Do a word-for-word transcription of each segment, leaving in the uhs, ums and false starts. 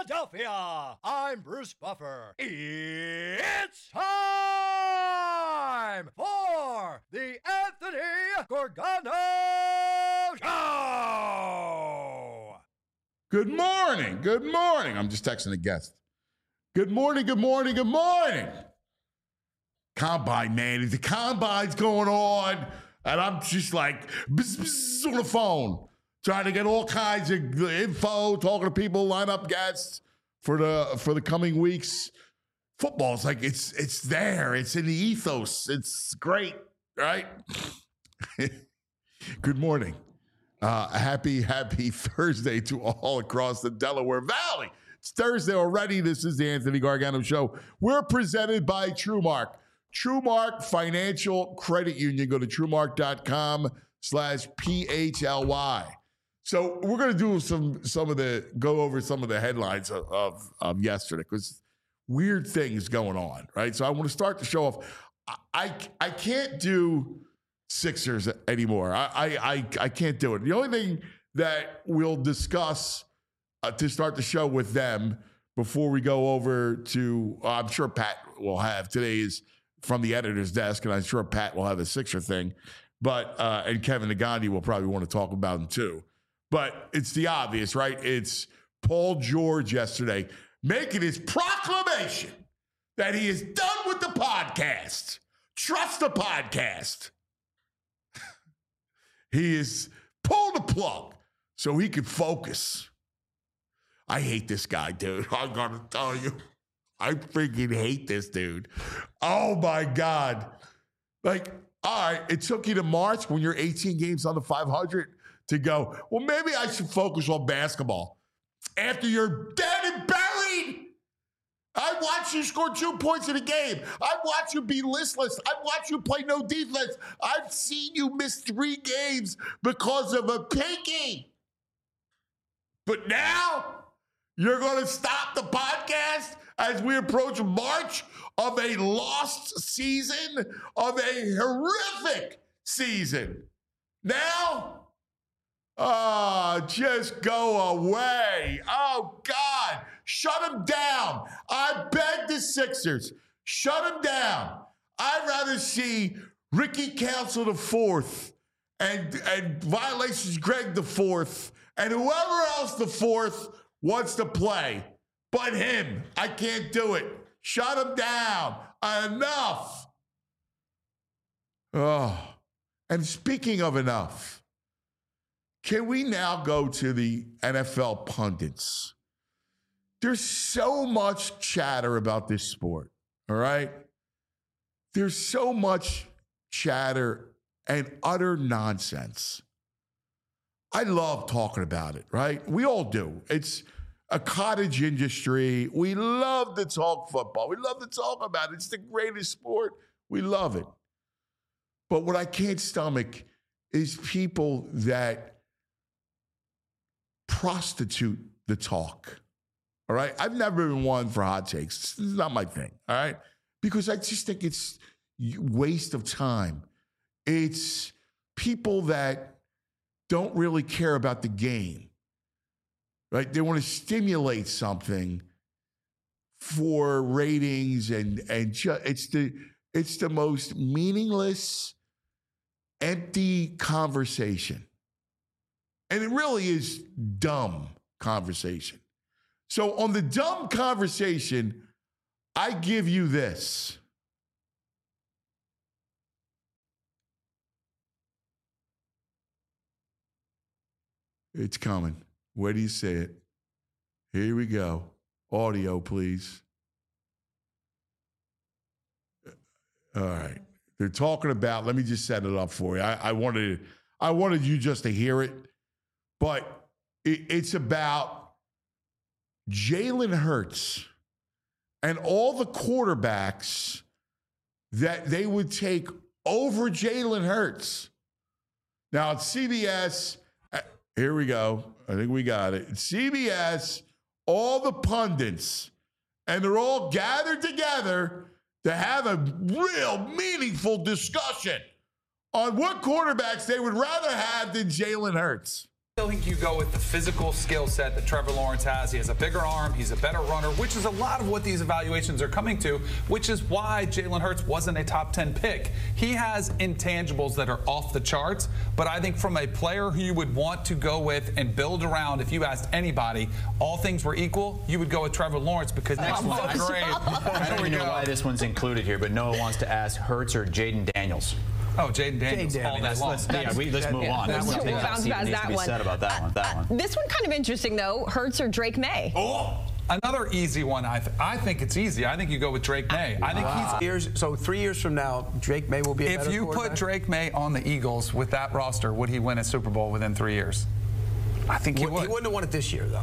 Philadelphia. I'm Bruce Buffer. It's time for the Anthony Gorgano Show. Good morning. Good morning. I'm just texting a guest. Good morning. Good morning. Good morning. Combine, man. The combine's going on, and I'm just like bzz, bzz, on the phone, trying to get all kinds of info, talking to people, line up guests for the for the coming weeks. Football's like it's it's there. It's in the ethos. It's great, right? Good morning. Uh, happy, happy Thursday to all across the Delaware Valley. It's Thursday already. This is the Anthony Gargano Show. We're presented by TrueMark. TrueMark Financial Credit Union. Go to TrueMark.com slash P-H-L-Y. So we're going to do some some of the, go over some of the headlines of, of, of yesterday because weird things going on, right? So I want to start the show off. I, I, I can't do Sixers anymore. I, I, I, I can't do it. The only thing that we'll discuss uh, to start the show with them before we go over to, uh, I'm sure Pat will have, today is from the editor's desk, and I'm sure Pat will have a Sixer thing, but, uh, and Kevin Nagandi will probably want to talk about him too. But it's the obvious, right? It's Paul George yesterday making his proclamation that he is done with the podcast. Trust the podcast. He is pulled the plug so he can focus. I hate this guy, dude. I'm going to tell you. I freaking hate this dude. Oh, my God. Like, all right, it took you to March when you're eighteen games on the five hundred to go, well, maybe I should focus on basketball. After you're dead and buried, I watched you score two points in a game. I watched you be listless. I watched you play no defense. I've seen you miss three games because of a pinky. But now you're going to stop the podcast as we approach March of a lost season, of a horrific season. Now, oh, just go away. Oh, God. Shut him down. I beg the Sixers. Shut him down. I'd rather see Ricky Council the fourth and, and Violations Greg the fourth and whoever else the fourth wants to play. But him. I can't do it. Shut him down. Enough. Oh. And speaking of enough, can we now go to the N F L pundits? There's so much chatter about this sport, all right? There's so much chatter and utter nonsense. I love talking about it, right? We all do. It's a cottage industry. We love to talk football. We love to talk about it. It's the greatest sport. We love it. But what I can't stomach is people that prostitute the talk, all right? I've never been one for hot takes. This is not my thing, all right? Because I just think it's waste of time. It's people that don't really care about the game, right? They want to stimulate something for ratings, and and ju- it's the it's the most meaningless, empty conversation. And it really is dumb conversation. So on the dumb conversation, I give you this. It's coming. Where do you say it? Here we go. Audio, please. All right. They're talking about, let me just set it up for you. I, I wanted I wanted you just to hear it, but it, it's about Jalen Hurts and all the quarterbacks that they would take over Jalen Hurts. Now, it's C B S. Here we go. I think we got it. It's C B S, all the pundits, and they're all gathered together to have a real meaningful discussion on what quarterbacks they would rather have than Jalen Hurts. I think you go with the physical skill set that Trevor Lawrence has. He has a bigger arm. He's a better runner, which is a lot of what these evaluations are coming to, which is why Jalen Hurts wasn't a top ten pick. He has intangibles that are off the charts, but I think from a player who you would want to go with and build around, if you asked anybody, all things were equal, you would go with Trevor Lawrence because next one, one's I- great. I don't even know why this one's included here, but Noah wants to ask Hurts or Jaden Daniels. Oh, Jaden Daniels Jaden all day Daniels. long. Let's, yeah, we, let's move on. That There's one- something we'll else bounce that past needs to that be one. said about that one. That one. This one kind of interesting, though. Hurts or Drake May? Oh, another easy one. I, th- I think it's easy. I think you go with Drake May. I think Wow. Years, so three years from now, Drake May will be a he's. If better you put quarterback? Drake May on the Eagles with that roster, would he win a Super Bowl within three years? I think he He would. wouldn't have won it this year, though.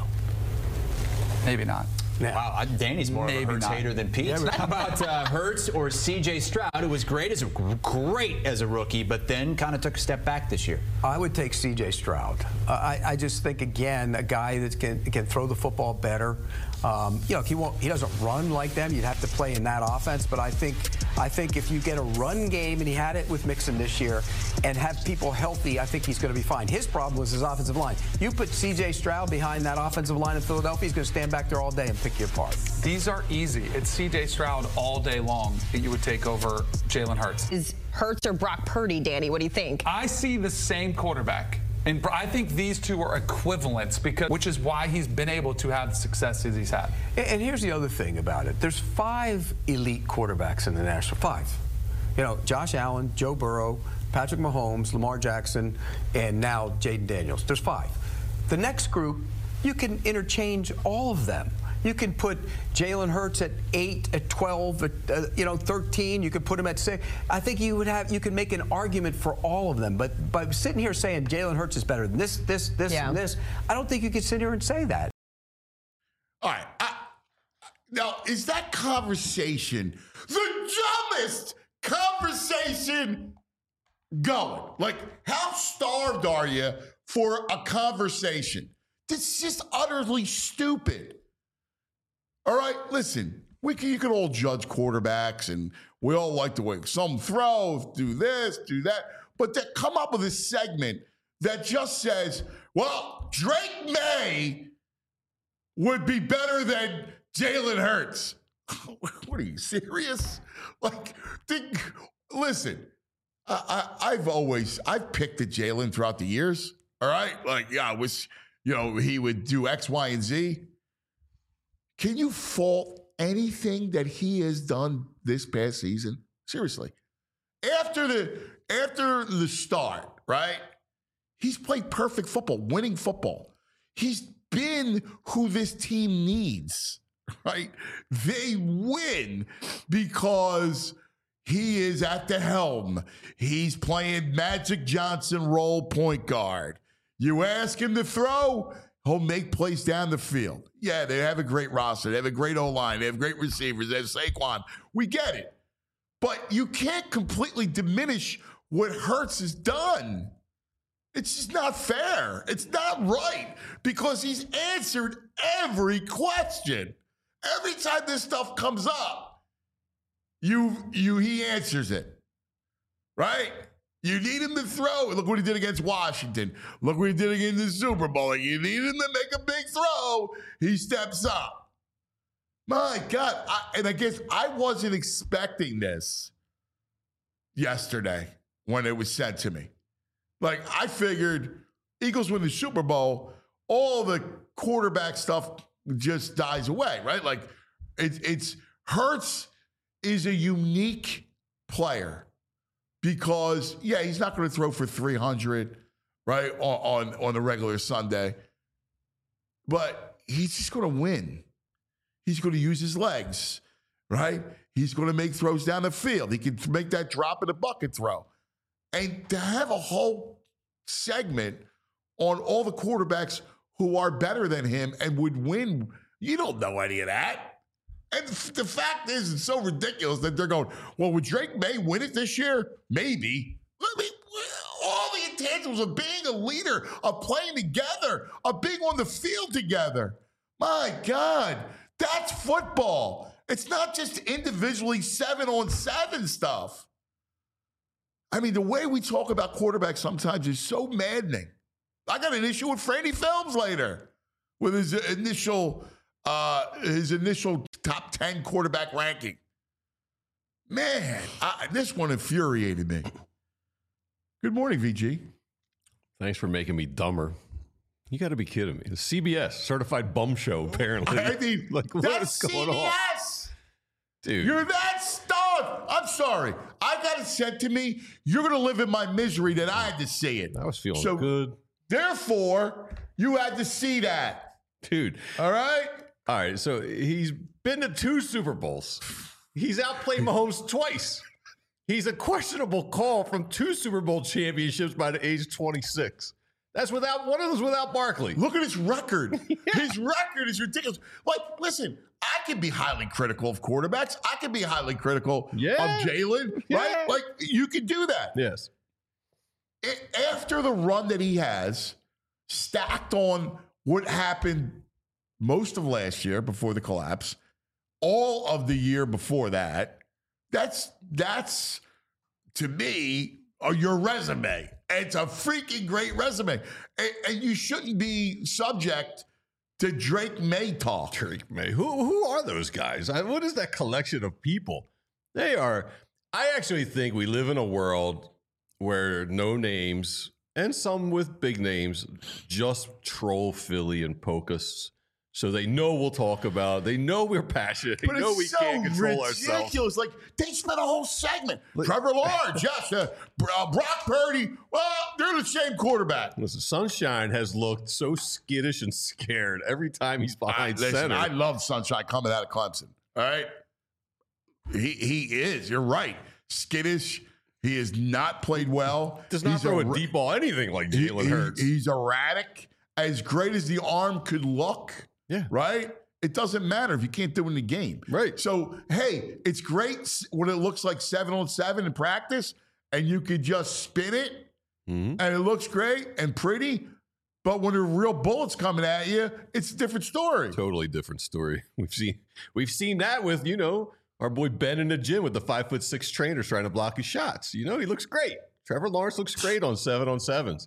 Maybe not. Yeah. Wow, I- Danny's more Maybe of a Hurts not. hater than Pete. Yeah, but- How about uh, Hurts or C J Stroud, who was great as a great as a rookie, but then kind of took a step back this year? I would take C J Stroud. Uh, I, I just think, again, a guy that can can throw the football better. Um, you know, he won't. He doesn't run like them. You'd have to play in that offense. But I think, I think if you get a run game, and he had it with Mixon this year, and have people healthy, I think he's going to be fine. His problem was his offensive line. You put C J Stroud behind that offensive line in Philadelphia, he's going to stand back there all day and pick you apart. These are easy. It's C J Stroud all day long that you would take over Jalen Hurts. Is Hurts or Brock Purdy, Danny? What do you think? I see the same quarterback. And I think these two are equivalents, because which is why he's been able to have the success as he's had. And and here's the other thing about it. There's five elite quarterbacks in the National. Five. You know, Josh Allen, Joe Burrow, Patrick Mahomes, Lamar Jackson, and now Jaden Daniels. There's five. The next group, you can interchange all of them. You can put Jalen Hurts at eight, at twelve, at uh, you know thirteen. You could put him at six. I think you would have you could make an argument for all of them. But by sitting here saying Jalen Hurts is better than this, this, this, Yeah. and this, I don't think you could sit here and say that. All right. I, now, is that conversation the dumbest conversation going? Like, how starved are you for a conversation? This is just utterly stupid. All right, listen, we can, you can all judge quarterbacks, and we all like the way some throw, do this, do that, but to come up with a segment that just says, well, Drake May would be better than Jalen Hurts. What are you, serious? Like, think, listen, I, I, I've always, I've picked at Jalen throughout the years, all right? Like, yeah, I was, you know, he would do X, Y, and Z. Can you fault anything that he has done this past season? Seriously. After the after the start, right? He's played perfect football, winning football. He's been who this team needs, right? They win because he is at the helm. He's playing Magic Johnson role point guard. You ask him to throw, he'll make plays down the field. Yeah, they have a great roster. They have a great O-line. They have great receivers. They have Saquon. We get it. But you can't completely diminish what Hurts has done. It's just not fair. It's not right, because he's answered every question. Every time this stuff comes up, you, you, he answers it, right? You need him to throw. Look what he did against Washington. Look what he did against the Super Bowl. You need him to make a big throw. He steps up. My God. I, and I guess I wasn't expecting this yesterday when it was said to me. Like, I figured Eagles win the Super Bowl, all the quarterback stuff just dies away, right? Like, it, it's Hurts is a unique player. Because, yeah, he's not going to throw for three hundred, right, on, on, on a regular Sunday. But he's just going to win. He's going to use his legs, right? He's going to make throws down the field. He can make that drop in the bucket throw. And to have a whole segment on all the quarterbacks who are better than him and would win, you don't know any of that. And the fact is, it's so ridiculous that they're going, well, would Drake May win it this year? Maybe. I mean, all the intangibles of being a leader, of playing together, of being on the field together. My God, that's football. It's not just individually seven on seven stuff. I mean, the way we talk about quarterbacks sometimes is so maddening. I got an issue with Franny Films later with his initial uh, his initial top ten quarterback ranking. Man, I, this one infuriated me. Good morning, V G. Thanks for making me dumber. You got to be kidding me. The C B S Certified Bum Show, apparently. I mean, like, what that's is going C B S. on? Dude. You're that stunned. I'm sorry. I got it sent to me. You're going to live in my misery that I had to see it. I was feeling so, good. Therefore, you had to see that. Dude. All right? All right. So he's been to two Super Bowls. He's outplayed Mahomes twice. He's a questionable call from two Super Bowl championships by the age of twenty-six. That's without one of those without Barkley. Look at his record. Yeah. His record is ridiculous. Like, listen, I can be highly critical of quarterbacks. I can be highly critical yeah. of Jalen, yeah. right? Like, you can do that. Yes. It, after the run that he has, stacked on what happened most of last year before the collapse, all of the year before that, that's, that's to me, uh, your resume. It's a freaking great resume. And, and you shouldn't be subject to Drake May talk. Drake May. Who who are those guys? I, what is that collection of people? They are. I actually think we live in a world where no names and some with big names just troll Philly and poke us. So they know we'll talk about. They know we're passionate. They but know it's we so can't control ridiculous. ourselves. Like, they spent a whole segment. Like, Trevor Lawrence, yes. Uh, uh, Brock Purdy, well, they're the same quarterback. Listen, Sunshine has looked so skittish and scared every time he's behind I, listen, center. I love Sunshine coming out of Clemson. All right? He, he is. You're right. Skittish. He has not played well. Does not he's throw a, a deep ball anything like Jalen he, Hurts. He, he's erratic. As great as the arm could look, yeah. right? It doesn't matter if you can't do it in the game. Right. So, hey, it's great when it looks like seven on seven in practice and you could just spin it mm-hmm. and it looks great and pretty. But when there are real bullets coming at you, it's a different story. Totally different story. We've seen we've seen that with, you know, our boy Ben in the gym with the five foot six trainers trying to block his shots. You know, he looks great. Trevor Lawrence looks great on seven on sevens.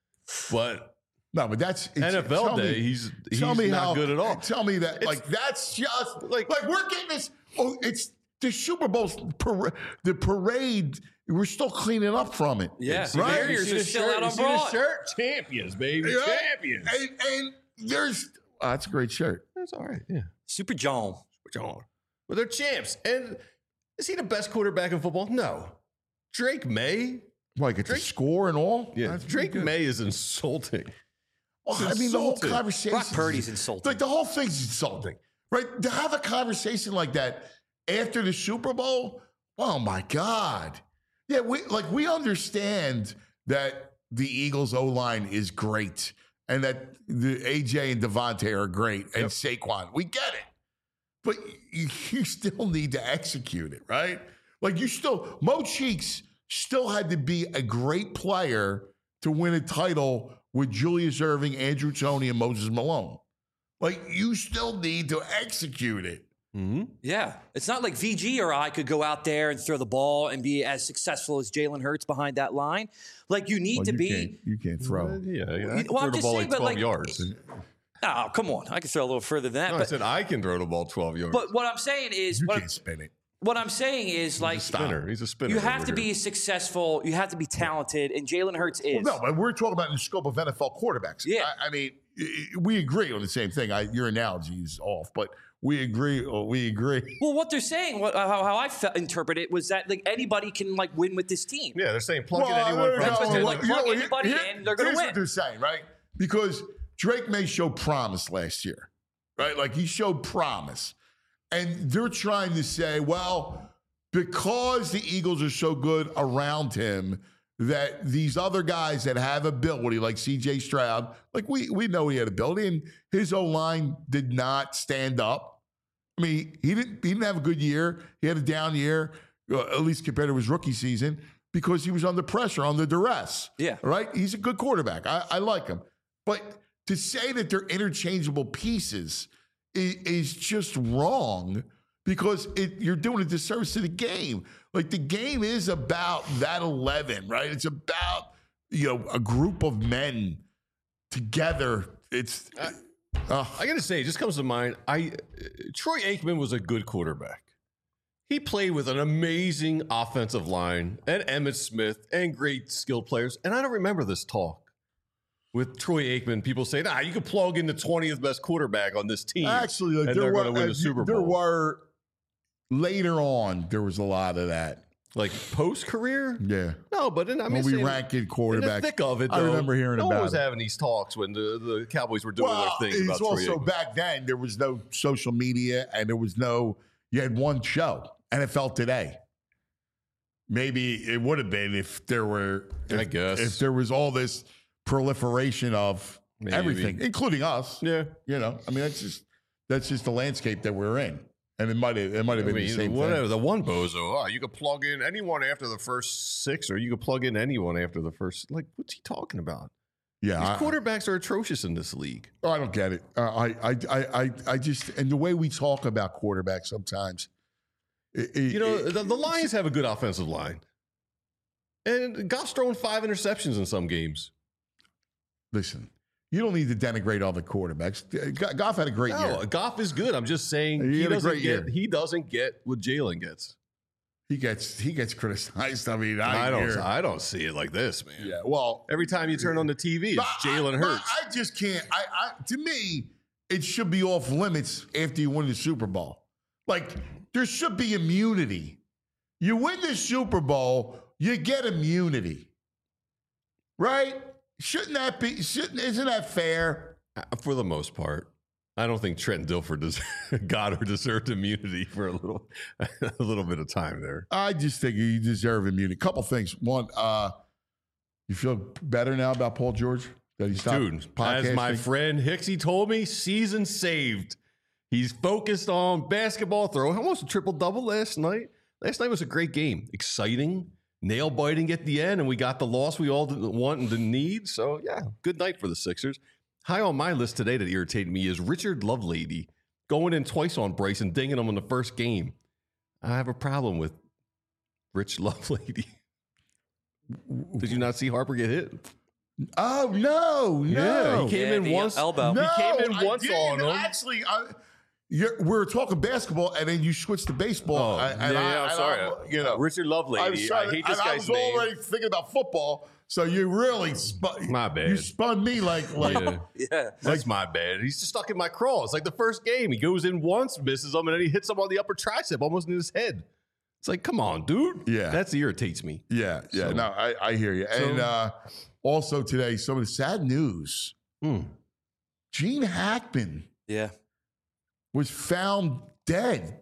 But No, but that's N F L day. Me, he's he's tell me not how, good at all. Tell me that, it's, like that's just like like we're getting this. Oh, it's the Super Bowl, para- the parade. We're still cleaning up from it. Yeah, right. Barriers are still out on broad. Shirt, champions, baby, yeah. champions. And, and there's oh, that's a great shirt. That's all right. Yeah, Super John, Super John. Well, they're champs. And is he the best quarterback in football? No. Drake May, like it's a score and all. Yeah, that's Drake May is insulting. Well, I mean, the whole conversation. Brock Purdy's insulting. Like the whole thing's insulting, right? To have a conversation like that after the Super Bowl, oh my God. Yeah, we like we understand that the Eagles O-line is great and that the A J and Devontae are great and yep. Saquon. We get it. But you, you still need to execute it, right? Like you still, Mo Cheeks still had to be a great player to win a title with Julius Erving, Andrew Toney, and Moses Malone. Like, you still need to execute it. Mm-hmm. Yeah. It's not like V G or I could go out there and throw the ball and be as successful as Jalen Hurts behind that line. Like, you need well, to you be. Can't, you can't throw. Uh, yeah. I can well, throw the ball saying, like twelve like, yards. Oh, come on. I can throw a little further than that. No, but, I said I can throw the ball twelve yards. But what I'm saying is. You what can't I'm, spin it. What I'm saying is, He's like, a spinner. He's a spinner. You have to here. be successful. You have to be talented, and Jalen Hurts is. Well, no, but we're talking about in the scope of N F L quarterbacks. Yeah. I, I mean, we agree on the same thing. I, your analogy is off, but we agree. We agree. Well, what they're saying, what, how, how I fe- interpret it, was that like anybody can like win with this team. Yeah, they're saying plug well, in anyone. That's from what they're the like. You know, Plug here- anybody here- in, they're going to Here's win. what they're saying, right? Because Drake May showed promise last year, right? Like he showed promise. And they're trying to say, well, because the Eagles are so good around him, that these other guys that have ability, like C J Stroud, like we we know he had ability, and his O-line did not stand up. I mean, he didn't he didn't have a good year. He had a down year, uh, at least compared to his rookie season, because he was under pressure, under duress. Yeah. Right? He's a good quarterback. I, I like him. But to say that they're interchangeable pieces is, is just wrong, because it, you're doing a disservice to the game. Like, the game is about that eleven, right? It's about, you know, a group of men together, it's. Uh, I got to say, it just comes to mind. I uh, Troy Aikman was a good quarterback. He played with an amazing offensive line and Emmitt Smith and great skilled players. And I don't remember this talk with Troy Aikman. People say, nah, you could plug in the twentieth best quarterback on this team. Actually, like, and there they're were, going to win uh, the Super Bowl. There were, later on, there was a lot of that. Like post-career? Yeah. No, but in, I mean, when we saying, ranked in in quarterbacks. the thick of it, I though, remember hearing no about one was it. having these talks when the, the Cowboys were doing Well, their things it's about Troy also Aikman. back then, there was no social media and there was no, you had one show, N F L Today. Maybe it would have been if there were, if, I guess. if there was all this proliferation of Maybe. everything, including us. Yeah. You know, I mean, that's just, that's just the landscape that we're in. And it might have, it might have I been mean, the same whatever. thing. The one bozo, oh, you could plug in anyone after the first six, or you could plug in anyone after the first. Like, what's he talking about? Yeah. These I, quarterbacks are atrocious in this league. oh, I don't get it. Uh, I, I, I, I, I just, and the way we talk about quarterbacks sometimes, it, it, You know, it- the, the Lions have a good offensive line. And Goff's thrown five interceptions in some games. listen, you don't need to denigrate all the quarterbacks. Goff had a great No, year. Goff is good. I'm just saying He he, had a doesn't great get year. he doesn't get what Jalen gets. He gets he gets criticized. I mean, I, I don't hear- I don't see it like this, man. Yeah, well, Every time you turn on the T V, it's but Jalen I, but Hurts. I just can't. I, I to me, it should be off limits after you win the Super Bowl. Like there should be immunity. You win the Super Bowl, you get immunity, right? Shouldn't that be? Shouldn't isn't that fair? Uh, For the most part. I don't think Trent Dilfer does, got or deserved immunity for a little a little bit of time there. I just think you deserve immunity. Couple things. One, uh, you feel better now about Paul George that he stopped Dude, as my podcasting? friend Hicksy told me, season saved. He's focused on basketball, throwing almost a triple double last night. Last night was a great game, exciting, nail biting at the end, and we got the loss we all didn't want and didn't need. So yeah, good night for the Sixers. High on my list today that irritated me is Richard Lovelady going in twice on Bryce and dinging him in the first game. I have a problem with Rich Lovelady. Did you not see Harper get hit? Oh no, no. Yeah, he came Yeah, in the once. elbow. No, he came in I once didn't. on him. Actually, I, you're, we were talking basketball, and then you switched to baseball. Oh, I- yeah, and yeah, I, I'm and sorry. I, you know, Richard I Lovelady. was I, trying to- hate this and I guy's was name. already thinking about football, so you really spun. My bad. You spun me like like. Yeah. Yeah. That's my bad. He's just stuck in my crawl. It's like the first game. He goes in once, misses him, and then he hits him on the upper tricep, almost in his head. It's like, come on, dude. Yeah. That irritates me. Yeah, yeah. So- no, I, I hear you. And uh, also today, some of the sad news: Hmm. Gene Hackman Yeah. was found dead.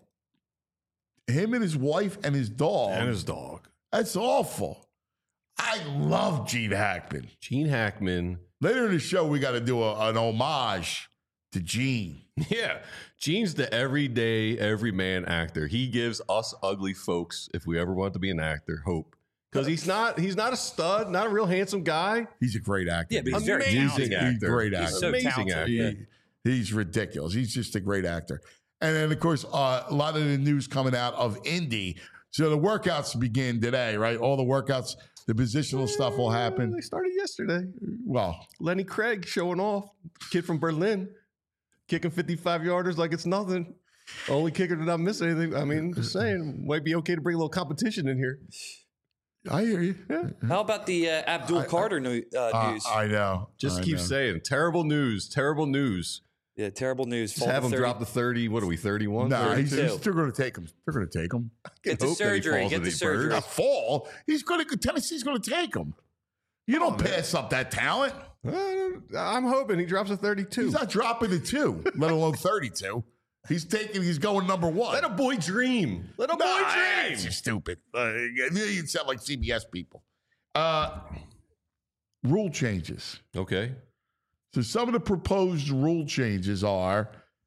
Him and his wife and his dog. And his dog. That's awful. I love Gene Hackman. Gene Hackman. Later in the show, we got to do a, an homage to Gene. Yeah. Gene's the everyday, everyman actor. He gives us ugly folks, if we ever want to be an actor, hope. Because he's not he's not a stud, not a real handsome guy. He's a great actor. Yeah, but he's very Amazing talented. actor. He's a great actor. He's so Amazing talented. actor. Yeah. He- he's ridiculous. He's just a great actor. And then, of course, uh, a lot of the news coming out of Indy. So the workouts begin today, right? All the workouts, the positional stuff will happen. They started yesterday. Well, Lenny Craig showing off. Kid from Berlin. Kicking fifty-five yarders like it's nothing. Only kicker to not miss anything. I mean, just saying, might be okay to bring a little competition in here. I hear you. Yeah. How about the uh, Abdul Carter new, uh, Uh, news? I know. Just I keep know. saying, terrible news, terrible news. yeah, terrible news. Just Fall to have him thirty. drop the thirty. What are we, thirty-one? Nah, he's, thirty-two. he's still going to take him. They're going to take him. Get the Hope that he surgery. falls Get and the he surgery. burns. A fall. He's going to. Tennessee's going to take him. You don't pass up that talent. Uh, I'm hoping he drops a thirty-two. He's not dropping the two, let alone thirty-two. He's taking. He's going number one. Let a boy dream. Let a boy Nah, dream. It's just stupid. Uh, you sound like C B S people. Uh, rule changes. Okay. So some of the proposed rule changes are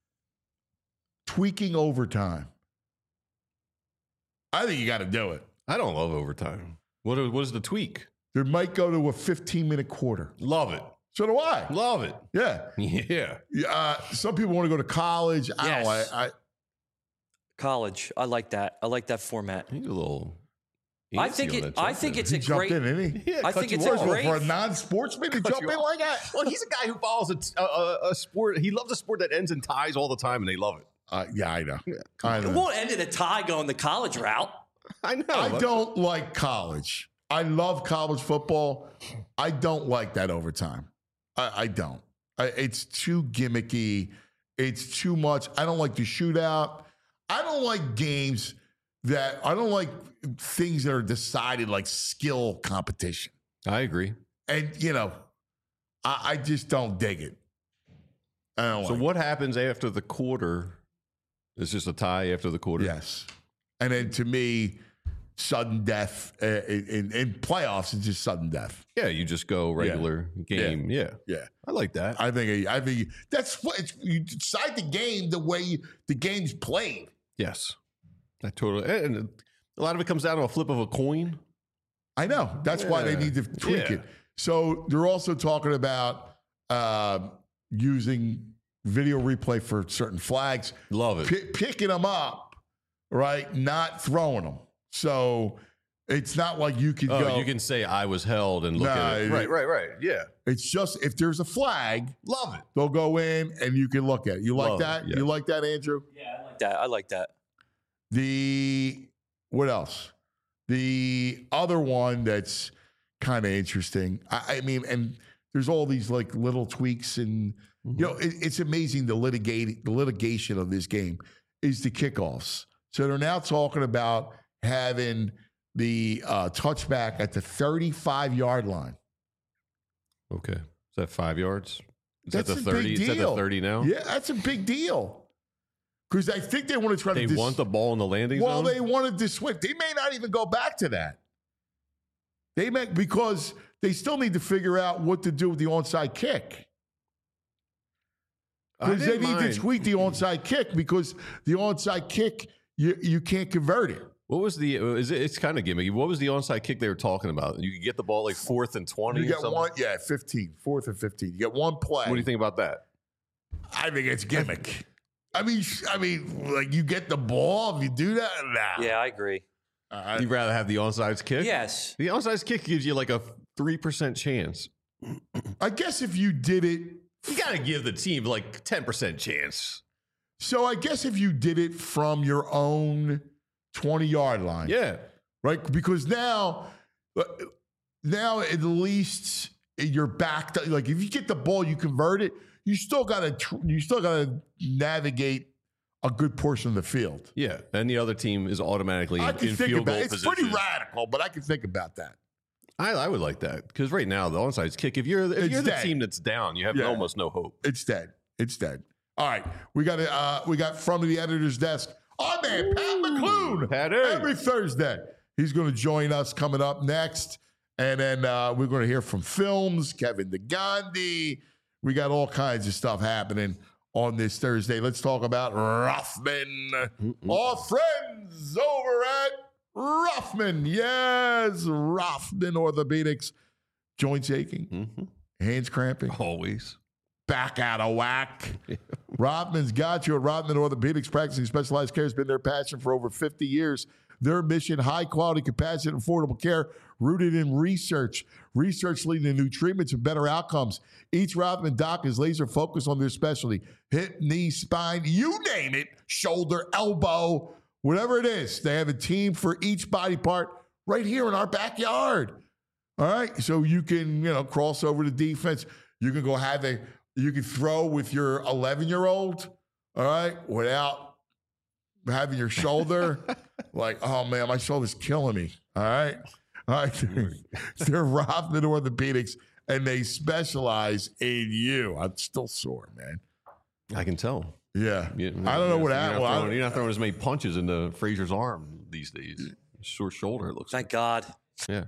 tweaking overtime. I think you got to do it. I don't love overtime. What, what is the tweak? There might go to a fifteen-minute quarter. Love it. So do I. Love it. Yeah. Yeah. Uh, some people want to go to college. I don't know. Yes. I, I, College. I like that. I like that format. He's a little I think it. I think it's He a jumped great. in, didn't he? Yeah, I cut think you it's off. a First of all, great. for a non-sportsman to jump you in off. like that. Well, he's a guy who follows a, a, a sport. He loves a sport that ends in ties all the time, and they love it. Uh, yeah, I know. I It know. won't end in a tie going the college route. I know. I don't like college. I love college football. I don't like that overtime. I, I don't. I, it's too gimmicky. It's too much. I don't like the shootout. I don't like games that I don't like things that are decided like skill competition. I agree. And you know, I, I just don't dig it. I don't So like what happens after the quarter? It's just a tie after the quarter. it. Yes. And then to me, sudden death uh, in, in playoffs is just sudden death. Yeah, you just go regular game. Yeah. Yeah. I like that. I think I think that's what it's, you decide the game the way you, the game's played. Yes. I totally. And a lot of it comes down to a flip of a coin. I know. That's why they Yeah. need to tweak Yeah. it. So they're also talking about uh, using video replay for certain flags, Love it. P- picking them up, right? Not throwing them. So it's not like you can Oh, go. you can say I was held and look Nah, at it. it- Right, right, right. Yeah. It's just if there's a flag, Love it. they'll go in and you can look at it. You like Love it, that? yes. You like that, Andrew? Yeah, I like that. I like that. The what else? The other one that's kind of interesting. I, I mean, and there's all these like little tweaks, and you know, it, it's amazing the litigate the litigation of this game is the kickoffs. So they're now talking about having the uh, touchback at the thirty-five yard line. Okay. Is that five yards? Is That's that a the thirty? big Is that the deal. thirty now? Yeah, that's a big deal. Because I think they want to try They to. dis- want the ball in the landing Well, zone? they wanted to switch. They may not even go back to that. They may because they still need to figure out what to do with the onside kick. I Because they didn't need mind. to tweak the onside kick because the onside kick you you can't convert it. What was the? Is it, it's kind of gimmicky. What was the onside kick they were talking about? You could get the ball like fourth and twenty. You or get something? one, yeah, fifteen, fourth and fifteen. You get one play. What do you think about that? I think it's gimmick. I mean, sh- I mean, like you get the ball if you do that. Nah. Yeah, I agree. Uh, You'd rather have the onside kick? Yes. The onside kick gives you like a three percent chance. I guess if you did it, You got to give the team like ten percent chance. so I guess if you did it from your own twenty yard line. Yeah. Right? Because now, uh, now at least you're back to, like if you get the ball, you convert it. You still got to tr- you still got to navigate a good portion of the field. Yeah. And the other team is automatically I in, can in think field about goal it. It's position. pretty radical, but I can think about that. I, I would like that because right now the onside kick. If you're if It's you're the dead. team that's down, you have Yeah. almost no hope. It's dead. It's dead. All right, we got it. Uh, we got from the editor's desk. Our man Pat McClune. Patty. Every Thursday, he's going to join us coming up next, and then uh, we're going to hear from Films, Kevin DeGandhi. We got all kinds of stuff happening on this Thursday. Let's talk about Rothman. Our friends over at Rothman. Yes, Rothman Orthopedics. Joints aching, Mm-hmm. hands cramping, Always. back out of whack. Rothman's got you at Rothman Orthopedics. Practicing specialized care has been their passion for over fifty years. Their mission, high quality, compassionate, affordable care rooted in research. Research leading to new treatments and better outcomes. Each Rothman doc is laser focused on their specialty. Hip, knee, spine, you name it, shoulder, elbow, whatever it is. They have a team for each body part right here in our backyard. All right. So you can, you know, cross over to defense. You can go have a, you can throw with your eleven year old, all right, without having your shoulder like, oh man, my shoulder's killing me. All right. All right. They're Rothman Orthopedics and they specialize in you. I'm still sore, man. I can tell. Yeah. You- I don't know what you're happened. Not Well, I- throwing, you're not throwing as many punches into Frazier's arm these days. Sore shoulder, it looks like. Thank God. Yeah.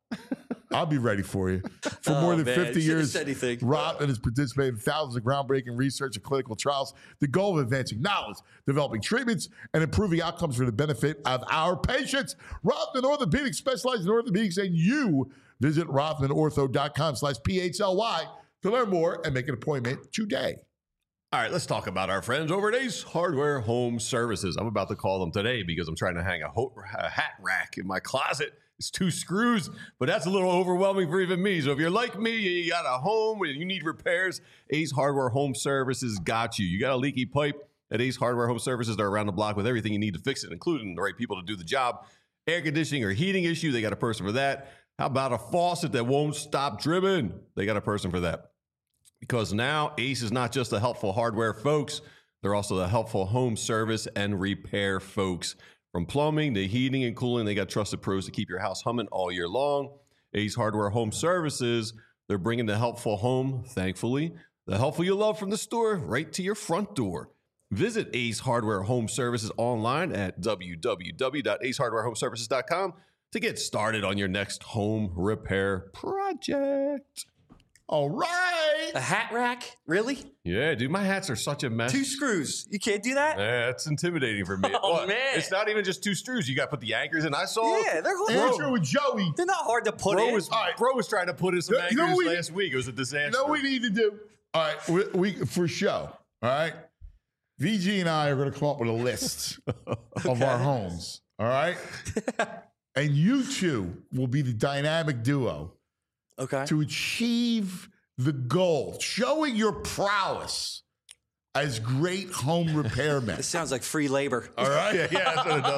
I'll be ready for you. For Oh, more than man, fifty you should've years, said anything. Rothman has participated in thousands of groundbreaking research and clinical trials. The goal of advancing knowledge, developing treatments, and improving outcomes for the benefit of our patients. Rothman Orthopedics specializes in orthopedics, and you visit rothmanortho.com slash P H L Y to learn more and make an appointment today. All right, let's talk about our friends over at Ace Hardware Home Services. I'm about to call them today because I'm trying to hang a, ho- a hat rack in my closet. It's two screws, but that's a little overwhelming for even me. So if you're like me, you got a home and you need repairs, Ace Hardware Home Services got you. You got a leaky pipe at Ace Hardware Home Services. They're around the block with everything you need to fix it, including the right people to do the job. Air conditioning or heating issue, they got a person for that. How about a faucet that won't stop dripping? They got a person for that. Because now Ace is not just the helpful hardware folks, they're also the helpful home service and repair folks. From plumbing to heating and cooling, they got trusted pros to keep your house humming all year long. Ace Hardware Home Services, they're bringing the helpful home, thankfully, the helpful you love from the store right to your front door. Visit Ace Hardware Home Services online at w w w dot ace hardware home services dot com to get started on your next home repair project. All right. A hat rack? Really? Yeah, dude, my hats are such a mess. Two screws. You can't do that? Yeah, that's intimidating for me. Oh, Well, man. It's not even just two screws. You got to put the anchors in. I saw. Yeah, they're hard. Andrew and Joey. They're not hard to put Bro in. was, All right. bro was trying to put in some You anchors know we- last week. It was a disaster. You know what we need to do? All right, we, we for show. All right, V G and I are going to come up with a list of our homes. All right, and you two will be the dynamic duo Okay. to achieve the goal, showing your prowess as great home repairmen. This sounds like free labor. All right, yeah, yeah, that's what it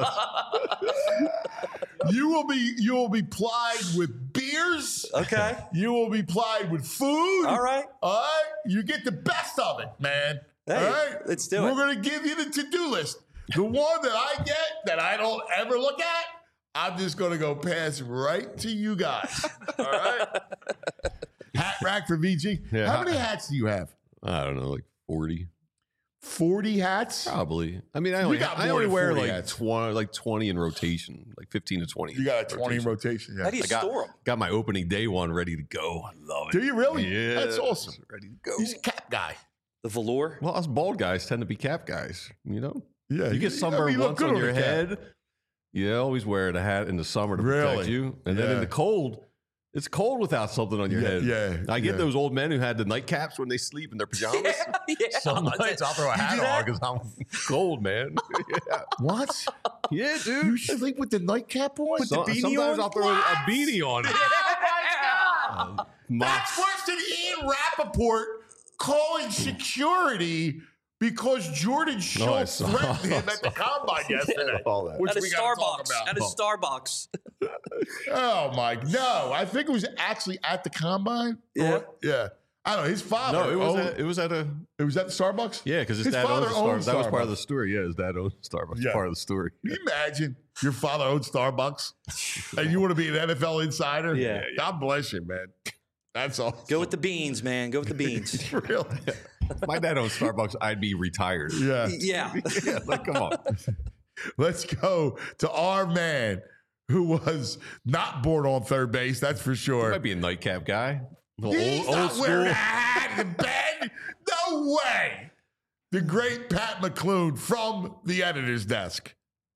does. you will be you will be plied with beers. Okay. You will be plied with food. All right. All right. You get the best of it, man. Hey, all right. let's do We're it. going to give you the to-do list. The one that I get that I don't ever look at, I'm just going to go pass right to you guys. All right. Hat rack for V G. Yeah. How many hats do you have? I don't know, like forty. forty hats? Probably. I mean, I only, got I more only than wear forty like hats. twenty, like twenty in rotation, like fifteen to twenty. You got a twenty in rotation. Yeah. How do you I got, store them? got my opening day one ready to go. I love it. Do you really? Yeah. That's awesome. Ready to go. He's a cap guy. The velour? Well, us bald guys tend to be cap guys, you know? Yeah. You get I sunburned mean, you look once good on on your a cap. head. You always wear the hat in the summer to protect Really? you. And then in Yeah. the cold, it's cold without something on your Yeah, head. yeah, I get yeah. those old men who had the nightcaps when they sleep in their pajamas. yeah. Some nights I'll throw a You hat do on that? because I'm cold, man. yeah. What? yeah, dude. You sleep with the nightcap on? So- beanie sometimes on? I'll throw a beanie on. Uh, That's Mox. worse than Ian Rappaport calling security because Jordan No, I Schultz saw- threatened him at the combine yesterday. All that. Which At a we gotta talk Starbucks. about. At a Starbucks. Oh my! No, I think it was actually at the combine. Yeah. Or- yeah. I don't know. His father. No, it was, owned- at, it was at a it was at the Starbucks. yeah, because his, His dad father owns Starbucks. owned That was part of Starbucks. the story. Yeah, his dad owns Starbucks. Yeah. Part of the story. Can you imagine your father owned Starbucks and you want to be an N F L insider? Yeah. God bless you, man. That's all. Go with the beans, man. Go with the beans. Really? If my dad owned Starbucks, I'd be retired. Yeah. yeah. yeah, like come on. Let's go to our man who was not born on third base. That's for sure. Might be a nightcap guy. A little He's old, not old wearing school. a hat in bed. No way. The great Pat McClune from the editor's desk.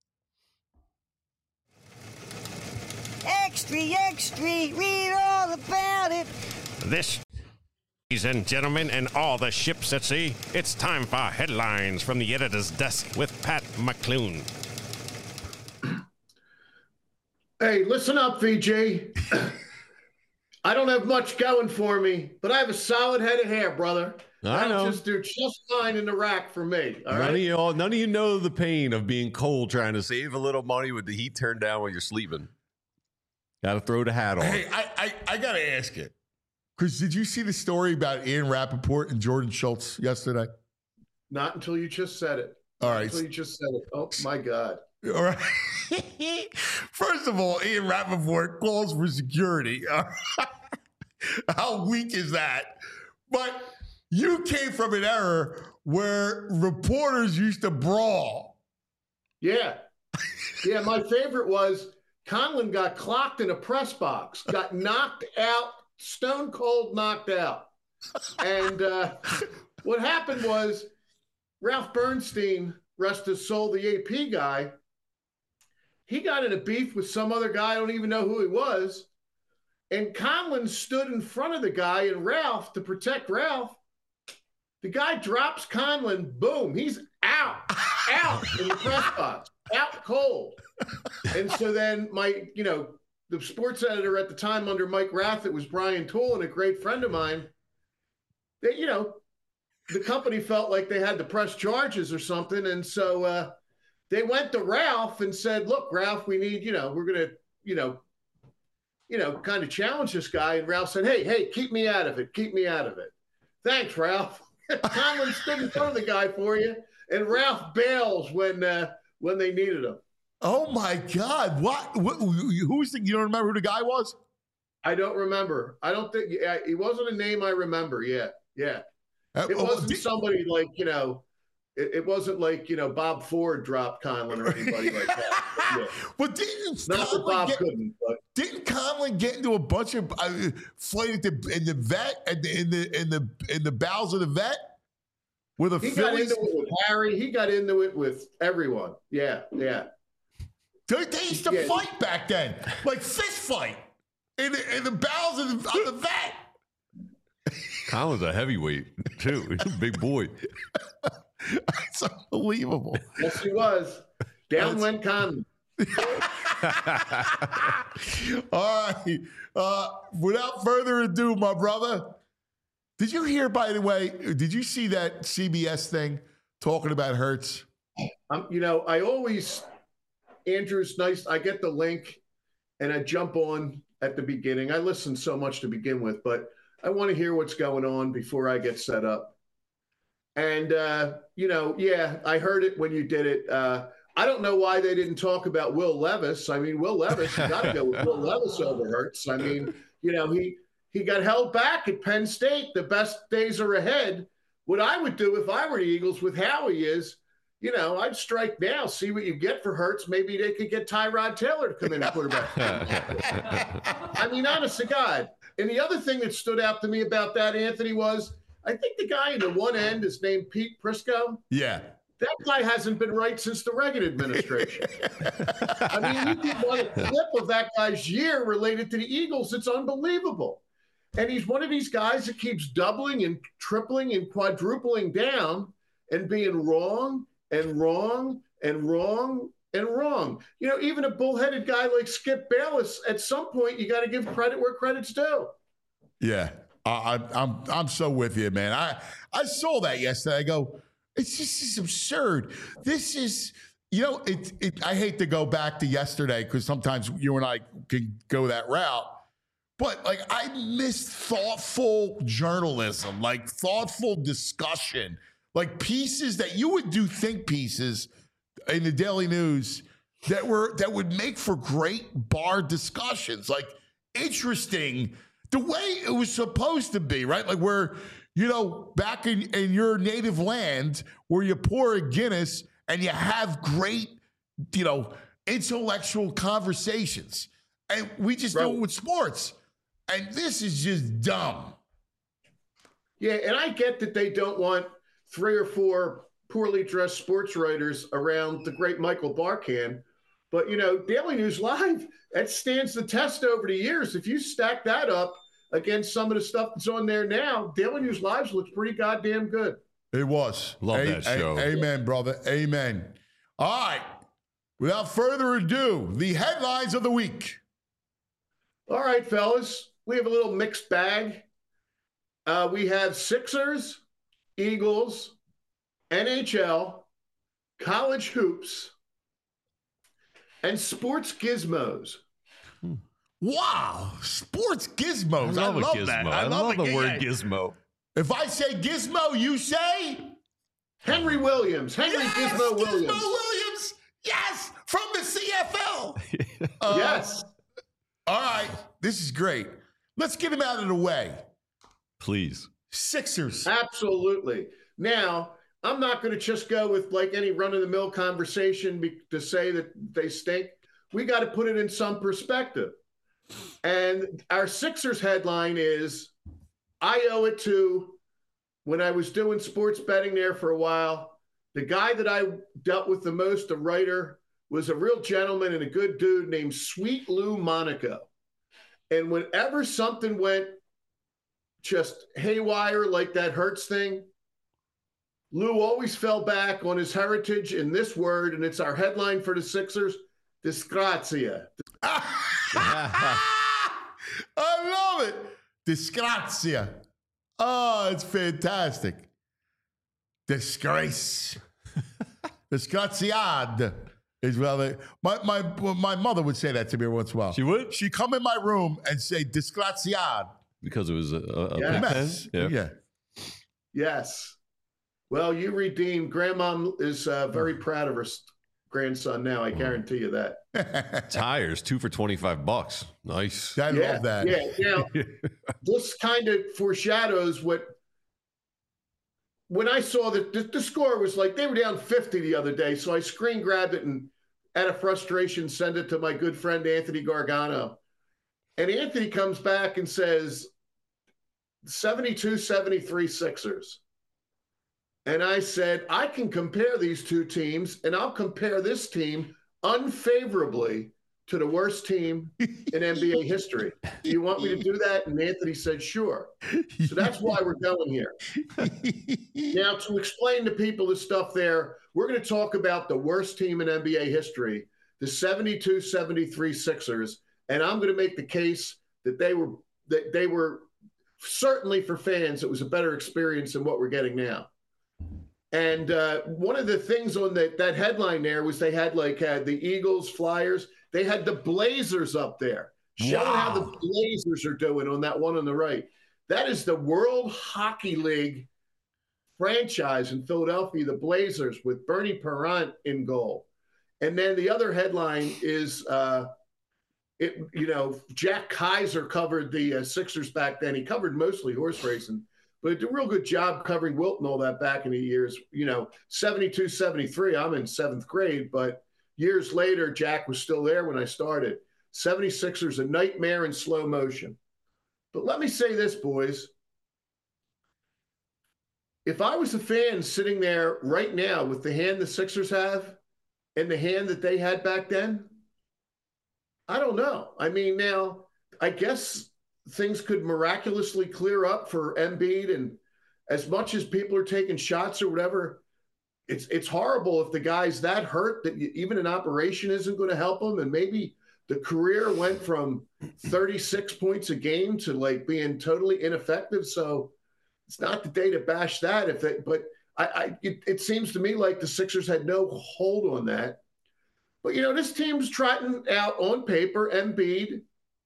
Extra, extra, read all about it. This, ladies and gentlemen, and all the ships at sea, it's time for headlines from the editor's desk with Pat McClune. Hey, listen up, V G. I don't have much going for me, but I have a solid head of hair, brother. I That'll know. just do just fine in the rack for me. All None right. of you all, none of you know the pain of being cold, trying to save a little money with the heat turned down while you're sleeping. Got to throw the hat on. Hey, I, I, I got to ask it. Because did you see the story about Ian Rappaport and Jordan Schultz yesterday? Not until you just said it. All Not right. Until you just said it. Oh my God. All right. First of all, Ian Rappaport calls for security. How weak is that? But you came from an era where reporters used to brawl. Yeah. Yeah. My favorite was Conlon got clocked in a press box, got knocked out, stone cold knocked out. And uh, what happened was Ralph Bernstein, rest his soul, the A P guy, he got in a beef with some other guy. I don't even know who he was. And Conlon stood in front of the guy and Ralph to protect Ralph. The guy drops Conlon, boom, he's out, out in the press box, out cold. And so then my, you know, the sports editor at the time under Mike Rath, it was Brian Toole, and a great friend of mine. They, you know, the company felt like they had to press charges or something, and so uh, they went to Ralph and said, "Look, Ralph, we need, you know, we're gonna, you know, you know, kind of challenge this guy." And Ralph said, "Hey, hey, keep me out of it. Keep me out of it." Thanks, Ralph. Conlon stood in front of the guy for you, and Ralph bails when uh, when they needed him. Oh my God! What? what who's the? You don't remember who the guy was? I don't remember. I don't think yeah, he wasn't a name I remember yet. Yeah, Uh, it oh, wasn't did- somebody like you know. It, it wasn't like you know Bob Ford dropped Conlon or anybody like that. But, yeah. But didn't Not that Conlon Bob get, couldn't, but didn't Conlon get into a bunch of uh, fight at the in the vet at the, in the in the in the bowels of the vet with a he got Phillies? into it with Harry. He got into it with everyone. Yeah, yeah. They, they used to Yeah. fight back then, like fist fight in the, in the bowels of the, of the vet. Conlon's a heavyweight too. He's a big boy. It's unbelievable. Yes, he was. Down went Conlon. All right. Uh, without further ado, my brother, did you hear, by the way, did you see that C B S thing talking about Hurts? Um, you know, I always, Andrew's nice. I get the link and I jump on at the beginning. I listen so much to begin with, but I want to hear what's going on before I get set up. And, uh, you know, yeah, I heard it when you did it. Uh, I don't know why they didn't talk about Will Levis. I mean, Will Levis, you got to go with Will Levis over Hurts. I mean, you know, he, he got held back at Penn State. The best days are ahead. What I would do if I were the Eagles with how he is, you know, I'd strike now, see what you get for Hurts. Maybe they could get Tyrod Taylor to come in and quarterback. I mean, honest to God. And the other thing that stood out to me about that, Anthony, was I think the guy in the one end is named Pete Prisco. Yeah. That guy hasn't been right since the Reagan administration. I mean, you get one clip of that guy's year related to the Eagles. It's unbelievable. And he's one of these guys that keeps doubling and tripling and quadrupling down and being wrong and wrong and wrong and wrong. You know, even a bullheaded guy like Skip Bayless, at some point, you got to give credit where credit's due. Yeah. I, I, I'm I'm so with you, man. I, I saw that yesterday. I go, it's just it's absurd. This is, you know, it, it, I hate to go back to yesterday because sometimes you and I can go that route. But, like, I miss thoughtful journalism, like thoughtful discussion, like pieces that you would do think pieces in the Daily News that were that would make for great bar discussions, like interesting, the way it was supposed to be, right? Like where, you know, back in, in your native land where you pour a Guinness and you have great, you know, intellectual conversations. And we just Right. do it with sports. And this is just dumb. Yeah, and I get that they don't want three or four poorly dressed sports writers around the great Michael Barkan. But, you know, Daily News Live, that stands the test over the years. If you stack that up against some of the stuff that's on there now, Daily News Live looks pretty goddamn good. It was. Love A- that show. A- amen, brother. Amen. All right. Without further ado, the headlines of the week. All right, fellas, we have a little mixed bag. Uh, we have Sixers, Eagles, N H L, college hoops, and sports gizmos. Wow. Sports gizmos. I love, I love a gizmo. that. I, love, the it. word gizmo. If I say gizmo, you say? Henry Williams. Henry Yes, Gizmo Williams. Gizmo Williams. Yes, from the C F L. Uh, Yes. All right. This is great. Let's get him out of the way. Please. Sixers. Absolutely. Now, I'm not going to just go with like any run-of-the-mill conversation be- to say that they stink. We got to put it in some perspective. And our Sixers headline is, I owe it to, when I was doing sports betting there for a while, the guy that I dealt with the most, a writer, was a real gentleman and a good dude named Sweet Lou Monaco. And whenever something went just haywire like that Hurts thing, Lou always fell back on his heritage in this word, and it's our headline for the Sixers, disgrazia. I love it. Disgrazia. Oh, it's fantastic. Disgrace. Disgraziad is well. My my my mother would say that to me once in a while. She would? She'd come in my room and say disgraziad. Because it was a, a, Yeah. a Mess. yeah. Yeah. Yes. Well, you redeemed. Grandma is uh, very proud of her s- grandson now. I guarantee you that. Tires, two for twenty-five bucks. Nice. I yeah, love that. Yeah. Now, this kind of foreshadows what. When I saw that the, the score was like they were down fifty the other day, so I screen grabbed it and, out of frustration, sent it to my good friend Anthony Gargano. And Anthony comes back and says, seventy-two seventy-three Sixers. And I said, I can compare these two teams, and I'll compare this team unfavorably to the worst team in N B A history. Do you want me to do that? And Anthony said, sure. So that's why we're going here. Now, to explain to people the stuff there, we're going to talk about the worst team in N B A history, the seventy-two seventy-three Sixers. And I'm going to make the case that they were that they were certainly for fans, it was a better experience than what we're getting now. And uh, one of the things on the, that headline there was they had like uh, the Eagles, Flyers. They had the Blazers up there. Showing Wow. how the Blazers are doing on that one on the right. That is the World Hockey League franchise in Philadelphia, the Blazers, with Bernie Parent in goal. And then the other headline is, uh, it you know, Jack Kaiser covered the uh, Sixers back then. He covered mostly horse racing, but did a real good job covering Wilt and all that back in the years. You know, seventy-two seventy-three, I'm in seventh grade, but years later, Jack was still there when I started. seventy-sixers, a nightmare in slow motion. But let me say this, boys. If I was a fan sitting there right now with the hand the Sixers have and the hand that they had back then, I don't know. I mean, now, I guess things could miraculously clear up for Embiid, and as much as people are taking shots or whatever, it's it's horrible if the guy's that hurt that you, even an operation isn't going to help him, and maybe the career went from thirty-six points a game to like being totally ineffective. So it's not the day to bash that. If it, but I, I it, it seems to me like the Sixers had no hold on that. But you know, this team's trotting out on paper Embiid,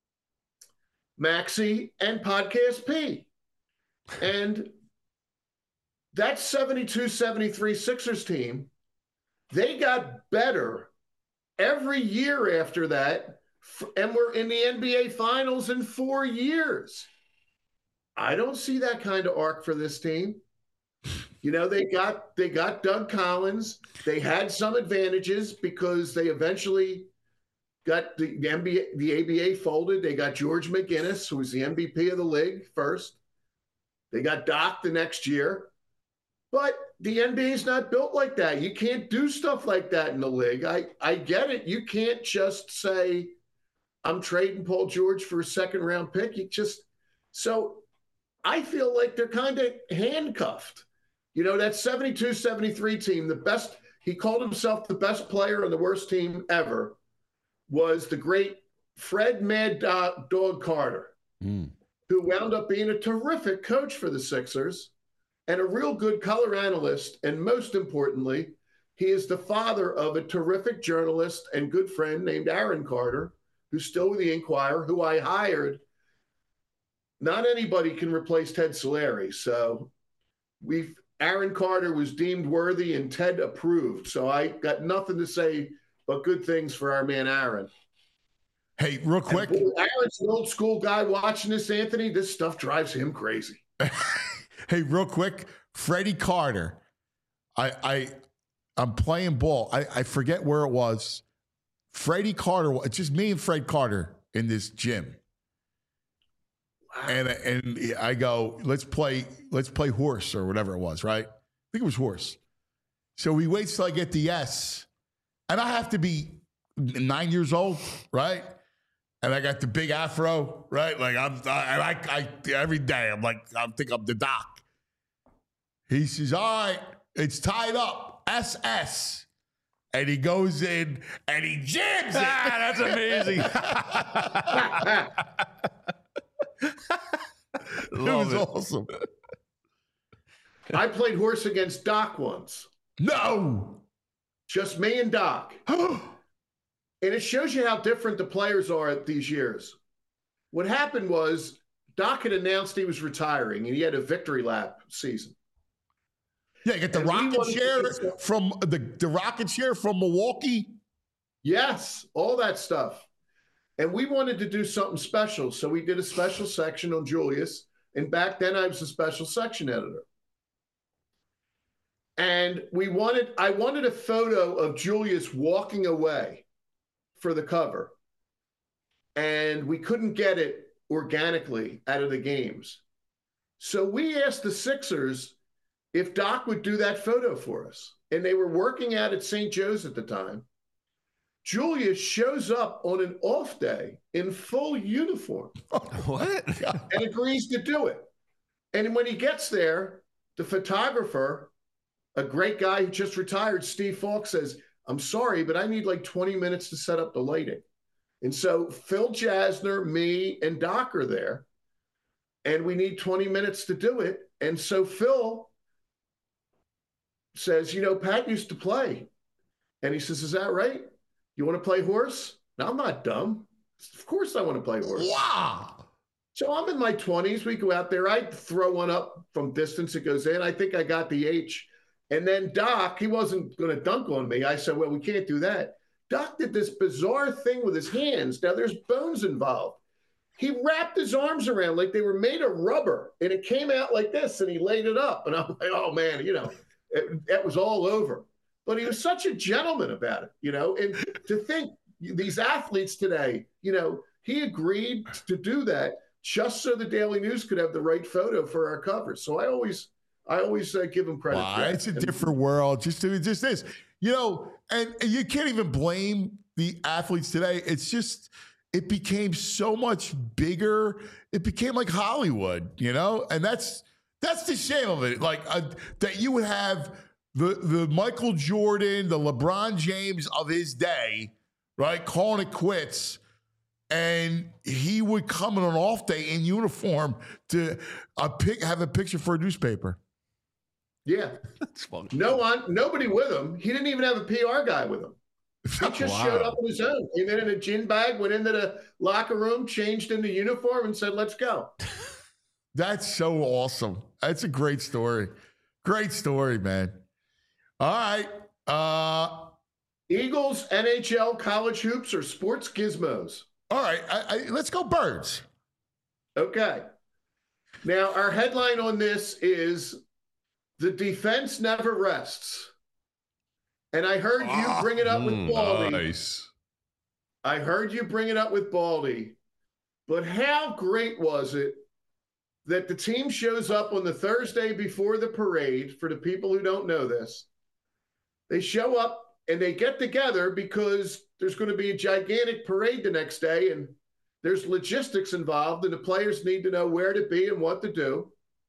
Maxey, and Podcast P, and that seventy-two seventy-three Sixers team, they got better every year after that, and we're in the N B A Finals in four years. I don't see that kind of arc for this team. You know, they got they got Doug Collins. They had some advantages because they eventually got the, the N B A, the A B A folded. They got George McGinnis, who was the M V P of the league first. They got Doc the next year. But the N B A is not built like that. You can't do stuff like that in the league. I, I get it. You can't just say, I'm trading Paul George for a second round pick. You just so I feel like they're kind of handcuffed. You know, that seventy-two seventy-three team, the best, he called himself the best player on the worst team ever, was the great Fred Mad Dog Carter, mm. who wound up being a terrific coach for the Sixers and a real good color analyst. And most importantly, he is the father of a terrific journalist and good friend named Aaron Carter, who's still with the Inquirer, who I hired. Not anybody can replace Ted Solari. So we've, Aaron Carter was deemed worthy and Ted approved. So I got nothing to say but good things for our man Aaron. Hey, real quick. Boy, Aaron's an old school guy watching this, Anthony. This stuff drives him crazy. Hey, real quick. Freddie Carter. I I I'm playing ball. I, I forget where it was. Freddie Carter. It's just me and Fred Carter in this gym. Wow. And and I go, let's play, let's play horse or whatever it was, right? I think it was horse. So he waits till I get the S. And I have to be nine years old, right? And I got the big afro, right? Like I'm, I, I, I every day I'm like, I think I'm the doc. He says, all right, it's tied up, S S. and he goes in and he jams it. Ah, that's amazing. It was it. awesome. I played horse against Doc once. No. Just me and Doc. And it shows you how different the players are at these years. What happened was Doc had announced he was retiring, and he had a victory lap season. Yeah, you get the And we rocket wanted chair to get- from the, the rocket chair from Milwaukee. Yes, all that stuff. And we wanted to do something special, so we did a special section on Julius. And back then, I was a special section editor. And we wanted, I wanted a photo of Julius walking away for the cover. And we couldn't get it organically out of the games. So we asked the Sixers if Doc would do that photo for us. And they were working out at Saint Joe's at the time. Julius shows up on an off day in full uniform. What? And agrees to do it. And when he gets there, the photographer, a great guy who just retired, Steve Falk, says, I'm sorry, but I need like twenty minutes to set up the lighting. And so Phil Jasner, me, and Doc are there. And we need twenty minutes to do it. And so Phil says, you know, Pat used to play. And he says, is that right? You want to play horse? No, I'm not dumb. Of course I want to play horse. Wow. So I'm in my twenties. We go out there. I throw one up from distance. It goes in. I think I got the H. And then Doc, he wasn't going to dunk on me. I said, well, we can't do that. Doc did this bizarre thing with his hands. Now there's bones involved. He wrapped his arms around like they were made of rubber, and it came out like this, and he laid it up. And I'm like, oh, man, you know, it, it was all over. But he was such a gentleman about it, you know. And to think these athletes today, you know, he agreed to do that just so the Daily News could have the right photo for our cover. So I always, I always uh, give him credit. Wow, for that. it's a And- different world. Just, just this, you know, and, and you can't even blame the athletes today. It's just, it became so much bigger. It became like Hollywood, you know, and that's that's the shame of it. Like uh, that you would have the the Michael Jordan, the LeBron James of his day, right, calling it quits. And he would come on an off day in uniform to uh, pick, have a picture for a newspaper. Yeah. That's funny. No one, nobody with him. He didn't even have a P R guy with him. He just Wow. showed up on his own. Came in in a gin bag, went into the locker room, changed into uniform, and said, let's go. That's so awesome. That's a great story. Great story, man. All right. Uh, Eagles, N H L, college hoops, or sports gizmos? all right. I, I, let's go Birds. Okay. Now, our headline on this is The Defense Never Rests. And I heard you bring it up with Mm, Baldy. nice. I heard you bring it up with Baldy. But how great was it that the team shows up on the Thursday before the parade? For the people who don't know this, they show up and they get together because there's going to be a gigantic parade the next day, and there's logistics involved, and the players need to know where to be and what to do.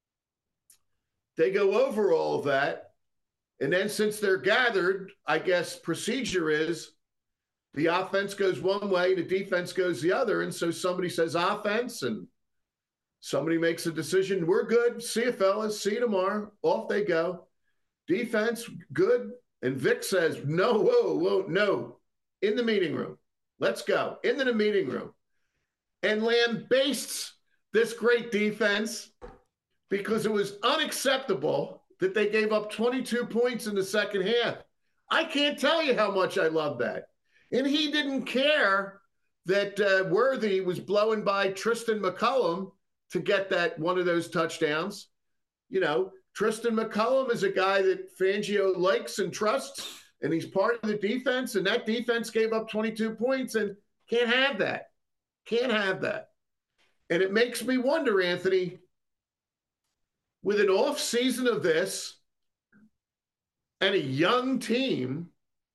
They go over all of that. And then since they're gathered, I guess procedure is the offense goes one way, the defense goes the other. And so somebody says offense, and somebody makes a decision. We're good. See you, fellas. See you tomorrow. Off they go. Defense, good. And Vic says, no, whoa, whoa, no. In the meeting room. Let's go. Into the meeting room. And lambastes this great defense because it was unacceptable that they gave up twenty-two points in the second half. I can't tell you how much I love that. And he didn't care that uh, Worthy was blowing by Tristan McCullum to get that one of those touchdowns. You know, Tristan McCullum is a guy that Fangio likes and trusts, and he's part of the defense, and that defense gave up twenty-two points, and can't have that. Can't have that. And it makes me wonder, Anthony, with an off season of this and a young team,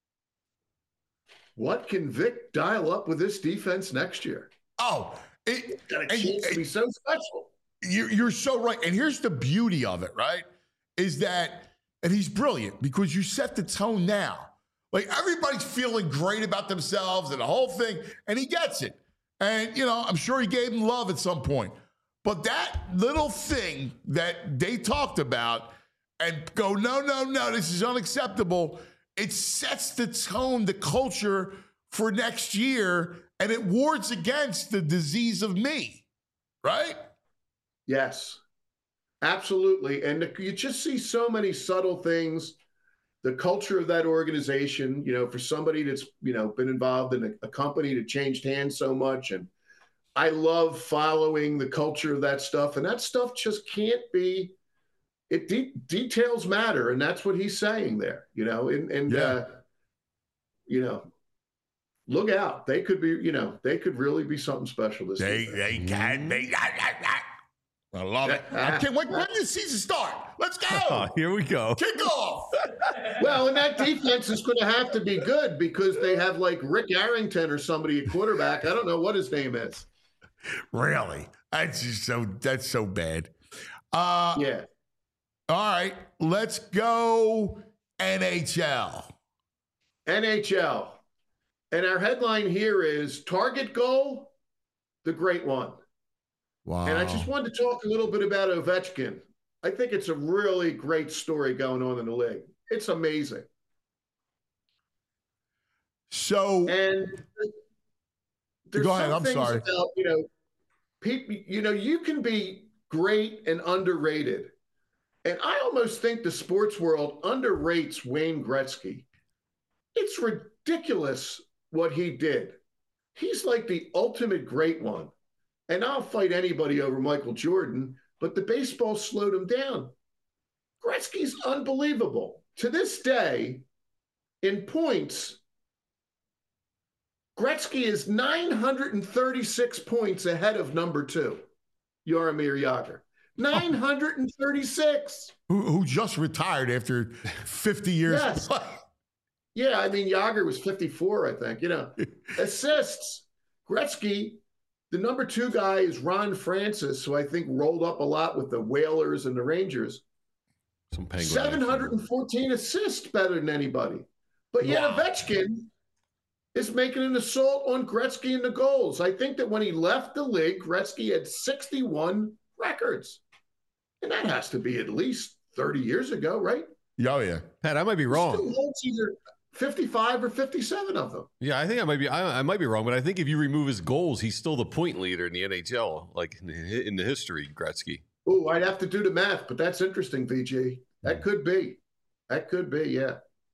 what can Vic dial up with this defense next year? Oh, it, Got a and- chance to be so special. You're, you're so right. And here's the beauty of it, right? Is that, and he's brilliant because you set the tone now. Like, everybody's feeling great about themselves and the whole thing, and he gets it. And, you know, I'm sure he gave him love at some point. But that little thing that they talked about and go, no, no, no, this is unacceptable, it sets the tone, the culture for next year, and it wards against the disease of me, right? Yes, absolutely. And you just see so many subtle things. The culture of that organization, you know, for somebody that's, you know, been involved in a, a company that changed hands so much. And I love following the culture of that stuff. And that stuff just can't be, it de- details matter. And that's what he's saying there, you know, and, and yeah. uh, you know, look out. They could be, you know, they could really be something special this They, season. they can be. I love it. I can't wait. When does the season start? Let's go. Oh, here we go. Kick off. Well, and that defense is going to have to be good because they have like Rick Arrington or somebody at quarterback. I don't know what his name is. Really? That's just so, that's so bad. Uh, yeah. All right. Let's go N H L. N H L. And our headline here is Target Goal, the great one. Wow. And I just wanted to talk a little bit about Ovechkin. I think it's a really great story going on in the league. It's amazing. So, and there's go ahead. some I'm things sorry. about, you know, people, you know, you can be great and underrated. And I almost think the sports world underrates Wayne Gretzky. It's ridiculous what he did. He's like the ultimate great one. And I'll fight anybody over Michael Jordan, but the baseball slowed him down. Gretzky's unbelievable. To this day, in points, Gretzky is nine hundred thirty-six points ahead of number two, Jaromir Jagr. nine hundred thirty-six. Who, who just retired after fifty years. Yes. Yeah, I mean, Jagr was fifty-four, I think. You know, assists. Gretzky, the number two guy is Ron Francis, who I think rolled up a lot with the Whalers and the Rangers. Some Penguin seven hundred fourteen assists, better than anybody. But yet Wow. Ovechkin is making an assault on Gretzky in the goals. I think that when he left the league, Gretzky had sixty-one records. And that has to be at least thirty years ago, right? Oh, yeah. Pat, I might be wrong. Still holds either fifty-five or fifty-seven of them. Yeah, I think I might be. I, I might be wrong, but I think if you remove his goals, he's still the point leader in the N H L, like in the, in the history. Gretzky. Oh, I'd have to do the math, but that's interesting, V G. That could be. That could be, yeah.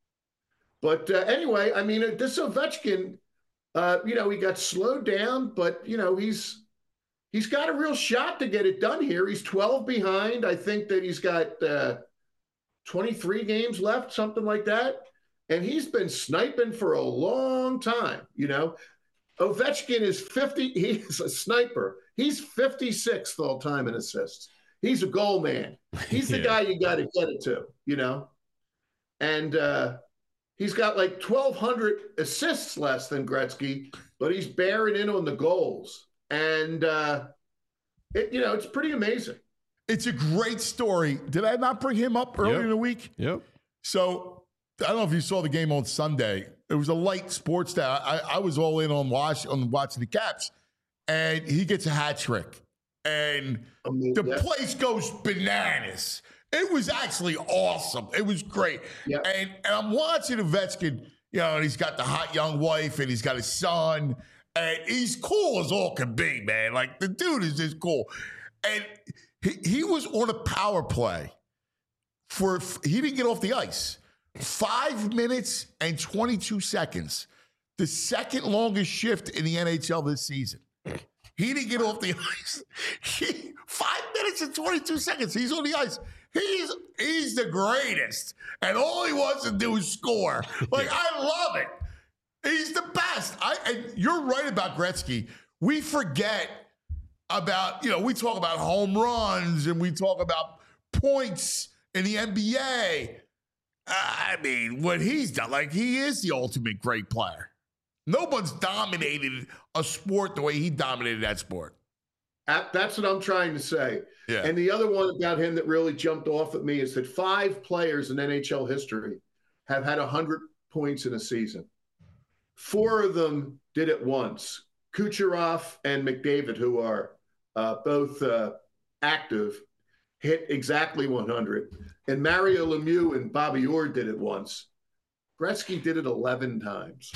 But uh, anyway, I mean, uh, this Ovechkin, uh, you know, he got slowed down, but you know, he's he's got a real shot to get it done here. He's twelve behind. I think that he's got uh, twenty-three games left, something like that. And he's been sniping for a long time, you know. Ovechkin is fifty. He's a sniper. He's fifty-sixth all time in assists. He's a goal man. He's the yeah. guy you got to get it to, you know. And uh, he's got like twelve hundred assists less than Gretzky, but he's bearing in on the goals. And, uh, it, you know, it's pretty amazing. It's a great story. Did I not bring him up earlier yep. in the week? Yep. So I don't know if you saw the game on Sunday. It was a light sports day. I, I was all in on watch on watching the Caps, and he gets a hat trick, and I mean, the yeah. place goes bananas. It was actually awesome. It was great. Yeah. And, and I'm watching Ovechkin, you know, and he's got the hot young wife, and he's got his son, and he's cool as all can be, man. Like, the dude is just cool. And he, he was on a power play for, he didn't get off the ice. Five minutes and twenty-two seconds. The second longest shift in the N H L this season. He didn't get off the ice. He, five minutes and twenty-two seconds. He's on the ice. He's he's the greatest. And all he wants to do is score. Like, I love it. He's the best. I and you're right about Gretzky. We forget about, you know, we talk about home runs and we talk about points in the N B A. I mean, what he's done, like, he is the ultimate great player. No one's dominated a sport the way he dominated that sport. That's what I'm trying to say. Yeah. And the other one about him that really jumped off at me is that five players in N H L history have had one hundred points in a season. Four of them did it once. Kucherov and McDavid, who are uh, both uh, active, hit exactly one hundred. And Mario Lemieux and Bobby Orr did it once. Gretzky did it eleven times.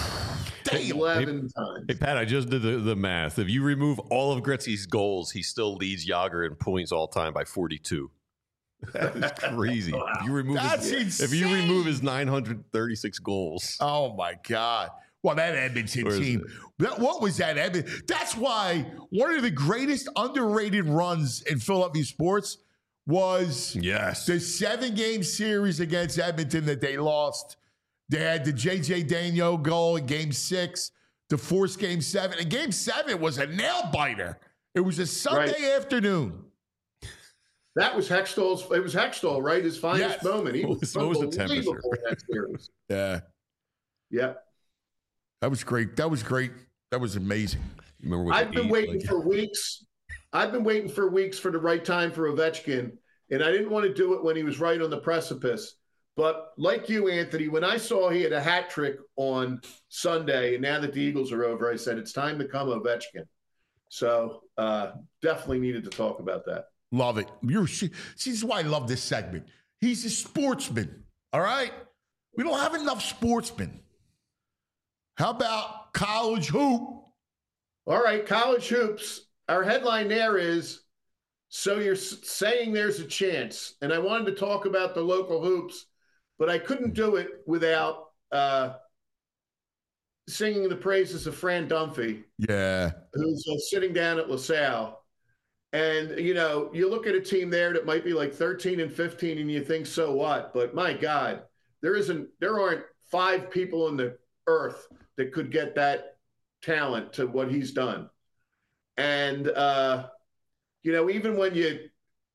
eleven hey, times. Hey, Pat, I just did the, the math. If you remove all of Gretzky's goals, he still leads Jágr in points all time by forty-two. That is crazy. Wow. If you remove That's his, insane. If you remove his nine hundred thirty-six goals. Oh, my God. Well, that Edmonton team, that, what was that Edmonton? That's why one of the greatest underrated runs in Philadelphia sports was yes. the seven-game series against Edmonton that they lost. They had the J J Daigneault goal in game six to force game seven. And game seven was a nail-biter. It was a Sunday right. afternoon. That was Hextall's. It was Hextall, right? His finest yes. moment. He was, what was the temperature? In that series. Yeah. Yeah. That was great. That was great. That was amazing. Remember I've been eight, waiting like... for weeks. I've been waiting for weeks for the right time for Ovechkin, and I didn't want to do it when he was right on the precipice. But like you, Anthony, when I saw he had a hat trick on Sunday, and now that the Eagles are over, I said it's time to come Ovechkin. So uh, definitely needed to talk about that. Love it. You're, see, this is why I love this segment. He's a sportsman, all right? We don't have enough sportsmen. How about college hoop? All right, college hoops. Our headline there is, so you're saying there's a chance. And I wanted to talk about the local hoops, but I couldn't do it without uh, singing the praises of Fran Dunphy. Yeah. Who's uh, sitting down at LaSalle. And, you know, you look at a team there that might be like thirteen and fifteen and you think, so what? But my God, there isn't, there aren't five people on the earth that could get that talent to what he's done. And, uh, you know, even when you,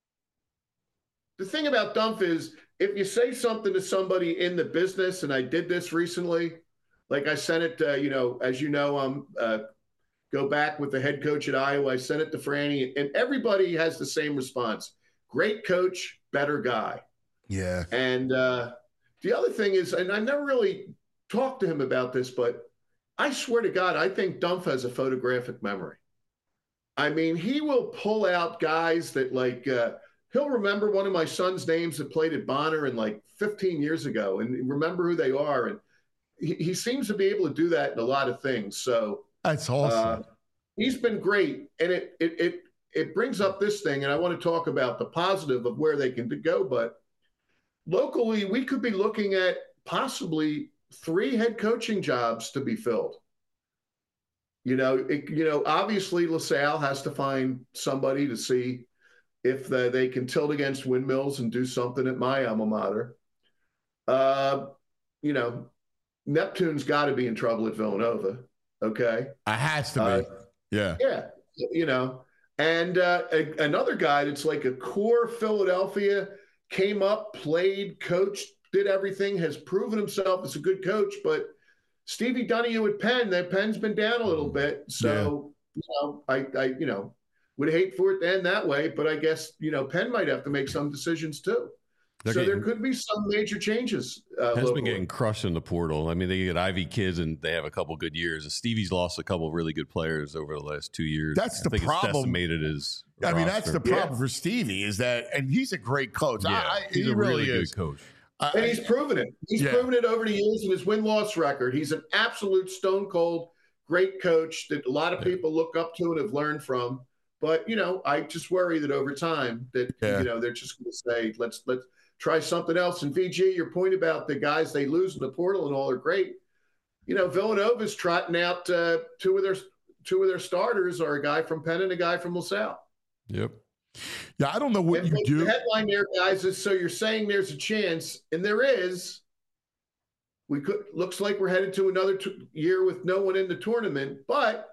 the thing about Dunphy is if you say something to somebody in the business, and I did this recently, like I sent it, uh, you know, as you know, I'm, uh, go back with the head coach at Iowa. I sent it to Franny, and everybody has the same response. Great coach, better guy. Yeah. And uh, the other thing is, and I never really talked to him about this, but I swear to God, I think Dunphy has a photographic memory. I mean, he will pull out guys that like, uh, he'll remember one of my son's names that played at Bonner in like fifteen years ago and remember who they are. And he, he seems to be able to do that in a lot of things. So, that's awesome. Uh, he's been great, and it it it it brings up this thing, and I want to talk about the positive of where they can go. But locally, we could be looking at possibly three head coaching jobs to be filled. You know, it, you know, obviously LaSalle has to find somebody to see if the, they can tilt against windmills and do something at my alma mater. Uh, you know, Neptune's got to be in trouble at Villanova. Okay. It has to be. Uh, yeah. Yeah. You know, and uh, a, another guy that's like a core Philadelphia, came up, played, coached, did everything, has proven himself as a good coach. But Stevie Donahue at Penn, that Penn's been down a little bit. So, yeah. you know, I, I, you know, would hate for it to end that way. But I guess, you know, Penn might have to make some decisions too. They're so getting, there could be some major changes. Uh, has been getting crushed in the portal. I mean, they get Ivy kids and they have a couple good years. And Stevie's lost a couple of really good players over the last two years. That's I the think problem. It's decimated his I roster. mean, that's the problem yeah. for Stevie is that, and he's a great coach. Yeah, I, he's he a really really is. good coach. Uh, and he's proven it. He's yeah. proven it over the years in his win-loss record. He's an absolute stone-cold, great coach that a lot of people look up to and have learned from. But, you know, I just worry that over time that, yeah. you know, they're just going to say, let's let's try something else. And V G, your point about the guys they lose in the portal and all are great. You know, Villanova's trotting out uh, two of their two of their starters are a guy from Penn and a guy from LaSalle. Yep. Yeah, I don't know what and you do. The headline there, guys, is so you're saying there's a chance, and there is. We could looks like we're headed to another t- year with no one in the tournament, but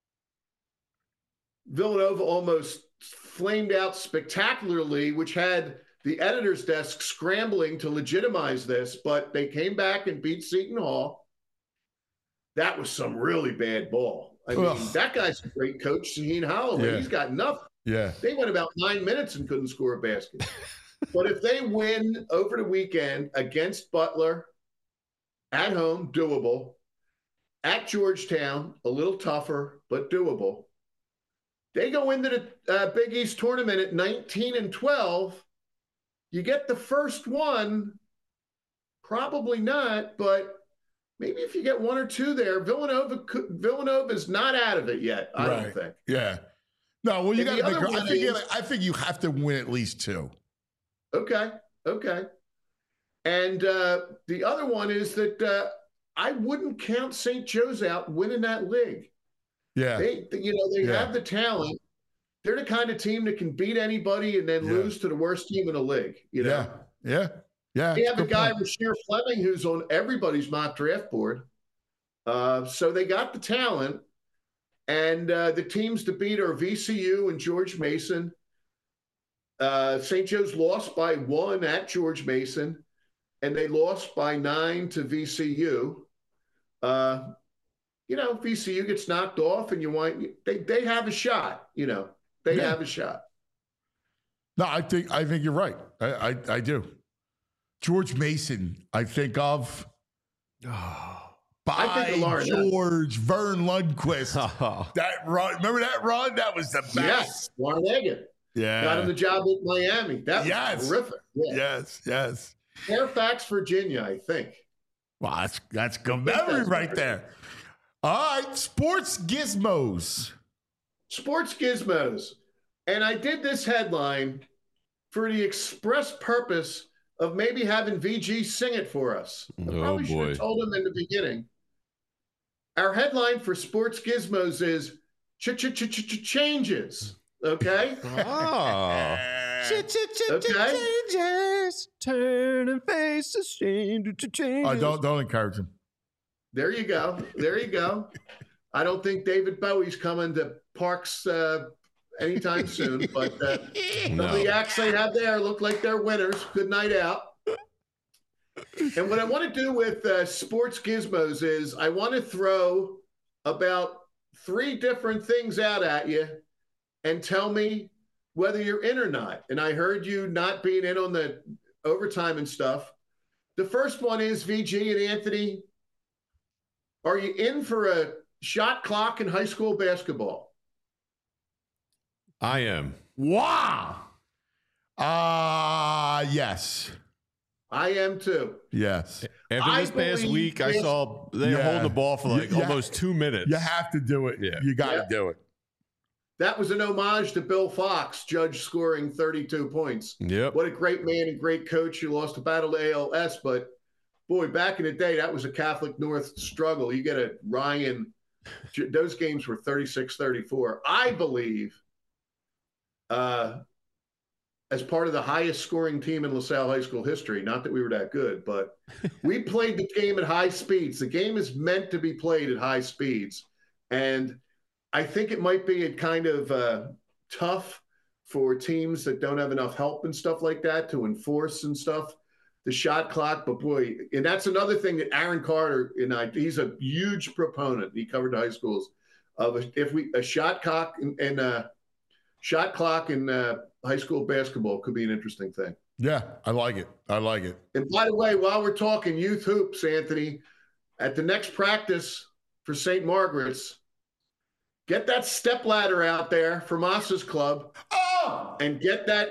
Villanova almost flamed out spectacularly, which had the editor's desk scrambling to legitimize this, but they came back and beat Seton Hall. That was some really bad ball. I mean, Ugh. that guy's a great coach, Shaheen Holloway. Yeah. He's got nothing. Yeah. They went about nine minutes and couldn't score a basket. But if they win over the weekend against Butler At home, doable. At Georgetown, a little tougher, but doable. They go into the uh, Big East tournament at nineteen and twelve. You get the first one, probably not, but maybe if you get one or two there, Villanova Villanova is not out of it yet, I right. don't think. Yeah. No, well, you got to make. I think, is, I think you have to win at least two. Okay. Okay. And uh, the other one is that uh, I wouldn't count Saint Joe's out winning that league. Yeah. They, you know, they yeah. have the talent. They're the kind of team that can beat anybody and then yeah. lose to the worst team in the league. You know? Yeah. Yeah. Yeah. They have a guy, Rasheer Fleming, who's on everybody's mock draft board. Uh, so they got the talent. And uh, the teams to beat are V C U and George Mason. Uh, Saint Joe's lost by one at George Mason, and they lost by nine to V C U. Uh, you know, V C U gets knocked off, and you want they they have a shot. You know, they yeah. have a shot. No, I think I think you're right. I I, I do. George Mason, I think of. Oh. By I think George Vern Lundquist. Oh. That run, remember that run? That was the best. Yes, Larnagin. Yeah. Got him the job at Miami. That was yes. terrific. Yeah. Yes, yes. Fairfax, Virginia, I think. Well, that's, that's good memory right right there. All right, sports gizmos. Sports gizmos. And I did this headline for the express purpose of maybe having V G sing it for us. I oh, probably boy. should have told him in the beginning. Our headline for sports gizmos is ch-ch-ch-ch-changes. Okay? Oh. Changes. Turn and face the changes. Oh, don't, don't encourage him. There you go. There you go. I don't think David Bowie's coming to Parks uh, anytime soon, but uh, no. some of the acts they have there look like they're winners. Good night out. And what I want to do with uh, sports gizmos is I want to throw about three different things out at you and tell me whether you're in or not. And I heard you not being in on the overtime and stuff. The first one is, V G and Anthony, are you in for a shot clock in high school basketball? I am. Wow. Uh, yes. I am too. Yes. After I this past week, I saw they Yeah. hold the ball for like You- you almost ha- two minutes. You have to do it. Yeah. You got to Yeah. do it. That was an homage to Bill Fox, judge scoring thirty-two points. Yep. What a great man and great coach. He lost the battle to A L S, but boy, back in the day, that was a Catholic North struggle. You get a Ryan, those games were thirty-six thirty-four. I believe uh, as part of the highest scoring team in LaSalle High School history, not that we were that good, but we played the game at high speeds. The game is meant to be played at high speeds. And I think it might be a kind of uh, tough for teams that don't have enough help and stuff like that to enforce and stuff, the shot clock. But boy, and that's another thing that Aaron Carter and I, he's a huge proponent. He covered high schools of if we a shot clock and, and uh, shot clock in uh, high school basketball could be an interesting thing. Yeah, I like it. I like it. And by the way, while we're talking youth hoops, Anthony, at the next practice for Saint Margaret's, get that step ladder out there for Moss's club. Oh! And get that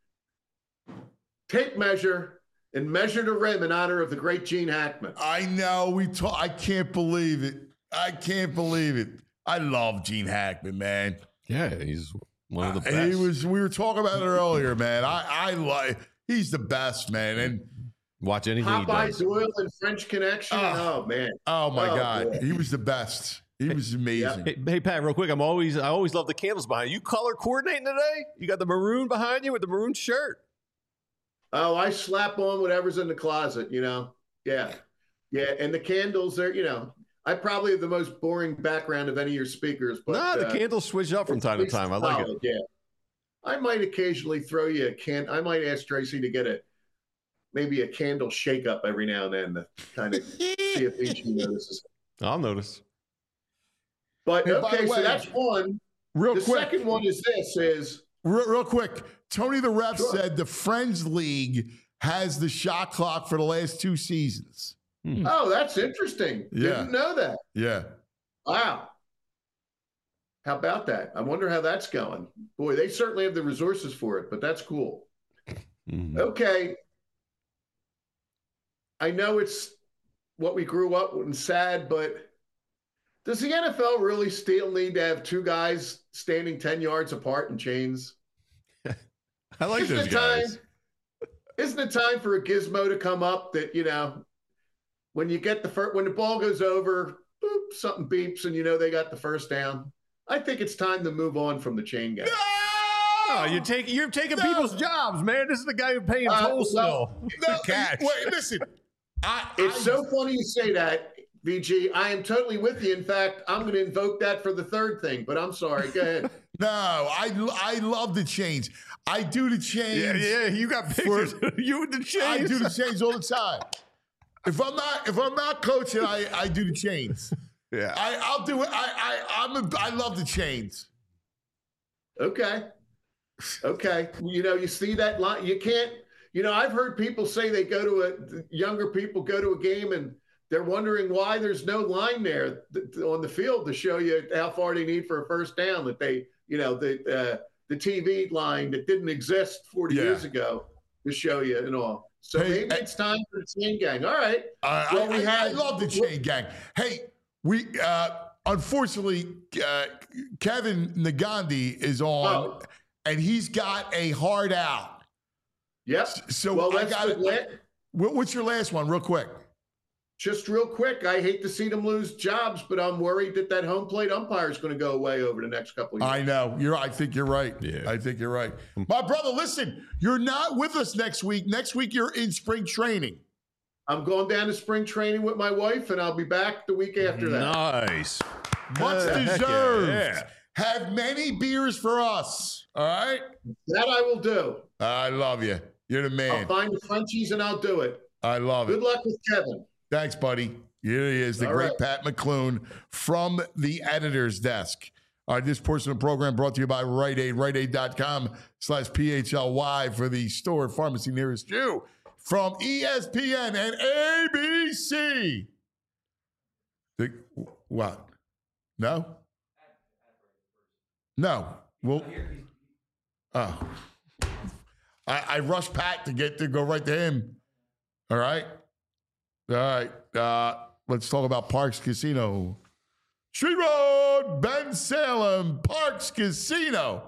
tape measure and measure the rim in honor of the great Gene Hackman. I know. We talk. I can't believe it. I can't believe it. I love Gene Hackman, man. Yeah, he's one of the best. Uh, he was. We were talking about it earlier, man. I, I like. He's the best, man. And watch anything he Popeye does. Doyle and French Connection. Oh, oh man. Oh my Oh, God, boy. he was the best. He was amazing. Hey, hey, Pat, real quick, I'm always I always love the candles behind you. You color coordinating today? You got the maroon behind you with the maroon shirt. Oh, I slap on whatever's in the closet, you know? Yeah. Yeah. And the candles are, you know, I probably have the most boring background of any of your speakers. But Nah, the uh, candles switch up from time to time. I like solid, it. Yeah. I might occasionally throw you a can. I might ask Tracy to get a maybe a candle shake up every now and then to kind of see if each notices. I'll notice. But Hey, by okay, the so way, that's one. Real the quick. second one is this: is Real, real quick, Tony the Ref Sure. said the Friends League has the shot clock for the last two seasons. Hmm. Oh, that's interesting. Yeah. Didn't know that. Yeah. Wow. How about that? I wonder how that's going. Boy, they certainly have the resources for it, but that's cool. Mm-hmm. Okay. I know it's what we grew up with and sad, but does the N F L really still need to have two guys standing ten yards apart in chains? I like isn't those it guys. Time, isn't it time for a gizmo to come up that, you know, when you get the first, when the ball goes over, boop, something beeps and you know they got the first down? I think it's time to move on from the chain gang. Oh, you're taking you're taking no. people's jobs, man. This is the guy who paying uh, tolls no, still. No, cash. Wait, listen. I, it's I, so funny you say that, V G. I am totally with you. In fact, I'm going to invoke that for the third thing, but I'm sorry. Go ahead. No, I I love the chains. I do the chains. Yeah, yeah. You got pictures. For, you with the chains. I do the chains all the time. If I'm not if I'm not coaching, I, I do the chains. Yeah, I, I'll do it. I I I'm a, I love the chains. Okay, okay. You know, you see that line. You can't. You know, I've heard people say they go to a younger people go to a game and they're wondering why there's no line there on the field to show you how far they need for a first down. That they, you know, the uh, the T V line that didn't exist forty yeah. years ago to show you and all. So hey, maybe I, it's time for the chain gang. All right. Uh, well, I, we I, had, I love the chain gang. Hey. We uh, unfortunately, uh, Kevin Nagandi is on, oh. and he's got a hard out. Yep. So well, I got it. What's your last one, real quick? Just real quick. I hate to see them lose jobs, but I'm worried that that home plate umpire is going to go away over the next couple of years. I know. You're. I think you're right. Yeah. I think you're right. My brother, listen. You're not with us next week. Next week you're in spring training. I'm going down to spring training with my wife, and I'll be back the week after that. Nice. Much deserved. Yeah. Have many beers for us. All right? That I will do. I love you. You're the man. I'll find the Frenchies, and I'll do it. I love Good it. Good luck with Kevin. Thanks, buddy. Here he is, the All great right. Pat McClune from the editor's desk. All right, this portion of the program brought to you by Rite Aid, rite aid dot com slash P H L Y for the store pharmacy nearest you. From E S P N and A B C. The, what? No? No. Well, oh. I, I rushed Pat to get to go right to him. All right? All right. Uh, let's talk about Parks Casino. Street Road, Ben Salem, Parks Casino.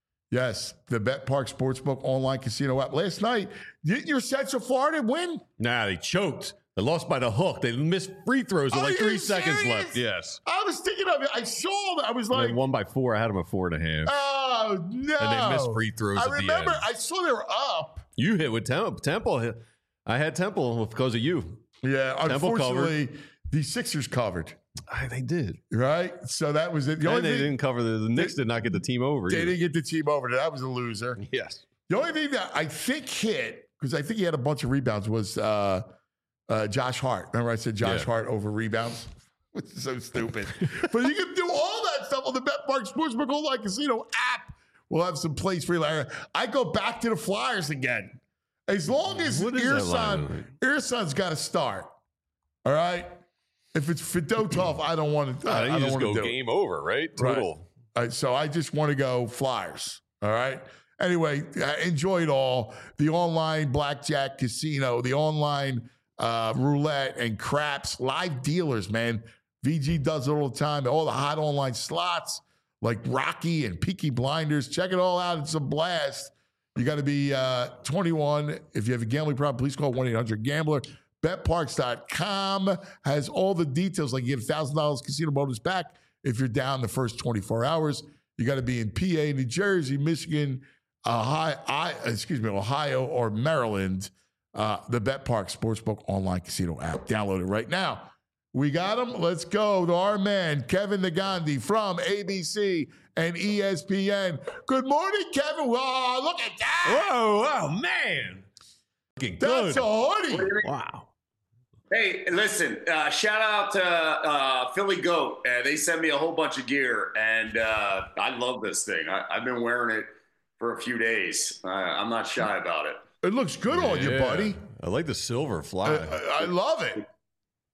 Yes, the Bet Park Sportsbook online casino app. Last night, didn't your Central Florida win? Nah, they choked. They lost by the hook. They missed free throws with Are like three you seconds serious? left. Yes. I was thinking of it. I saw that. I was like, they won by four. I had them at four and a half. Oh, no. And they missed free throws I at remember, the end. I saw they were up. You hit with Temple. Temple hit. I had Temple because of you. Yeah, Temple unfortunately, covered. the Sixers covered. They did. Right? So that was it. The and only they thing, didn't cover the, the Knicks did not get the team over. They either. didn't get the team over. That was a loser. Yes. The only thing that I think hit, because I think he had a bunch of rebounds, was uh, uh, Josh Hart. Remember I said Josh yeah. Hart over rebounds? Which is so stupid. But you can do all that stuff on the Bet Park Sportsbook Online Casino app. We'll have some plays for you later. I go back to the Flyers again. As long as Earson, Earson's got to start. All right? If it's Fedotov, I don't want to. I, I don't just want go to do game it. over, right? Total. Right. All right, so I just want to go Flyers. All right. Anyway, enjoy it all. The online blackjack casino, the online uh, roulette and craps, live dealers, man. V G does it all the time. All the hot online slots like Rocky and Peaky Blinders. Check it all out. It's a blast. You got to be uh, twenty-one. If you have a gambling problem, please call one eight hundred gambler. bet parks dot com has all the details. Like you get one thousand dollars casino bonus back if you're down the first twenty-four hours. You got to be in P A, New Jersey, Michigan, Ohio, I, excuse me, Ohio or Maryland. Uh, the Bet Park Sportsbook Online Casino app. Download it right now. We got him. Let's go to our man, Kevin Nagandi from A B C and E S P N. Good morning, Kevin. Oh, look at that. Whoa, wow, man. Looking That's good. a hoodie. Wow. Hey, listen, uh, shout out to uh, Philly Goat. Uh, they sent me a whole bunch of gear, and uh, I love this thing. I, I've been wearing it for a few days. Uh, I'm not shy about it. It looks good yeah. on you, buddy. I like the silver fly. I, I love it.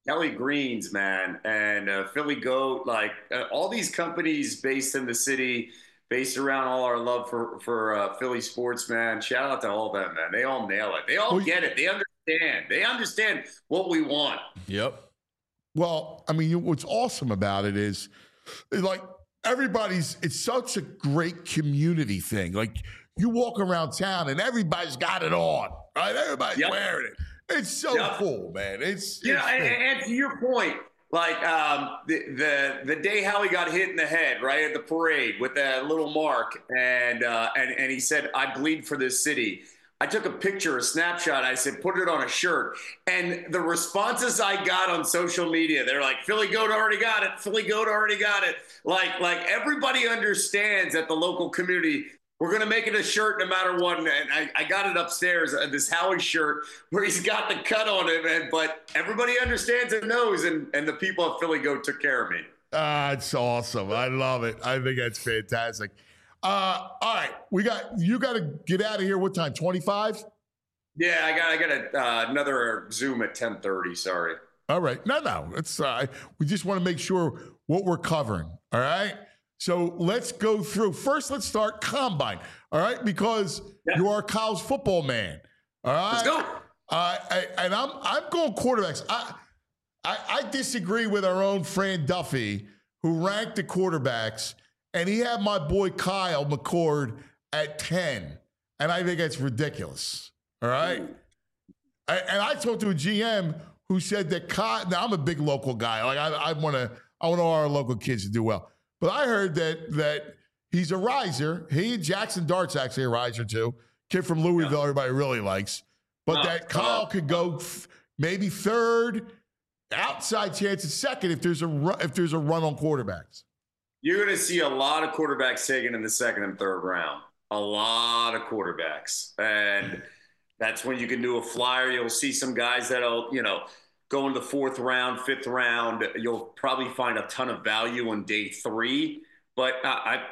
Kelly Greens, man, and uh, Philly Goat, like uh, all these companies based in the city, based around all our love for for uh, Philly sports, man. Shout out to all of them, man. They all nail it. They all Well, get it. They understand. They understand what we want. Yep. Well, I mean, what's awesome about it is, like, everybody's, it's such a great community thing. Like, you walk around town and everybody's got it on, right? Everybody's Yep. wearing it. It's so Yep. cool, man. It's, You know, it's and, big. and to your point, like um, the, the the day Howie got hit in the head, right at the parade with that little mark, and uh, and and he said, "I bleed for this city." I took a picture, a snapshot. I said, "Put it on a shirt." And the responses I got on social media, they're like, "Philly Goat already got it. Philly Goat already got it." Like like everybody understands at the local community. We're going to make it a shirt no matter what. And I, I got it upstairs, uh, this Howie shirt where he's got the cut on it. And, but everybody understands and knows. And, and the people at Philly Goat took care of me. Ah, it's awesome. I love it. I think that's fantastic. Uh, all right. We got, you got to get out of here. What time? twenty-five? Yeah, I got I got a, uh, another Zoom at ten thirty. Sorry. All right. No, no. It's, uh, we just want to make sure what we're covering. All right. So let's go through. First, let's start Combine, all right? Because yeah. you are Kyle's football man, all right? Let's go. Uh, I, and I'm I'm going quarterbacks. I, I I disagree with our own Fran Duffy, who ranked the quarterbacks, and he had my boy Kyle McCord at ten, and I think that's ridiculous, all right? I, and I talked to a G M who said that Kyle. Now I'm a big local guy. Like I, I want to I want all our local kids to do well. But I heard that that he's a riser. He and Jackson Dart's actually a riser too. Kid from Louisville, yeah. everybody really likes. But oh, that Kyle oh. could go f- maybe third, outside chance at second if there's a run, if there's a run on quarterbacks. You're going to see a lot of quarterbacks taken in the second and third round. A lot of quarterbacks, and that's when you can do a flyer. You'll see some guys that'll you know. go into the fourth round, fifth round, you'll probably find a ton of value on day three. But uh, I,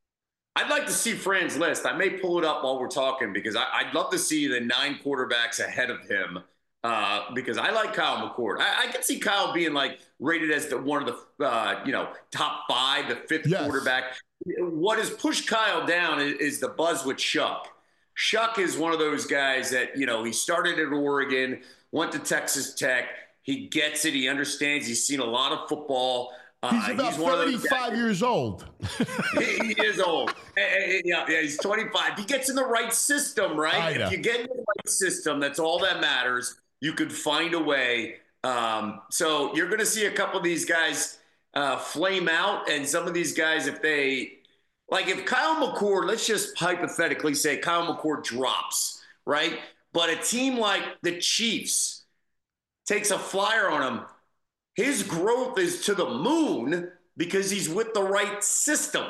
I'd like to see Fran's list. I may pull it up while we're talking because I, I'd love to see the nine quarterbacks ahead of him uh, because I like Kyle McCord. I, I can see Kyle being like rated as the one of the uh, you know top five, the fifth yes. quarterback. What has pushed Kyle down is, is the buzz with Shuck. Shuck is one of those guys that you know he started at Oregon, went to Texas Tech. He gets it. He understands. He's seen a lot of football. Uh, he's about he's thirty-five years old. he, he is old. yeah, yeah, he's twenty-five. He gets in the right system, right? If you get in the right system, that's all that matters. You could find a way. Um, so you're going to see a couple of these guys uh, flame out. And some of these guys, if they – like if Kyle McCord, let's just hypothetically say Kyle McCord drops, right? But a team like the Chiefs – takes a flyer on him, his growth is to the moon because he's with the right system.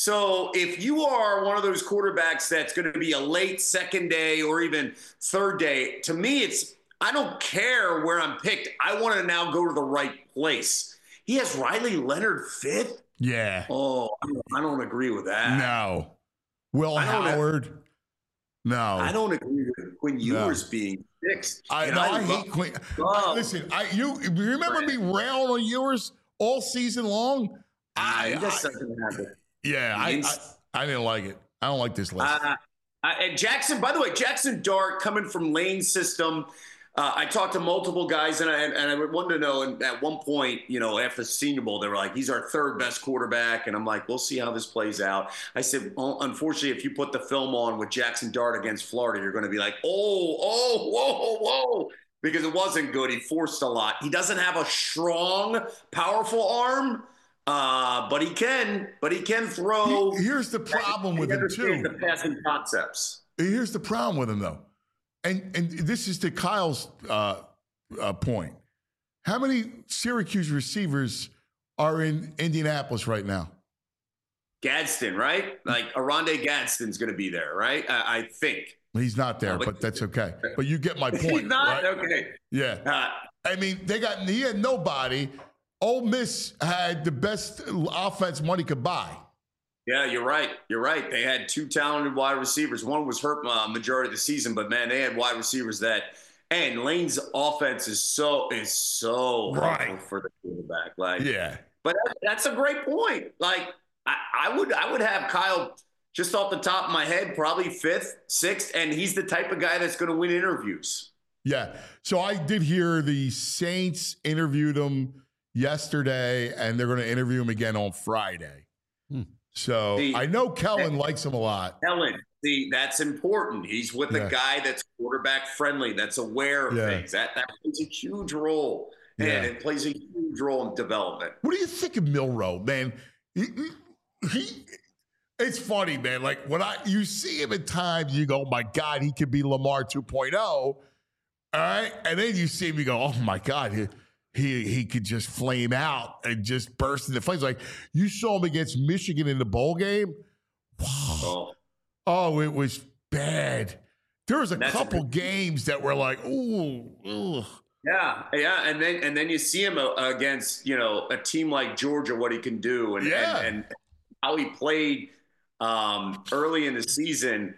So if you are one of those quarterbacks that's going to be a late second day or even third day, to me, it's I don't care where I'm picked. I want to now go to the right place. He has Riley Leonard fifth? Yeah. Oh, I don't agree with that. No. Will Howard? No. I don't agree with Quinn Ewers no. being sixth. I, no, I, I hate Quinn. I, listen, I you remember me railing on Ewers all season long? I, just doesn't have it. Yeah, I, I I didn't like it. I don't like this list. Uh, uh, and Jackson, by the way, Jackson Dart coming from Lane system. Uh, I talked to multiple guys, and I and I wanted to know. And at one point, you know, after the Senior Bowl, they were like, "He's our third best quarterback," and I'm like, "We'll see how this plays out." I said, well, "Unfortunately, if you put the film on with Jackson Dart against Florida, you're going to be like, oh, oh, whoa, whoa," because it wasn't good. He forced a lot. He doesn't have a strong, powerful arm, uh, but he can. But he can throw. Here's the problem with him too. The passing concepts. Here's the problem with him though. And and this is to Kyle's uh, uh, point. How many Syracuse receivers are in Indianapolis right now? Gadsden, right? Like Aronde Gadsden's going to be there, right? I, I think. He's not there, no, but, but that's okay. But you get my point. He's not? Right? Okay. Yeah. Uh, I mean, they got he had nobody. Ole Miss had the best offense money could buy. Yeah, you're right. You're right. They had two talented wide receivers. One was hurt uh, majority of the season, but man, they had wide receivers that And Lane's offense is so is so Right. helpful for the quarterback. Like, Yeah. but that, that's a great point. Like, I, I would I would have Kyle just off the top of my head, probably fifth, sixth, and he's the type of guy that's going to win interviews. Yeah. So I did hear the Saints interviewed him yesterday, and they're going to interview him again on Friday. Hmm. So See, I know Kellen likes him a lot. Kellen, see, that's important. He's with Yeah. a guy that's quarterback friendly, that's aware of Yeah. things. That that plays a huge role, and Yeah. it plays a huge role in development. What do you think of Milroe, man? He, he, it's funny, man. Like when I you see him at times, you go, "Oh my God, he could be Lamar two point oh." All right, and then you see him, you go, "Oh my God, he he, he could just flame out and just burst into flames." Like you saw him against Michigan in the bowl game. Wow. Oh, Oh, it was bad. There was a That's a couple good- games that were like, ooh, ugh. yeah, yeah, and then and then you see him uh, against you know a team like Georgia, what he can do, and Yeah. and, and how he played um, early in the season.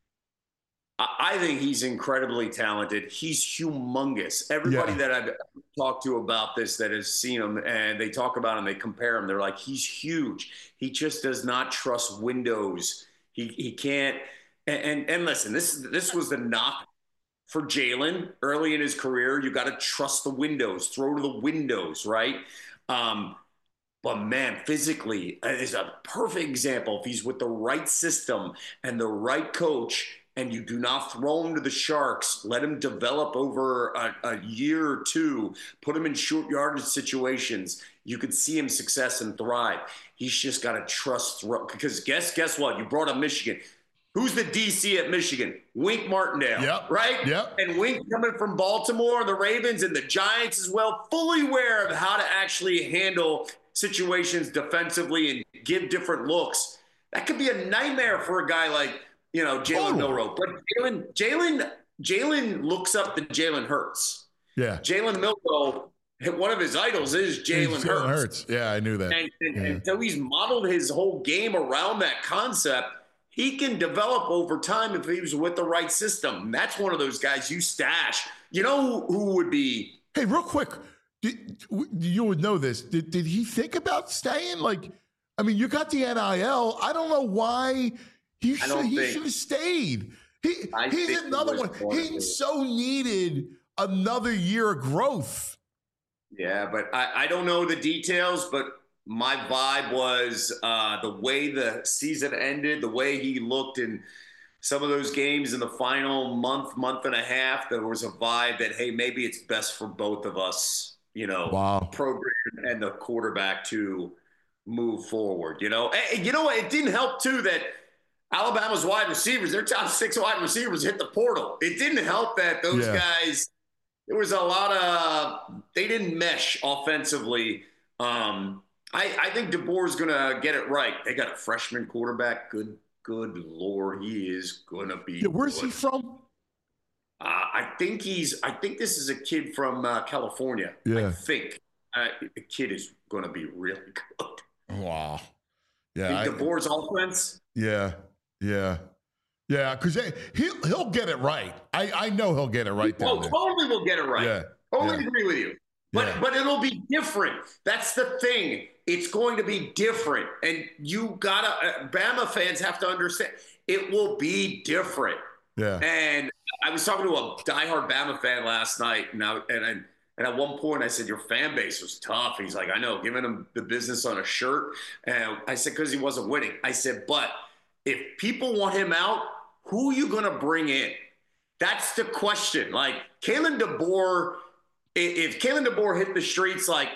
I, I think he's incredibly talented. He's humongous. Everybody Yeah. that I've talked to about this that has seen him and they talk about him, they compare him. They're like, he's huge. He just does not trust windows. He he can't. And and, and listen, this this was the knock for Jalen early in his career. You got to trust the windows, throw to the windows, right? Um, but man, physically is a perfect example. If he's with the right system and the right coach, and you do not throw him to the Sharks, let him develop over a, a year or two, put him in short yardage situations, you could see him success and thrive. He's just got to trust throw. Because guess guess what? You brought up Michigan. Who's the D C at Michigan? Wink Martindale, Yep. right? Yep. And Wink coming from Baltimore, the Ravens, and the Giants as well, fully aware of how to actually handle situations defensively and give different looks. That could be a nightmare for a guy like, you know, Jalen Totally. Milroe. But Jalen, Jalen, Jalen looks up to Jalen Hurts. Yeah. Jalen Milroe, one of his idols is Jalen Jalen Hurts. Hurts. Yeah, I knew that. And, and, Yeah. and so he's modeled his whole game around that concept. He can develop over time if he was with the right system. That's one of those guys you stash. You know who, who would be? Hey, real quick, did, you would know this. Did, did he think about staying? Like, I mean, you got the N I L. I don't know why he I should, don't he think- should have stayed. He, I think he's he another was one. going He to. so needed another year of growth. Yeah, but I, I don't know the details, but my vibe was uh, the way the season ended, the way he looked in some of those games in the final month, month and a half, there was a vibe that, hey, maybe it's best for both of us, you know, Wow. program and the quarterback to move forward, you know. And you know what? It didn't help, too, that Alabama's wide receivers, their top six wide receivers hit the portal. It didn't help that those Yeah. guys, there was a lot of, they didn't mesh offensively. Um, I, I think DeBoer is going to get it right. They got a freshman quarterback. Good, good Lord. He is going to be Yeah, where's good. he from? Uh, I think he's, I think this is a kid from uh, California. Yeah. I think uh, the kid is going to be really good. Wow. Yeah. In I- DeBoer's offense, Yeah, yeah, yeah. Because he'll he'll get it right. I I know he'll get it right down oh, there. totally will get it right. Yeah, Totally yeah. agree with you. But Yeah. but it'll be different. That's the thing. It's going to be different, and you gotta. Uh, Bama fans have to understand. It will be different. Yeah. And I was talking to a diehard Bama fan last night, and I, and I, and at one point I said, "Your fan base was tough." He's like, "I know," giving him the business on a shirt. And I said, "Because he wasn't winning." I said, "But if people want him out, who are you going to bring in?" That's the question. Like Kalen DeBoer, i- if Kalen DeBoer hit the streets, like,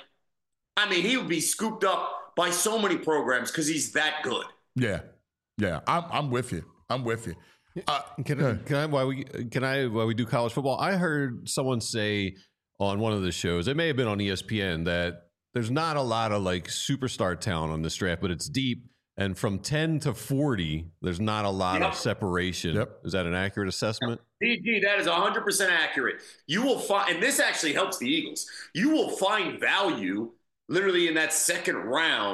I mean, he would be scooped up by so many programs because he's that good. Yeah, yeah. I'm I'm with you. I'm with you. Uh, Can I, can I while we can I while we do college football? I heard someone say on one of the shows, it may have been on E S P N, that there's not a lot of like superstar talent on this draft, but it's deep. And from ten to forty, there's not a lot Yep. of separation. Yep. Is that an accurate assessment? D G, that is one hundred percent accurate. You will find, and this actually helps the Eagles, you will find value literally in that second round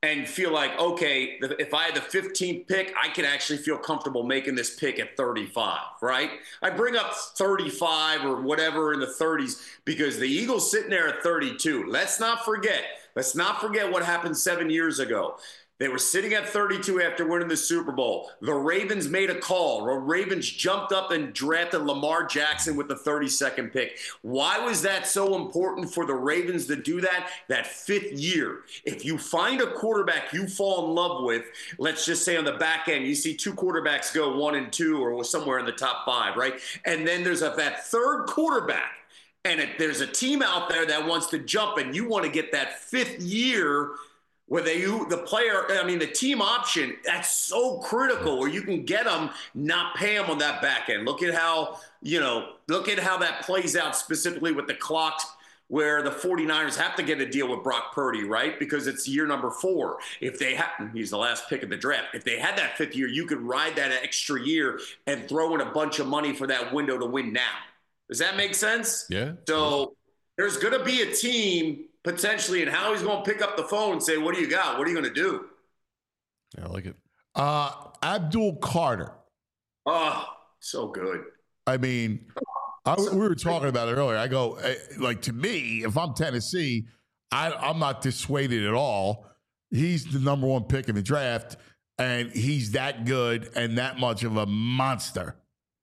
and feel like, okay, if I had the fifteenth pick, I can actually feel comfortable making this pick at thirty-five, right? I bring up thirty-five or whatever in the thirties because the Eagles sitting there at thirty-two. Let's not forget, let's not forget what happened seven years ago. They were sitting at thirty-two after winning the Super Bowl. The Ravens made a call. The Ravens jumped up and drafted Lamar Jackson with the thirty-second pick. Why was that so important for the Ravens to do that? That fifth year. If you find a quarterback you fall in love with, let's just say on the back end, you see two quarterbacks go one and two or somewhere in the top five, right? And then there's a, that third quarterback. And if there's a team out there that wants to jump and you want to get that fifth year where they, you, the player, I mean, the team option, that's so critical where you can get them, not pay them on that back end. Look at how, you know, look at how that plays out specifically with the clocks where the 49ers have to get a deal with Brock Purdy, right? Because it's year number four. If they had, he's the last pick of the draft. If they had that fifth year, you could ride that extra year and throw in a bunch of money for that window to win now. Does that make sense? Yeah. So there's going to be a team potentially, and how he's going to pick up the phone and say, what do you got? What are you going to do? Yeah, I like it. Uh, Abdul Carter. Oh, so good. I mean, I, we were talking about it earlier. I go, like, to me, if I'm Tennessee, I, I'm not dissuaded at all. He's the number one pick in the draft, and he's that good and that much of a monster.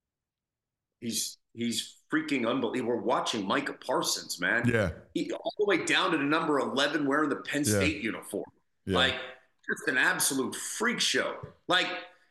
He's he's freaking unbelievable. We're watching Micah Parsons, man. Yeah. He, all the way down to the number eleven wearing the Penn Yeah. State uniform. Yeah. Like, just an absolute freak show. Like,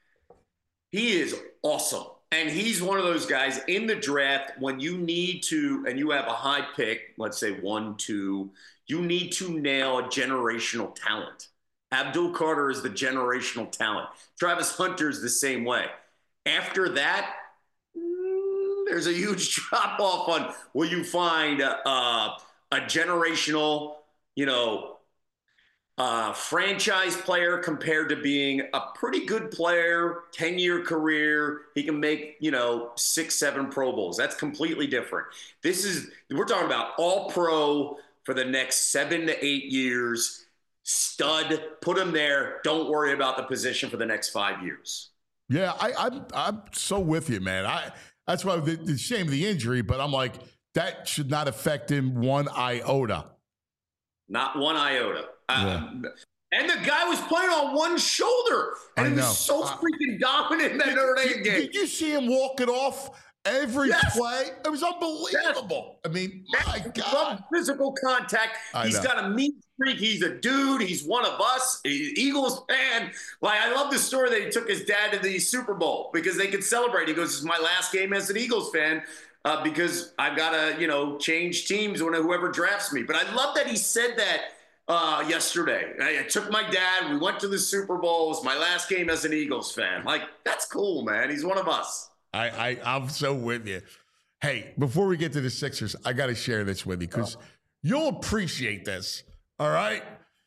he is awesome. And he's one of those guys in the draft when you need to, and you have a high pick, let's say one, two, you need to nail a generational talent. Abdul Carter is the generational talent. Travis Hunter is the same way. After that, there's a huge drop off on will you find a, a, a generational, you know, uh, franchise player compared to being a pretty good player, ten-year career. He can make, you know, six, seven Pro Bowls. That's completely different. This is, we're talking about all pro for the next seven to eight years. Stud, put him there. Don't worry about the position for the next five years. Yeah, I, I'm I'm so with you, man. I that's why the, the shame of the injury, but I'm like, that should not affect him one iota. Not one iota. Yeah. Um, and the guy was playing on one shoulder, and I he was know. so Uh, freaking dominant in that Notre Dame game. Did you see him walk it off every Yes. play? It was unbelievable. I mean, my God. Physical contact. I He's know. got a mean streak. He's a dude. He's one of us. He's an Eagles fan. Like, I love the story that he took his dad to the Super Bowl because they could celebrate. He goes, "This is my last game as an Eagles fan uh, because I've got to, you know, change teams when whoever drafts me." But I love that he said that uh, yesterday. I, I took my dad. We went to the Super Bowl. It was my last game as an Eagles fan. Like, that's cool, man. He's one of us. I, I, I'm so with you. Hey, before we get to the Sixers, I got to share this with you because you'll appreciate this. All right.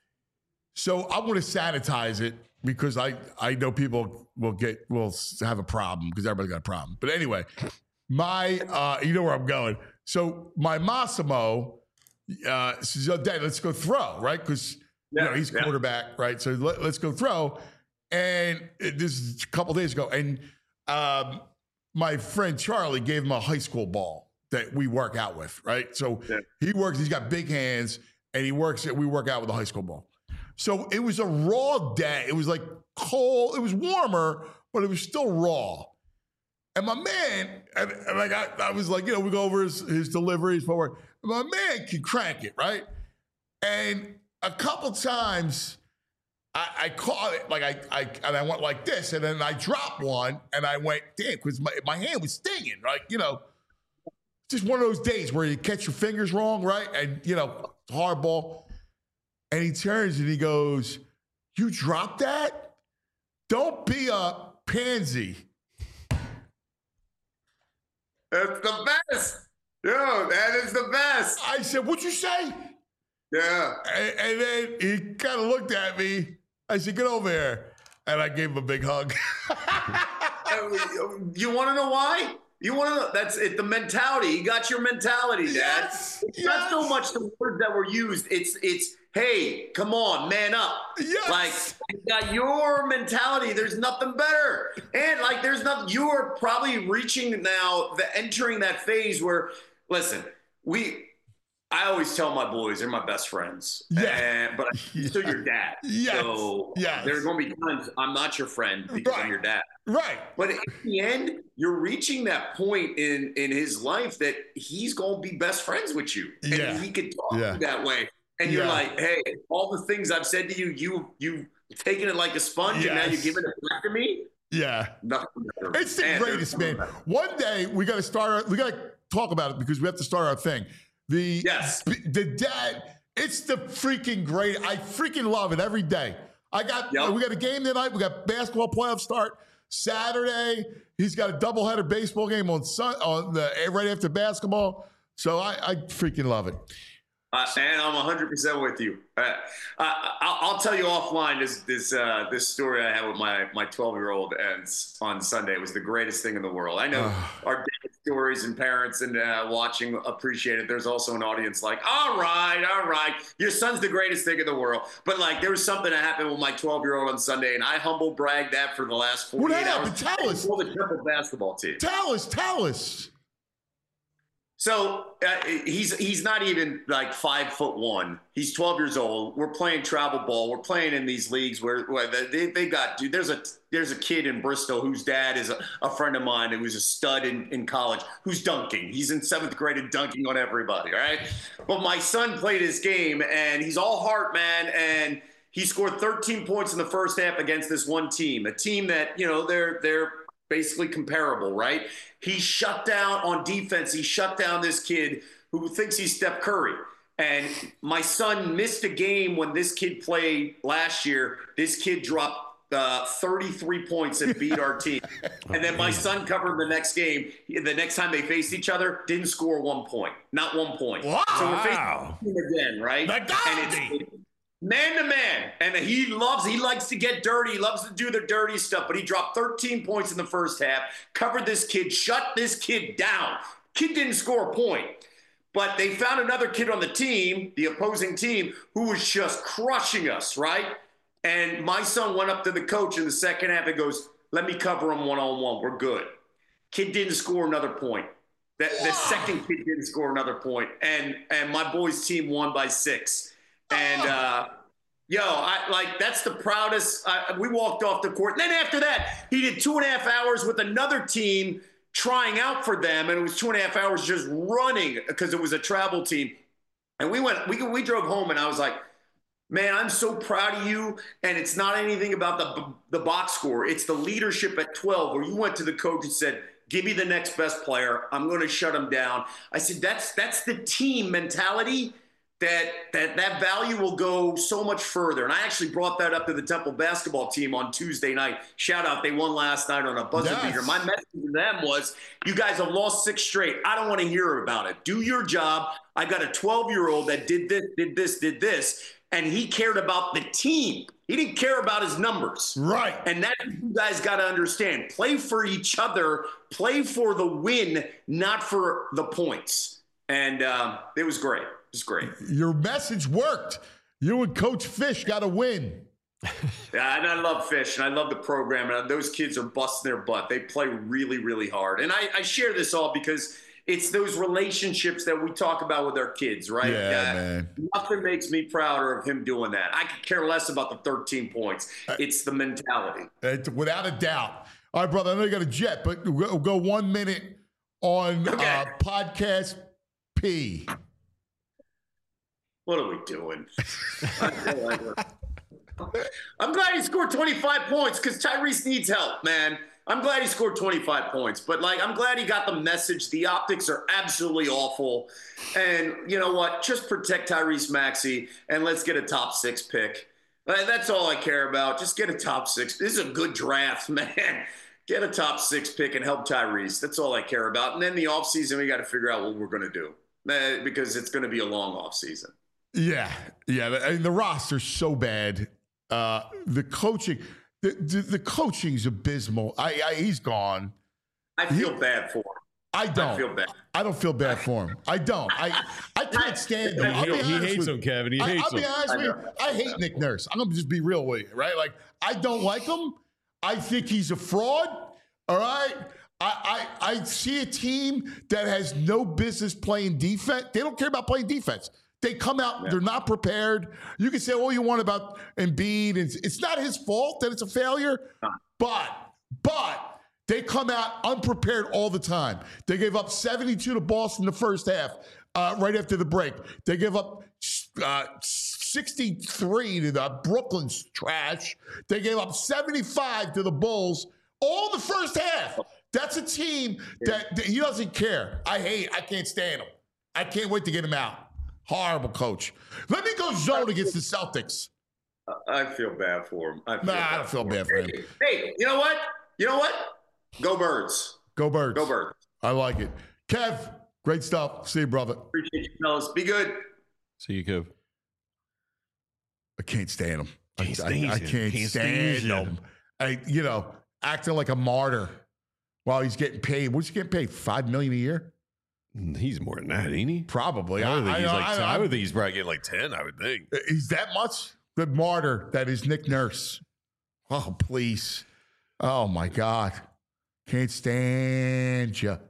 So I'm going to sanitize it because I, I know people will get will have a problem because everybody's got a problem. But anyway, my uh, you know where I'm going. So my Massimo uh, says, "Oh, Dad, let's go throw," right? Because you know he's yeah. quarterback, right? So let, let's go throw. And this is a couple days ago, and um, my friend Charlie gave him a high school ball that we work out with, right? So Yeah. he works, he's got big hands, and he works, we work out with a high school ball. So it was a raw day. It was like cold, it was warmer, but it was still raw. And my man, and, and like I, I was like, you know, we go over his, his deliveries, forward. My man can crank it, right? And a couple times, I, I caught it, like I, I, and I went like this, and then I dropped one, and I went, damn, because my, my hand was stinging, right? You know, just one of those days where you catch your fingers wrong, right? And, you know, hard ball. And he turns and he goes, "You dropped that? Don't be a pansy." That's the best. Yo, that is the best. I said, "What'd you say?" Yeah. And, and then he kind of looked at me. I said, "Get over here." And I gave him a big hug. You want to know why? You want to know? That's it. The mentality. You got your mentality, Dad. Yes, It's not so much the words that were used. It's it's hey, come on, man up. Yes. Like, you got your mentality. There's nothing better. And, like, there's nothing. You are probably reaching now, the entering that phase where, listen, we – I always tell my boys they're my best friends. Yeah. And, but I'm still your dad. Yes. So yes. there's going to be times I'm not your friend because right. I'm your dad. Right. But in the end, you're reaching that point in, in his life that he's going to be best friends with you. And yeah. he could talk yeah. that way. And you're yeah. like, hey, all the things I've said to you, you, you've taken it like a sponge yes. and now you're giving it back to me? Yeah. Nothing better. It's the man, greatest, man. One day we got to start, our, we got to talk about it because we have to start our thing. The yes. the dad, it's the freaking great. I freaking love it every day. I got yep. we got a game tonight. We got basketball playoff start Saturday. He's got a doubleheader baseball game on sun on the right after basketball. So I, I freaking love it. Uh, and I'm one hundred percent with you. Uh, I, I'll tell you offline this this uh, this story I had with my my twelve-year-old and on Sunday. It was the greatest thing in the world. I know our daily stories and parents and uh, watching appreciate it. There's also an audience like, all right, all right, your son's the greatest thing in the world. But like, there was something that happened with my twelve-year-old on Sunday, and I humble bragged that for the last forty-eight hours. Tell us. For the triple basketball team. Tell us. Tell us. So uh, he's he's not even like five foot one. He's twelve years old. We're playing travel ball. We're playing in these leagues where, where they they got dude. There's a there's a kid in Bristol whose dad is a, a friend of mine who was a stud in, in college who's dunking. He's in seventh grade and dunking on everybody. All right. But my son played his game and he's all heart, man. And he scored thirteen points in the first half against this one team, a team that you know they're they're. basically comparable, right? He shut down on defense. He shut down this kid who thinks he's Steph Curry. And my son missed a game when this kid played last year. This kid dropped uh, thirty-three points and beat our team. And then my son covered the next game. The next time they faced each other, didn't score one point. Not one point. Wow. So we're facing him again, right? And it's man to man, and he loves, he likes to get dirty. He loves to do the dirty stuff, but he dropped thirteen points in the first half, covered this kid, shut this kid down. Kid didn't score a point, but they found another kid on the team, the opposing team, who was just crushing us, right? And my son went up to the coach in the second half and goes, let me cover him one-on-one. We're good. Kid didn't score another point. The, the second kid didn't score another point, and and my boys' team won by six. And, uh, yo, I like that's the proudest. Uh, we walked off the court. And then after that, he did two and a half hours with another team trying out for them. And it was two and a half hours just running because it was a travel team. And we went, we, we drove home and I was like, man, I'm so proud of you. And it's not anything about the, the box score. It's the leadership at twelve where you went to the coach and said, give me the next best player. I'm going to shut him down. I said, that's, that's the team mentality. That, that that value will go so much further. And I actually brought that up to the Temple basketball team on Tuesday night. Shout out, they won last night on a buzzer yes. beater. My message to them was, you guys have lost six straight. I don't want to hear about it. Do your job. I got a twelve-year-old that did this, did this, did this, and he cared about the team. He didn't care about his numbers. Right. And that's what you guys got to understand. Play for each other. Play for the win, not for the points. And um, it was great. It's great. Your message worked. You and Coach Fish got to win. Yeah, and I love Fish, and I love the program. And those kids are busting their butt. They play really, really hard. And I, I share this all because it's those relationships that we talk about with our kids, right? Yeah, yeah, man. Nothing makes me prouder of him doing that. I could care less about the thirteen points. It's the mentality. It's, without a doubt. All right, brother, I know you got a jet, but we'll go one minute on okay. uh, podcast P. What are we doing? I'm glad he scored twenty-five points because Tyrese needs help, man. I'm glad he scored twenty-five points, but like, I'm glad he got the message. The optics are absolutely awful. And you know what? Just protect Tyrese Maxey and let's get a top six pick. That's all I care about. Just get a top six. This is a good draft, man. Get a top six pick and help Tyrese. That's all I care about. And then the offseason, we got to figure out what we're going to do because it's going to be a long offseason. Yeah, yeah. I mean, the roster's so bad. Uh, the coaching, the, the the coaching's abysmal. I, I he's gone. I feel he, bad for him. I don't. I feel bad. I don't feel bad for him. I don't. I I can't stand him. I'll He, be he honest hates with him, you. Kevin. He I, hates I'll be him. honest with you. I hate Nick Nurse. I'm gonna just be real with you, right? Like I don't like him. I think he's a fraud. All right. I, I I see a team that has no business playing defense. They don't care about playing defense. They come out, they're not prepared. You can say all you want about Embiid. It's, it's not his fault that it's a failure, but, but they come out unprepared all the time. They gave up seventy-two to Boston in the first half, uh, right after the break. They gave up uh, sixty-three to the Brooklyn's trash. They gave up seventy-five to the Bulls all the first half. That's a team that, that he doesn't care. I hate, I can't stand him. I can't wait to get him out. Horrible coach. Let me go zone against the Celtics. I feel bad for him. I feel Nah, bad I don't feel bad for him. Hey, you know what? You know what? Go Birds. Go Birds. Go Birds. I like it. Kev, great stuff. See you, brother. Appreciate you, fellas. Be good. See you, Kev. I can't stand him. I, Can't I, stand I him. can't, Can't stand stand him. I, you know, acting like a martyr while he's getting paid. What's he getting paid? Five million a year? He's more than that, ain't he? Probably. I, would think I, he's I, like, I, I, I, would think he's probably getting like ten, I would think. He's that much? The martyr that is Nick Nurse. Oh, please. Oh, my God. Can't stand you.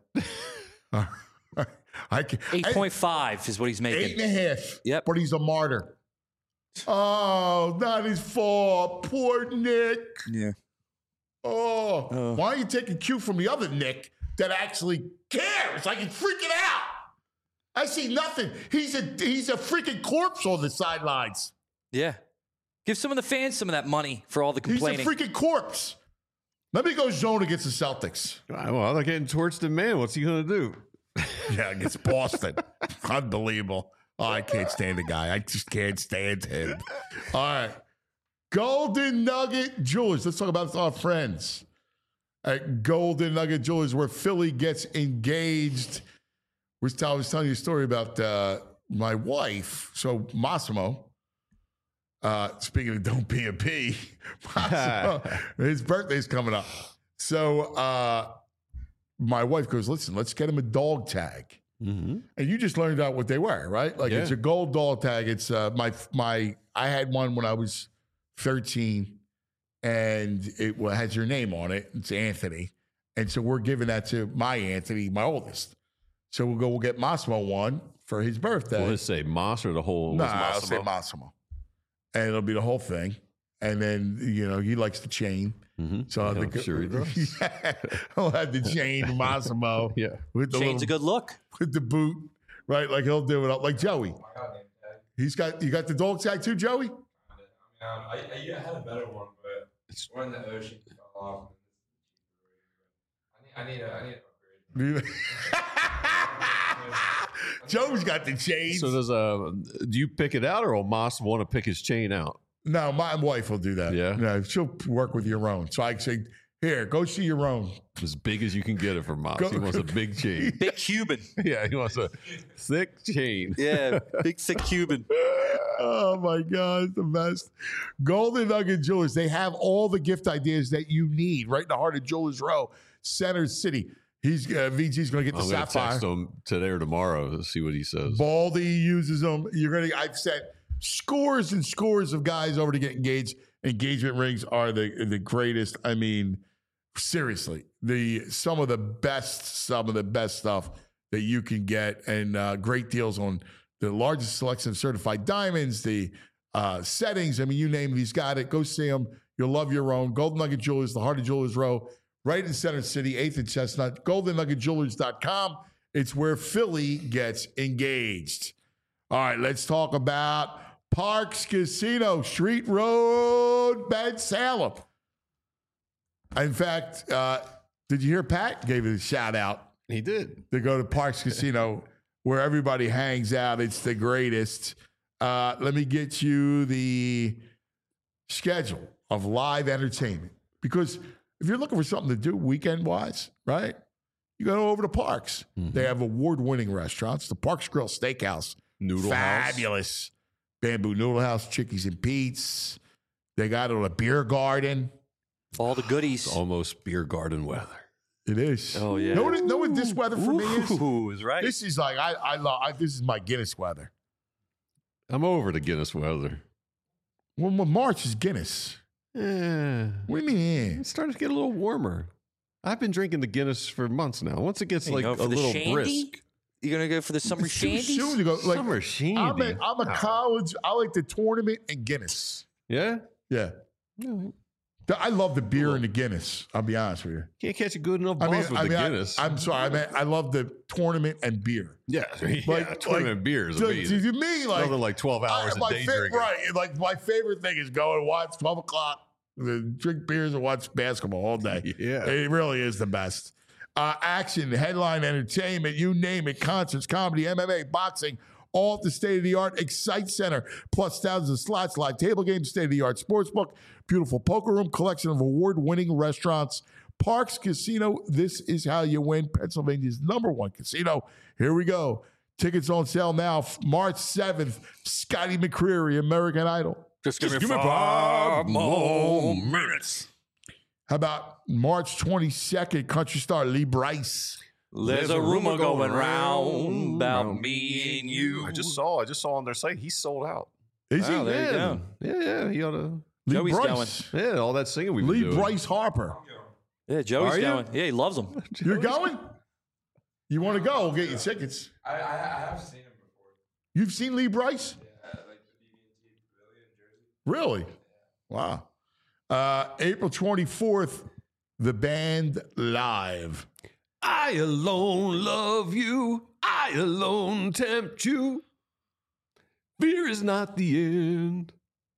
I can, eight point five is what he's making. Eight and a half. Yep. But he's a martyr. Oh, not his fault. Poor Nick. Yeah. Oh, Oh. why don't you take a cue from the other Nick that actually cares? Like he's freaking out. I see nothing. He's a he's a freaking corpse on the sidelines. Yeah. Give some of the fans some of that money for all the complaining. He's a freaking corpse. Let me go zone against the Celtics. Well, they're getting torched the man. What's he going to do? Yeah, against Boston. Unbelievable. Oh, I can't stand the guy. I just can't stand him. All right. Golden Nugget Jewelers. Let's talk about our friends at Golden Nugget Jewelers, where Philly gets engaged. We're t- I was telling you a story about uh, my wife. So Massimo, uh, speaking of don't be a P, Massimo, his birthday's coming up. So uh, my wife goes, listen, let's get him a dog tag. Mm-hmm. And you just learned out what they were, right? Like Yeah. it's a gold dog tag. It's uh, my my. I had one when I was thirteen, and it wa- has your name on it. It's Anthony, and so we're giving that to my Anthony, my oldest. So we'll go. We'll get Massimo one for his birthday. Will it say Moss or the whole? No, was nah, I'll Massimo? say Massimo, and it'll be the whole thing. And then you know he likes the chain, Mm-hmm. so I'll Yeah, have the- I'm sure he does. yeah, I'll have the chain Massimo. Yeah. with the Chain's a little- good look. with the boot, right? Like he'll do it up like Joey. He's got you got the dog tag too, Joey? Um, I, I, yeah, I had a better one, but it's one in the ocean fell off. I need, I need a, I need an upgrade. Joey's got the chains. So does uh, do you pick it out, or will Moss want to pick his chain out? No, my wife will do that. Yeah? No, she'll work with your own. So I say, here, go see your own. As big as you can get it from Moss. Go- He wants a big chain. Big Cuban. Yeah, he wants a thick chain. Yeah, big thick Cuban. Oh my God, it's the best. Golden Nugget Jewelers, they have all the gift ideas that you need right in the heart of Jewelers Row, Center City. He's uh, V G's going to get the I'm going to sapphire. text him today or tomorrow to see what he says. Baldy uses them. You're gonna. I've sent scores and scores of guys over to get engaged. Engagement rings are the the greatest. I mean, seriously, the some of the best, some of the best stuff that you can get, and uh, great deals on the largest selection of certified diamonds, the uh, settings. I mean, you name it, he's got it. Go see him. You'll love your own. Golden Nugget Jewelers, the heart of Jewelers Row, right in Center City, eighth and Chestnut. golden nugget jewelers dot com. It's where Philly gets engaged. All right, let's talk about Parks Casino, Street Road, Ben Salem. In fact, uh, did you hear Pat gave it a shout out? He did. To go to Parks Casino, where everybody hangs out. It's the greatest. Uh, let me get you the schedule of live entertainment. Because if you're looking for something to do weekend-wise, right, you go over to Parks. Mm-hmm. They have award-winning restaurants. The Parks Grill Steakhouse. Noodle House. Fabulous. Bamboo Noodle House, Chickies and Pete's. They got it on a beer garden. All the goodies. It's almost beer garden weather. It is. Oh, yeah. Know what, know what this weather for me is? Ooh, is right. This is like, I, I love, I, this is my Guinness weather. I'm over the Guinness weather. Well, well March is Guinness. Yeah. What do you mean? It's starting to get a little warmer. I've been drinking the Guinness for months now. Once it gets You like go a for the little shandy? brisk. You gonna go for the summer It's too shandies? soon to go. Like, Summer shandy. I'm a, I'm a No. college, I like the tournament and Guinness. Yeah? Yeah. No. The- I love the beer and the Guinness. I'll be honest with you. Can't catch a good enough I buzz mean, with I the mean, I, Guinness. I'm sorry. I mean, I love the tournament and beer. yeah, yeah. Like- tournament like, beer is to, amazing. to me, like Nothing like twelve hours I, a my day fa- drinking. right? Like my favorite thing is go and watch twelve o'clock, the drink beers and watch basketball all day. Yeah. It really is the best. Uh, action, headline, entertainment, you name it, concerts, comedy, M M A, boxing, all at the state-of-the-art Excite Center, plus thousands of slots, live table games, state-of-the-art sportsbook, beautiful poker room, collection of award-winning restaurants, Parks Casino. This is how you win. Pennsylvania's number one casino. Here we go. Tickets on sale now. March seventh, Scotty McCreery, American Idol. Just give, me, five more minutes. How about March twenty-second, country star Lee Bryce? There's a rumor going round about me and you. I just saw. I just saw on their site. He's sold out. Is Oh, he? there you yeah, go. yeah, yeah. He ought to. Lee Joey's Bryce. Yeah, all that singing we've Lee been doing. Bryce Harper. Yeah, Joey's Are you? going. Yeah, he loves them. You're going? You want to go? We'll get you tickets. I, I, I have seen him before. You've seen Lee Bryce? Yeah, like the B B and T Pavilion in Jersey. Really? Wow. Uh, April twenty-fourth, the band live. I alone love you. I alone tempt you. Fear is not the end.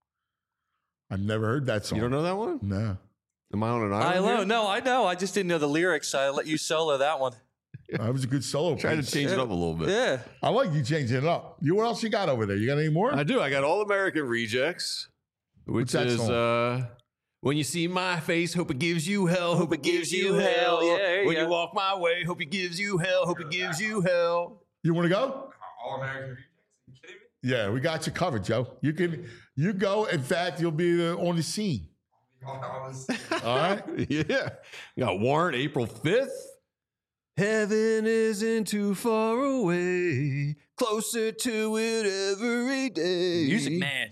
I've never heard that song. You don't know that one? No. Am I on an I island? know. here? No, I know. I just didn't know the lyrics. I let you solo that one. That was a good solo. Try to piece. change it up a little bit. Yeah. I like you changing it up. You, what else you got over there? You got any more? I do. I got All American Rejects, which What's that is song? uh, when you see my face, hope it gives you hell, hope it gives you hell. Yeah, there you when go. you walk my way, hope it gives you hell, hope it gives you hell. You want to go? All American Rejects. Are you kidding me? Yeah, we got you covered, Joe. You can you go. In fact, you'll be uh, on the scene. All hours. All right. Yeah. You got Warrant April fifth. Heaven isn't too far away, closer to it every day. Music man.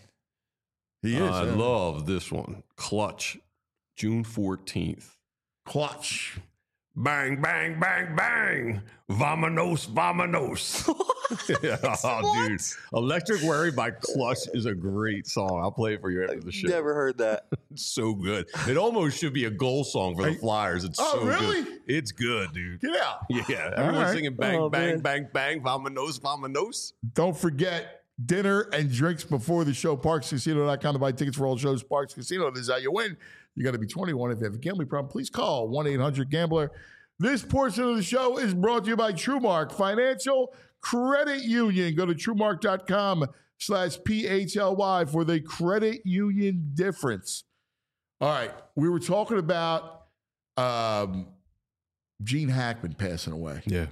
He is. I yeah. love this one. Clutch, June fourteenth. Clutch. Bang, bang, bang, bang. Vamonos, vamonos. Yeah, oh, dude. Electric Worry by Clutch is a great song. I'll play it for you after the show. Never heard that. It's so good. It almost should be a goal song for the Hey. Flyers. It's Oh, so really? good. It's good, dude. Get out. Yeah. Everyone's right. singing bang, Oh, bang, man. bang, bang, vamonos, vamonos. Don't forget dinner and drinks before the show. Parks Casino dot com to buy tickets for all shows. Parks Casino, this is how you win. You got to be twenty-one. If you have a gambling problem, please call one eight hundred gambler. This portion of the show is brought to you by TrueMark Financial Credit Union. Go to TrueMark dot com slash P H L Y for the credit union difference. All right. We were talking about um, Gene Hackman passing away. Yeah.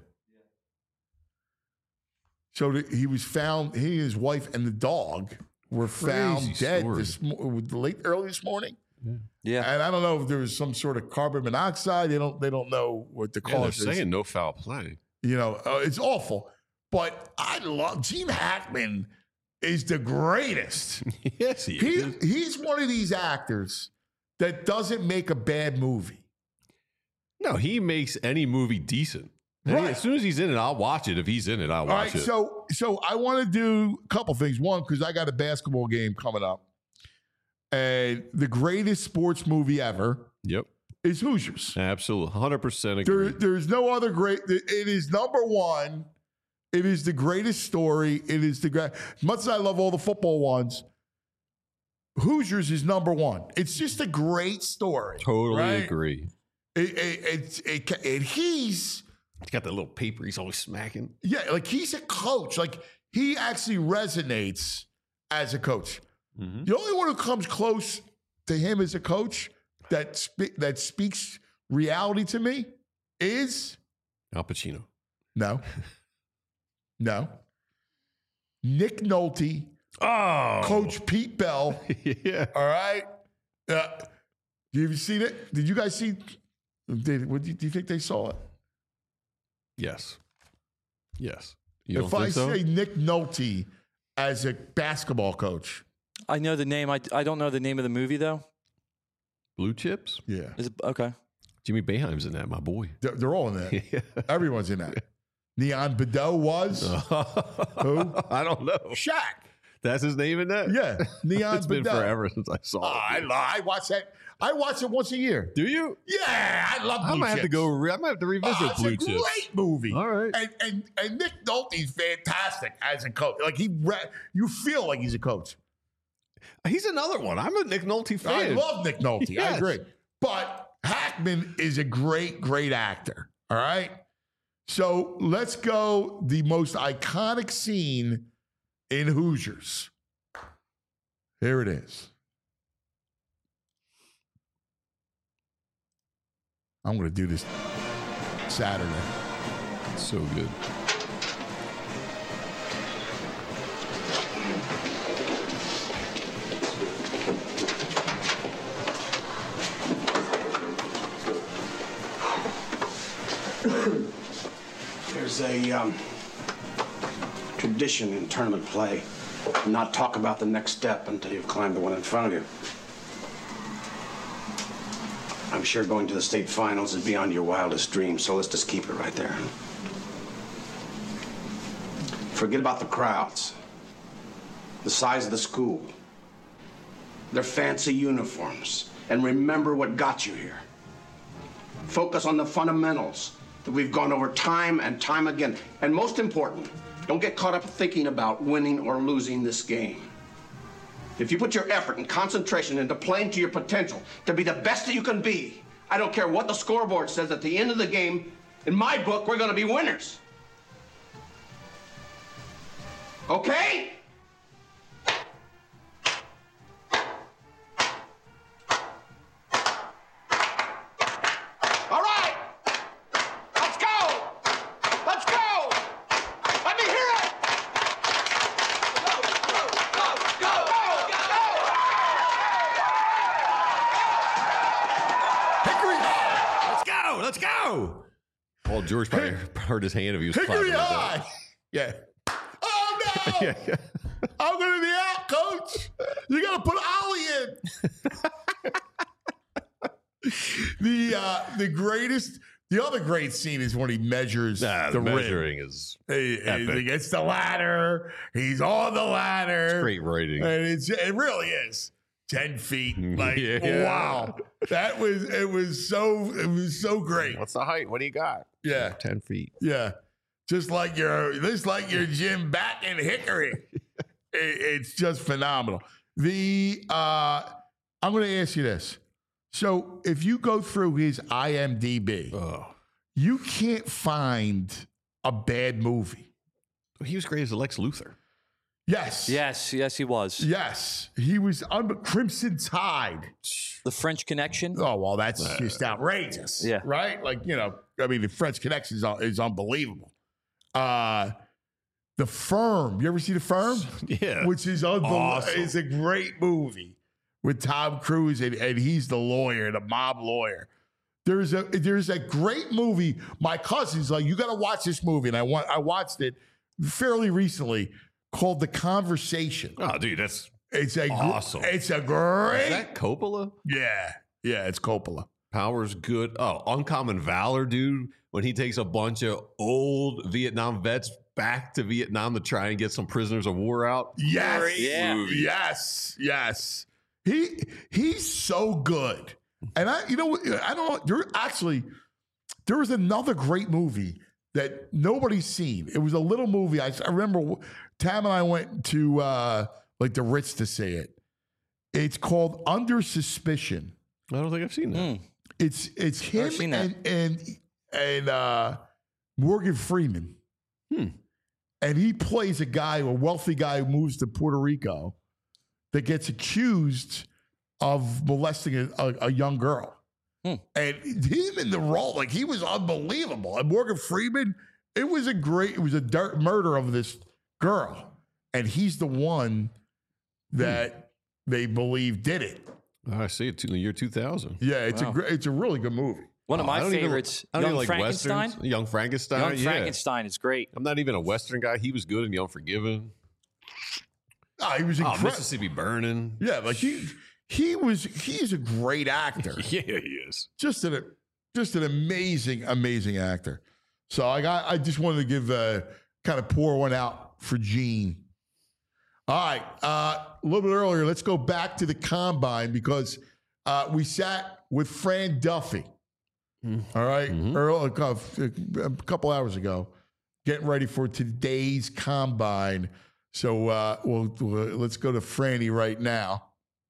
So the, he was found, he and his wife and the dog were found Crazy dead story. this mo- late early this morning. Yeah. And I don't know if there was some sort of carbon monoxide. They don't they don't know what the Yeah, they're cause is. saying no foul play. You know, uh, it's awful. But I love Gene Hackman is the greatest. Yes, he He is. he's one of these actors that doesn't make a bad movie. No, he makes any movie decent. And he- Right. As soon as he's in it, I'll watch it. If he's in it, I'll All watch right, it. so so I want to do a couple things. One, because I got a basketball game coming up, and the greatest sports movie ever Yep. is Hoosiers. Absolutely. one hundred percent There, agree. there's no other great. It is number one. It is the greatest story. It is the great. As much as I love all the football ones, Hoosiers is number one. It's just a great story. Totally right? agree. It, it, it's it, and he's He's got that little paper he's always smacking. yeah, like he's a coach. Like he actually resonates as a coach. Mm-hmm. The only one who comes close to him as a coach that spe- that speaks reality to me is Al Pacino. no, no, Nick Nolte, Oh. Coach Pete Bell. Yeah. All right, uh, have you seen it? Did you guys see Did, what, do you think they saw it? Yes. Yes. You If don't I think so? say Nick Nolte as a basketball coach, I know the name. I, I don't know the name of the movie though. Blue Chips? Yeah. Is it okay? Jimmy Boeheim's in that, my boy. They're, they're all in that. Everyone's in that. Neon Bedell was who? I don't know. Shaq. That's his name in that? Yeah, Neon It's been Bedell. forever since I saw Oh, it. I, lo- I watch that. I watch it once a year. Do you? Yeah, I love Blue I might have to Chips. go. Re- I might have to revisit Oh, it's Blue a Chips. great movie. All right. And and and Nick Nolte's fantastic as a coach. Like he, re- you feel like he's a coach. He's another one. I'm a Nick Nolte fan. I love Nick Nolte. I Yes. agree. But Hackman is a great, great actor. All right. So let's go the most iconic scene in Hoosiers. Here it is. I'm going to do this Saturday. So good. There's a um, tradition in tournament play. Not talk about the next step until you've climbed the one in front of you. I'm sure going to the state finals is beyond your wildest dreams, so let's just keep it right there. Forget about the crowds, the size of the school, their fancy uniforms, and remember what got you here. Focus on the fundamentals that we've gone over time and time again. And most important, don't get caught up thinking about winning or losing this game. If you put your effort and concentration into playing to your potential, to be the best that you can be, I don't care what the scoreboard says at the end of the game, in my book, we're gonna be winners. Okay? All right! Let's go! Let's go! Let me hear it! Go, go, go, go, go, go! Hickory Let's go. Let's go. Oh, George probably hurt his hand if he was Hickory clapping like High. that. Yeah. Oh, no. Yeah, yeah. I'm going to be out, coach. You got to put Ollie in. the uh, the greatest, the other great scene is when he measures Nah, the the rim. measuring is He, epic. he gets the ladder. He's on the ladder. It's great writing. And it's, it really is. Ten feet. Like, Yeah. wow. That was, it was so, it was so great. What's the height? What do you got? Yeah. ten feet. Yeah. Just like your, just like your gym back in Hickory. it, it's just phenomenal. The, uh, I'm going to ask you this. So if you go through his I M D B, Oh. you can't find a bad movie. He was great as Lex Luthor. Yes. Yes, yes, he was. Yes. He was on Crimson Tide. The French Connection. Oh, well, that's just outrageous. Yeah. Right? Like, you know, I mean, the French Connection is, is unbelievable. Uh, The Firm. You ever see The Firm? Yeah. Which is unbelievable. Awesome. It's a great movie with Tom Cruise, and, and he's the lawyer, the mob lawyer. There's a there's a great movie. My cousin's like, you got to watch this movie, and I want I watched it fairly recently, called The Conversation. Oh, dude, that's It's a gr- awesome. It's a great. Is that Coppola? Yeah, yeah, it's Coppola. Power's good. Oh, Uncommon Valor, dude. When he takes a bunch of old Vietnam vets back to Vietnam to try and get some prisoners of war out. Yes, Great Yeah. movie. yes, yes. He he's so good. And I, you know, I don't know. There actually, there was another great movie that nobody's seen. It was a little movie. I, I remember Tam and I went to uh, like the Ritz to see it. It's called Under Suspicion. I don't think I've seen that. Mm. It's it's him Never seen that. and and and uh, Morgan Freeman. Hmm. And he plays a guy, a wealthy guy who moves to Puerto Rico that gets accused of molesting a, a, a young girl. Hmm. And him in the role, like he was unbelievable. And Morgan Freeman, it was a great, it was a dirt murder of this girl. And he's the one that hmm. they believe did it. Oh, I see it in the year two thousand. Yeah, it's Wow. a great, it's a really good movie. One of Oh, my I don't even- favorites, I don't Young even like Frankenstein. Westerns. Young Frankenstein. Young yeah. Frankenstein is great. I'm not even a Western guy. He was good in The Unforgiven. Oh, he was Oh, incredible. Mississippi Burning. Yeah, like he he was he's a great actor. Yeah, he is. Just an just an amazing, amazing actor. So I got I just wanted to give uh kind of pour one out for Gene. All right. Uh, a little bit earlier, let's go back to the combine because uh, we sat with Fran Duffy. All right, early, a couple hours ago, getting ready for today's combine. So uh, we'll, we'll let's go to Franny right now.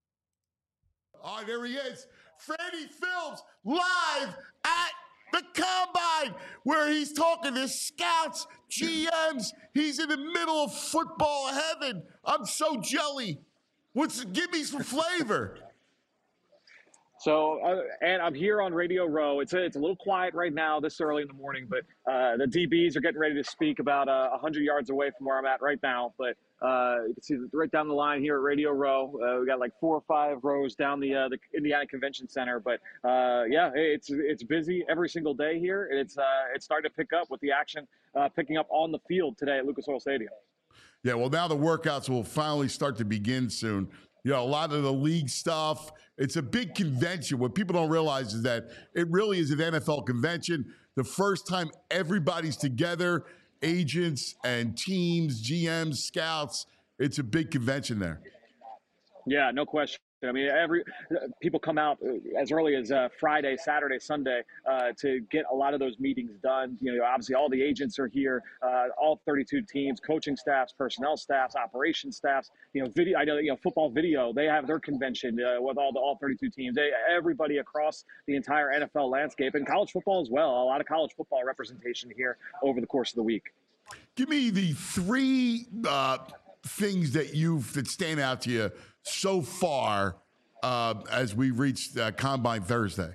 All right, there he is. Franny Films live at the combine where he's talking to scouts, G Ms. He's in the middle of football heaven. I'm so jelly. What's give me some flavor? So, uh, and I'm here on Radio Row. It's a, it's a little quiet right now this early in the morning, but uh, the D Bs are getting ready to speak about uh, one hundred yards away from where I'm at right now. But uh, you can see right down the line here at Radio Row. Uh, we got like four or five rows down the uh, the Indiana Convention Center. But uh, yeah, it's it's busy every single day here. It's uh, it's starting to pick up with the action uh, picking up on the field today at Lucas Oil Stadium. Yeah, well, now the workouts will finally start to begin soon. You know, a lot of the league stuff. It's a big convention. What people don't realize is that it really is an N F L convention. The first time everybody's together, agents and teams, G Ms, scouts. It's a big convention there. Yeah, no question. I mean, every people come out as early as uh, Friday, Saturday, Sunday uh, to get a lot of those meetings done. You know, obviously all the agents are here, uh, all thirty-two teams, coaching staffs, personnel staffs, operations staffs. You know, video. I know, you know, football video. They have their convention uh, with all the all thirty-two teams. They, everybody across the entire N F L landscape and college football as well. A lot of college football representation here over the course of the week. Give me the three uh, things that you've that stand out to you so far uh, as we reached uh, Combine Thursday.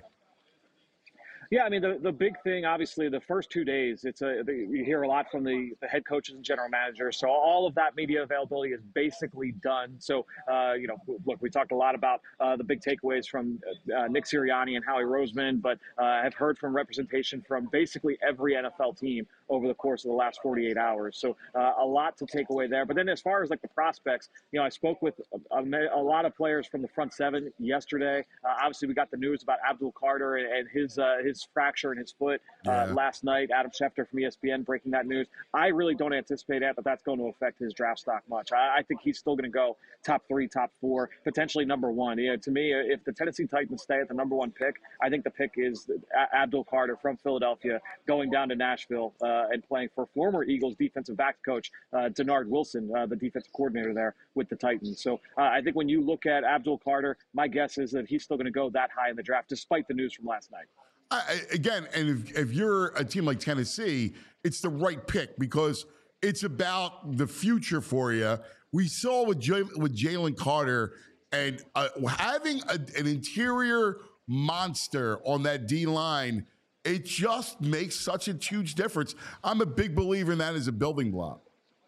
Yeah, I mean, the, the big thing, obviously, the first two days, it's a you hear a lot from the, the head coaches and general managers. So all of that media availability is basically done. So, uh, you know, look, we talked a lot about uh, the big takeaways from uh, Nick Sirianni and Howie Roseman, but uh, I've heard from representation from basically every N F L team over the course of the last forty-eight hours. So uh, a lot to take away there. But then as far as like the prospects, you know, I spoke with a, a, a lot of players from the front seven yesterday. Uh, obviously, we got the news about Abdul Carter and, and his uh, his fracture in his foot uh, yeah. last night. Adam Schefter from E S P N breaking that news. I really don't anticipate that, but that's going to affect his draft stock much. I, I think he's still going to go top three, top four, potentially number one. You know, to me, if the Tennessee Titans stay at the number one pick, I think the pick is Abdul Carter from Philadelphia going down to Nashville uh, and playing for former Eagles defensive back coach uh, Denard Wilson, uh, the defensive coordinator there with the Titans. So uh, I think when you look at Abdul Carter, my guess is that he's still going to go that high in the draft, despite the news from last night. I, again, and if, if you're a team like Tennessee, it's the right pick because it's about the future for you. We saw with J, with Jalen Carter and uh, having a, an interior monster on that D line, it just makes such a huge difference. I'm a big believer in that as a building block.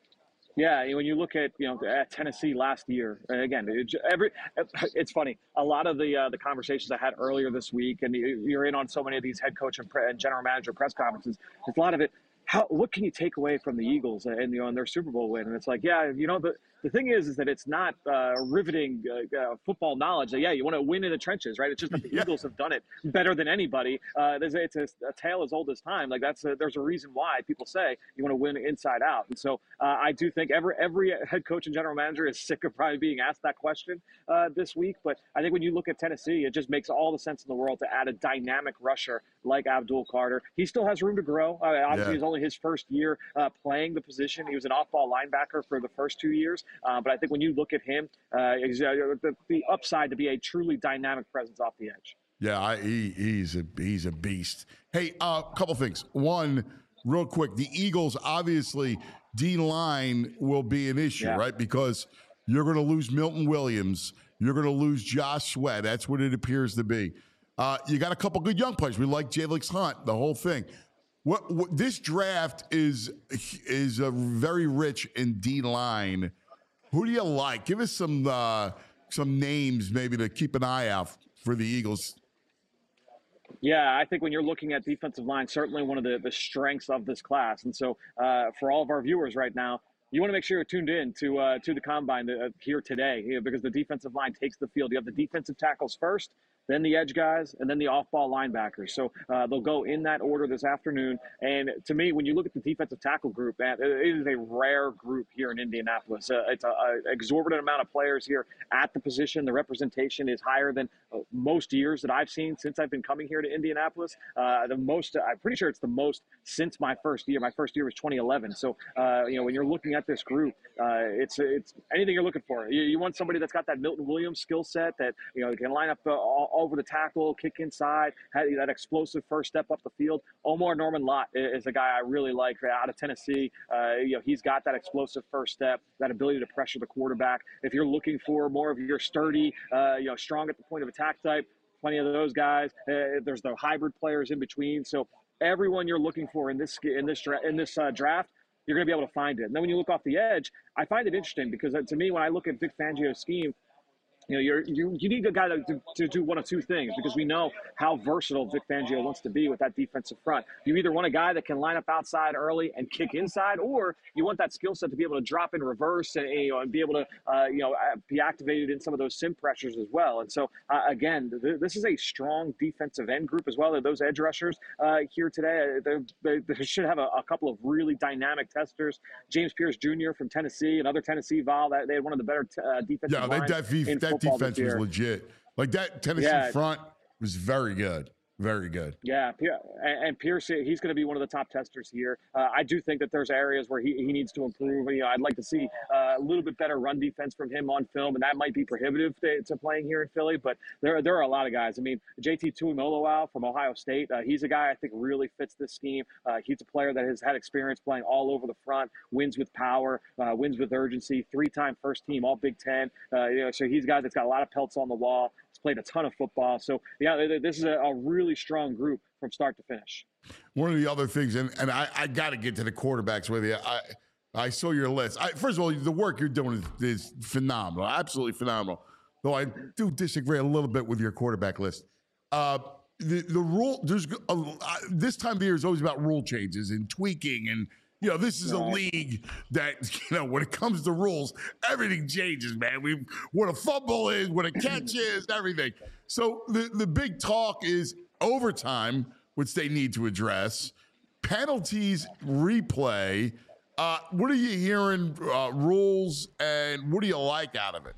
Yeah, when you look at you know at Tennessee last year, and again, it, every it's funny. A lot of the uh, the conversations I had earlier this week, and you're in on so many of these head coach and, pre- and general manager press conferences. There's a lot of it. How what can you take away from the Eagles and you know and their Super Bowl win? And it's like, yeah, you know the. The thing is, is that it's not uh, riveting uh, uh, football knowledge. That, yeah, you want to win in the trenches, right? It's just that the yeah. Eagles have done it better than anybody. Uh, there's, it's a, a tale as old as time. Like that's a, there's a reason why people say you want to win inside out. And so uh, I do think every every head coach and general manager is sick of probably being asked that question uh, this week. But I think when you look at Tennessee, it just makes all the sense in the world to add a dynamic rusher like Abdul Carter. He still has room to grow. Uh, obviously, yeah. it's only his first year uh, playing the position. He was an off-ball linebacker for the first two years. Uh, but I think when you look at him, uh, the, the upside to be a truly dynamic presence off the edge. Yeah, I, he, he's a he's a beast. Hey, a uh, couple things. One, real quick, the Eagles, obviously, D-line will be an issue, yeah. right? Because you're going to lose Milton Williams. You're going to lose Josh Sweat. That's what it appears to be. Uh, you got a couple good young players. We like Jalen Hunt, the whole thing. What, what this draft is is a very rich in D-line. Who do you like? Give us some uh, some names maybe to keep an eye out for the Eagles. Yeah, I think when you're looking at defensive line, certainly one of the, the strengths of this class. And so uh, for all of our viewers right now, you want to make sure you're tuned in to uh, to the combine uh, here today, you know, because the defensive line takes the field. You have the defensive tackles first, then the edge guys, and then the off-ball linebackers. So uh, they'll go in that order this afternoon. And to me, when you look at the defensive tackle group, man, it is a rare group here in Indianapolis. Uh, it's an exorbitant amount of players here at the position. The representation is higher than uh, most years that I've seen since I've been coming here to Indianapolis. Uh, the most, I'm pretty sure it's the most since my first year. My first year was twenty eleven. So, uh, you know, when you're looking at this group, uh, it's it's anything you're looking for. You, you want somebody that's got that Milton Williams skill set that, you know, can line up uh, all, over the tackle, kick inside, had that explosive first step up the field. Omar Norman Lott is a guy I really like out of Tennessee. Uh, you know, he's got that explosive first step, that ability to pressure the quarterback. If you're looking for more of your sturdy, uh, you know, strong at the point of attack type, plenty of those guys. Uh, there's the hybrid players in between. So everyone you're looking for in this in this in this uh, draft, you're going to be able to find it. And then when you look off the edge, I find it interesting because uh, to me, when I look at Vic Fangio's scheme, you know, you're, you you need a guy to, to, to do one of two things because we know how versatile Vic Fangio wants to be with that defensive front. You either want a guy that can line up outside early and kick inside, or you want that skill set to be able to drop in reverse and, you know, and be able to uh, you know be activated in some of those sim pressures as well. And so uh, again, th- this is a strong defensive end group as well. Those edge rushers uh, here today, they, they should have a, a couple of really dynamic testers. James Pierce Junior from Tennessee, another Tennessee Vol, that they had one of the better t- uh, defensive Yeah, lines that, def- in that defense was legit. Like that Tennessee Yeah. front was very good. Very good. Yeah, and Pierce, he's going to be one of the top testers here. Uh, I do think that there's areas where he, he needs to improve. You know, I'd like to see uh, a little bit better run defense from him on film, and that might be prohibitive to, to playing here in Philly. But there, there are a lot of guys. I mean, J T Tuimoloau from Ohio State, uh, he's a guy I think really fits this scheme. Uh, he's a player that has had experience playing all over the front, wins with power, uh, wins with urgency, three-time first team, all Big Ten. Uh, you know, so he's a guy that's got a lot of pelts on the wall. He's played a ton of football. So, yeah, this is a, a really strong group from start to finish. One of the other things, and, and I, I got to get to the quarterbacks with you. I I saw your list. I, first of all, the work you're doing is, is phenomenal, absolutely phenomenal. Though I do disagree a little bit with your quarterback list. Uh, the the rule there's a, this time of year is always about rule changes and tweaking, and you know this is a league that you know when it comes to rules, everything changes, man. We what a fumble is, what a catch is, everything. So the the big talk is overtime, which they need to address, penalties, replay. Uh, what are you hearing, uh, rules, and what do you like out of it?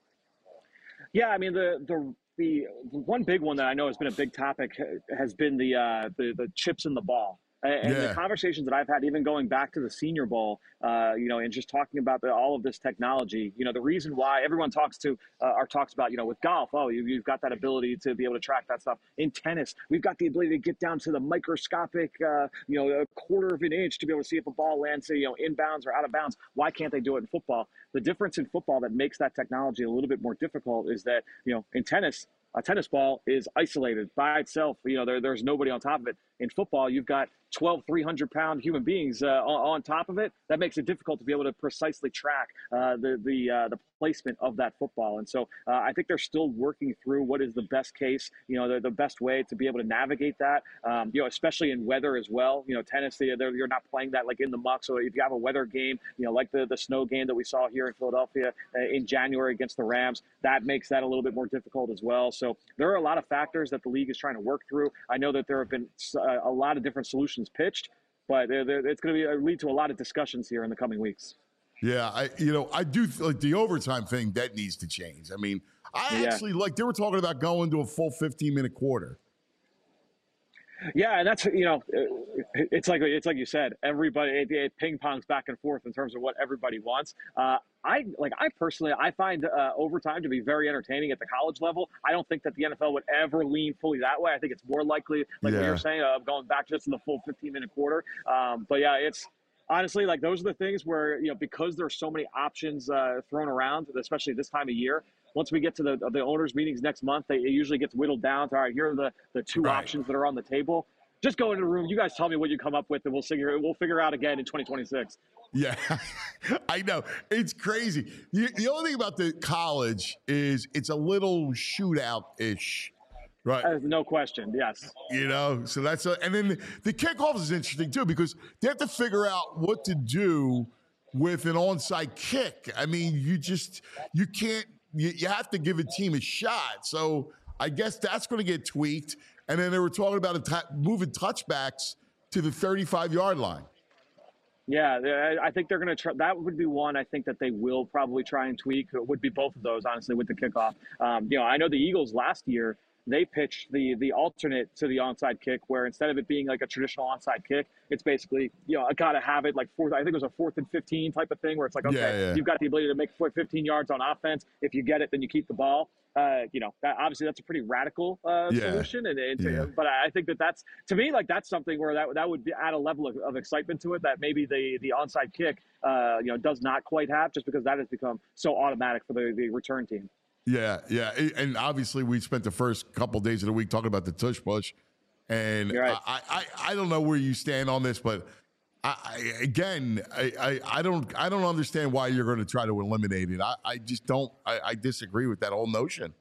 Yeah, I mean, the the the one big one that I know has been a big topic has been the uh, the, the chips in the ball. And Yeah. the conversations that I've had, even going back to the Senior Bowl, uh, you know, and just talking about the, all of this technology, you know, the reason why everyone talks to uh, or talks about, you know, with golf, oh, you, you've got that ability to be able to track that stuff. In tennis, we've got the ability to get down to the microscopic, uh, you know, a quarter of an inch to be able to see if a ball lands, say, you know, inbounds or out of bounds. Why can't they do it in football? The difference in football that makes that technology a little bit more difficult is that, you know, in tennis, a tennis ball is isolated by itself. You know, there, there's nobody on top of it. In football, you've got twelve, three hundred pound human beings uh, on, on top of it. That makes it difficult to be able to precisely track uh, the the uh, the placement of that football. And so uh, I think they're still working through what is the best case, you know, the, the best way to be able to navigate that, um, you know, especially in weather as well. You know, tennis, they, you're not playing that like in the muck. So if you have a weather game, you know, like the, the snow game that we saw here in Philadelphia uh, in January against the Rams, that makes that a little bit more difficult as well. So there are a lot of factors that the league is trying to work through. I know that there have been uh, a lot of different solutions pitched, but they're, they're, it's going to lead to a lot of discussions here in the coming weeks. Yeah, I you know I do feel like the overtime thing that needs to change. I mean, I Yeah. actually like they were talking about going to a full fifteen minute quarter. Yeah, and that's, you know, it's like it's like you said, everybody it, it ping pongs back and forth in terms of what everybody wants. Uh, I like I personally I find uh, overtime to be very entertaining at the college level. I don't think that the N F L would ever lean fully that way. I think it's more likely, like what Yeah. you're saying, of uh, going back just to the full fifteen minute quarter. Um, but yeah, it's. Honestly, like those are the things where, you know, because there's so many options uh, thrown around, especially this time of year, once we get to the the owners' meetings next month, they, it usually gets whittled down to, all right, here are the, the two Right. options that are on the table. Just go into the room. You guys tell me what you come up with, and we'll figure we'll figure out again in twenty twenty-six. Yeah, I know. It's crazy. The, the only thing about the college is it's a little shootout-ish. Right. Uh, no question. Yes. You know, so that's a, and then the, the kickoff is interesting too because they have to figure out what to do with an onside kick. I mean, you just you can't. You, you have to give a team a shot. So I guess that's going to get tweaked. And then they were talking about a t- moving touchbacks to the thirty-five yard line. Yeah, I think they're going to try. That would be one I think that they will probably try and tweak. It would be both of those, honestly, with the kickoff. Um, you know, I know the Eagles last year, they pitched the the alternate to the onside kick, where instead of it being like a traditional onside kick, it's basically, you know, I got to have it like fourth. I think it was a fourth and fifteen type of thing, where it's like, okay, Yeah, yeah. you've got the ability to make fifteen yards on offense. If you get it, then you keep the ball. Uh, you know, that, obviously that's a pretty radical uh, Yeah. solution, and, and Yeah. but I think that that's, to me, like that's something where that that would be, add a level of, of excitement to it that maybe the the onside kick, uh, you know, does not quite have, just because that has become so automatic for the, the return team. Yeah, yeah, and obviously we spent the first couple days of the week talking about the tush push, and You're right. I, I, I don't know where you stand on this, but I, I again, I, I, I don't, I don't understand why you're going to try to eliminate it. I, I just don't. I, I disagree with that whole notion.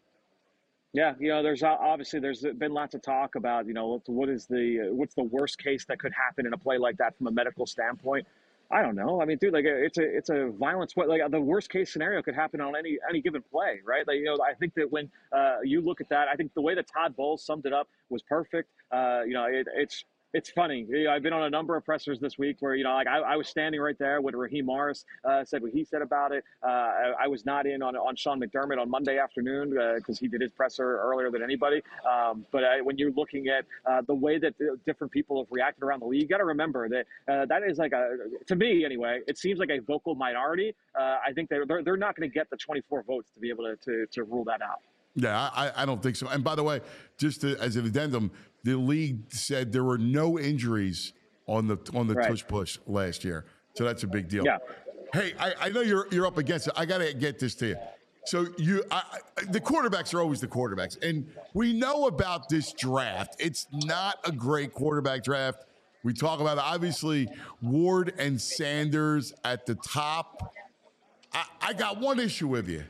Yeah, you know, there's obviously there's been lots of talk about, you know, what- what is the what's the worst case that could happen in a play like that from a medical standpoint. I don't know. I mean, dude, like it's a it's a violent sport. Like the worst case scenario could happen on any any given play, right? Like, you know, I think that when uh, you look at that, I think the way that Todd Bowles summed it up was perfect. Uh, you know, it, it's it's funny. You know, I've been on a number of pressers this week where, you know, like I, I was standing right there when Raheem Morris uh, said what he said about it. Uh, I, I was not in on on Sean McDermott on Monday afternoon because he did his presser earlier than anybody. Um, but I, when you're looking at uh, the way that the different people have reacted around the league, you got to remember that uh, that is like a, to me anyway, it seems like a vocal minority. Uh, I think they're they're, they're not going to get the twenty-four votes to be able to, to to rule that out. Yeah, I, I don't think so. And by the way, just to, as an addendum, the league said there were no injuries on the on the Right. tush push last year, so that's a big deal. Yeah. Hey, I, I know you're you're up against it. I got to get this to you. So you, I, I- the quarterbacks are always the quarterbacks, and we know about this draft. It's not a great quarterback draft. We talk about obviously Ward and Sanders at the top. I, I got one issue with you.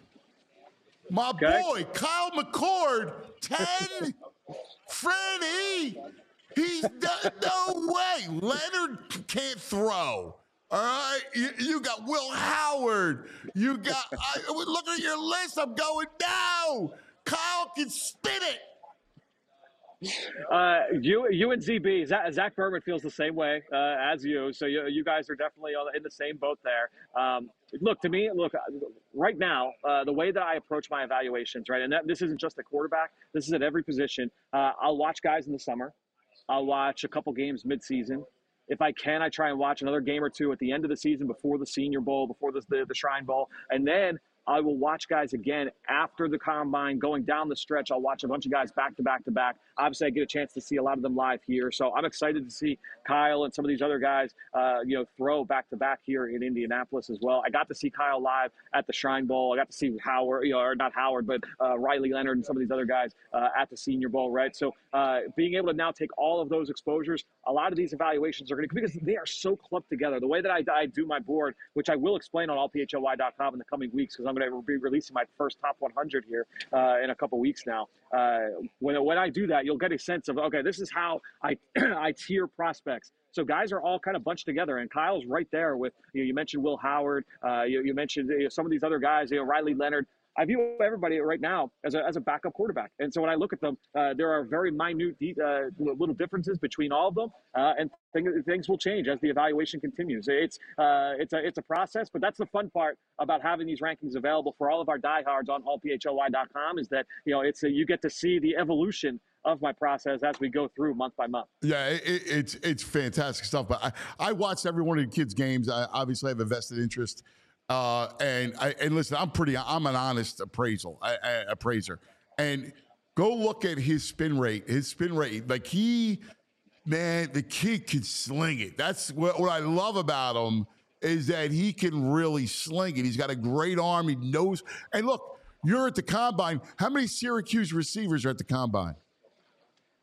My boy, Kyle McCord, ten. Freddie, he's no, no way. Leonard can't throw. All right, you, you got Will Howard. You got. I, look at your list. I'm going now. Kyle can spin it. Uh, you, you and Z B, Zach, Zach Berman feels the same way uh, as you. So you, you guys are definitely on- in the same boat there. Um, look, to me, look, right now, uh, the way that I approach my evaluations, right, and that, this isn't just a quarterback, this is at every position. Uh, I'll watch guys in the summer. I'll watch a couple games midseason. If I can, I try and watch another game or two at the end of the season before the Senior Bowl, before the, the, the Shrine Bowl. And then I will watch guys again after the combine, going down the stretch. I'll watch a bunch of guys back to back to back. Obviously, I get a chance to see a lot of them live here. So I'm excited to see Kyle and some of these other guys, uh, you know, throw back to back here in Indianapolis as well. I got to see Kyle live at the Shrine Bowl. I got to see Howard, you know, or not Howard, but uh, Riley Leonard and some of these other guys uh, at the Senior Bowl, right? So uh, being able to now take all of those exposures, a lot of these evaluations are going to, because they are so clumped together. The way that I, I do my board, which I will explain on all P H L Y dot com in the coming weeks, because I'm going to be releasing my first top one hundred here uh, in a couple weeks now. Uh, when, when I do that, you'll get a sense of, okay, this is how I, I tier prospects. So guys are all kind of bunched together, and Kyle's right there with, you know, you mentioned Will Howard, uh, you, you mentioned you know, some of these other guys, you know, Riley Leonard. I view everybody right now as a, as a backup quarterback. And so when I look at them, uh, there are very minute de- uh, little differences between all of them, uh, and things, things will change as the evaluation continues. It's uh, it's a it's a process, but that's the fun part about having these rankings available for all of our diehards on all P H L Y dot com is that, you know, it's a, you get to see the evolution of my process as we go through month by month. Yeah, it, it's it's fantastic stuff. But I, I watched every one of the kids' games. I obviously have a vested interest. Uh, and I and listen, I'm pretty. I'm an honest appraisal I, I, appraiser, and go look at his spin rate. His spin rate, like he, man, the kid can sling it. That's what, what I love about him is that he can really sling it. He's got a great arm. He knows. And look, you're at the combine. How many Syracuse receivers are at the combine?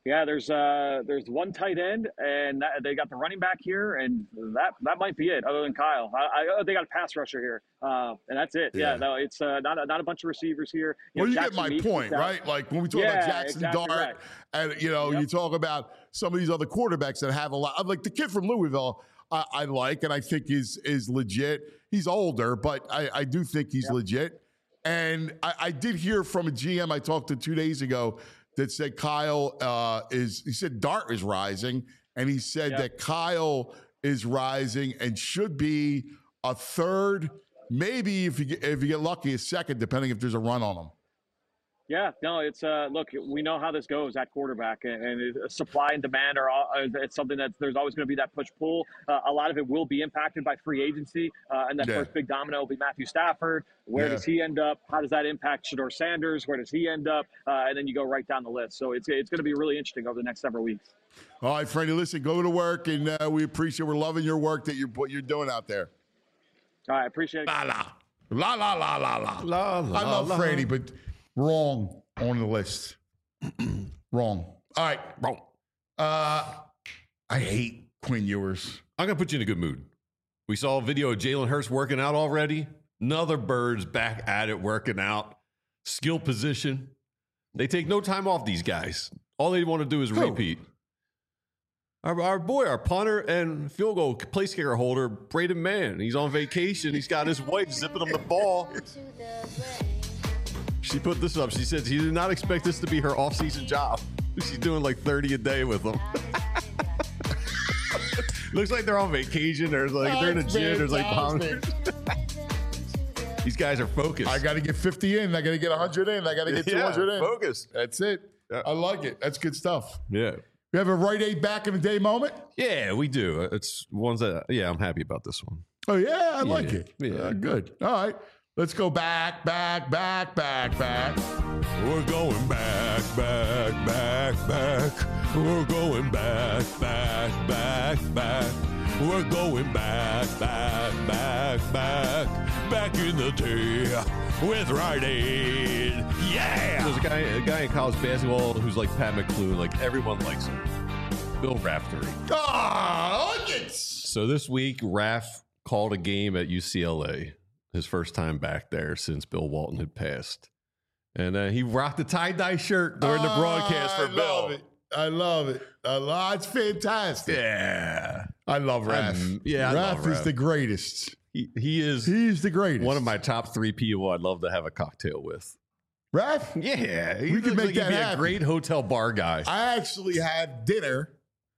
Yeah, there's uh, there's one tight end, and that, they got the running back here, and that that might be it. Other than Kyle, I, I, they got a pass rusher here, uh, and that's it. Yeah, yeah no, it's uh, not a, not a bunch of receivers here. You well, know, you Jackson get my Meeks point, right? Like when we talk yeah, about Jackson exactly Dart, right. and you know, yep. you talk about some of these other quarterbacks that have a lot. Like the kid from Louisville, I, I like, and I think is is legit. He's older, but I, I do think he's yep. legit. And I, I did hear from a G M I talked to two days ago that said Kyle uh, is, he said Dart is rising, and he said yep. that Kyle is rising and should be a third, maybe if you get, if you get lucky, a second, depending if there's a run on him. Yeah, no, it's uh, look, we know how this goes at quarterback, and, and supply and demand are all, it's something that there's always going to be that push pull. Uh, a lot of it will be impacted by free agency, uh, and that yeah. first big domino will be Matthew Stafford. Where yeah. does he end up? How does that impact Shedeur Sanders? Where does he end up? Uh, and then you go right down the list. So it's it's going to be really interesting over the next several weeks. All right, Freddie, listen, go to work, and uh, we appreciate, we're loving your work that you're what you're doing out there. All right, appreciate it. La la la la la la la la. la I love la. Freddie, but. Wrong on the list. Wrong. All right. Wrong. Uh, I hate Quinn Ewers. I'm going to put you in a good mood. We saw a video of Jalen Hurts working out already. Another Bird's back at it, working out. Skill position. They take no time off, these guys. All they want to do is Who? repeat. Our, our boy, our punter and field goal place kicker holder, Braden Mann. He's on vacation. He's got his wife zipping him the ball. She put this up. She said she did not expect this to be her off-season job. She's doing like thirty a day with them. Looks like they're on vacation. There's like oh, they're in a gym. There's like bombers. These guys are focused. I got to get fifty in. I got to get one hundred in. I got to get two hundred yeah, in. Focus. That's it. Yeah. I like it. That's good stuff. Yeah. We have a Rite Aid back in the day moment? Yeah, we do. It's ones that, yeah, I'm happy about this one. Oh, yeah, I like yeah. it. Yeah. Uh, good. All right. Let's go back, back, back, back, back. We're going back, back, back, back. We're going back, back, back, back. We're going back, back, back, back. Back in the day with Rite Aid. Yeah! There's a guy, a guy in college basketball who's like Pat McClune. Like, everyone likes him. Bill Raftery. Oh, it's... So this week, Raf called a game at U C L A. His first time back there since Bill Walton had passed. And uh, he rocked the tie-dye shirt during the broadcast for I Bill. Love it. I love it. I love It's fantastic. Yeah. I love Raph. I'm, yeah, I Raph love is Raph. the greatest. He, he is. He's the greatest. One of my top three people I'd love to have a cocktail with. Raph? Yeah. He we can make like that he'd be happen. a great hotel bar guy. I actually had dinner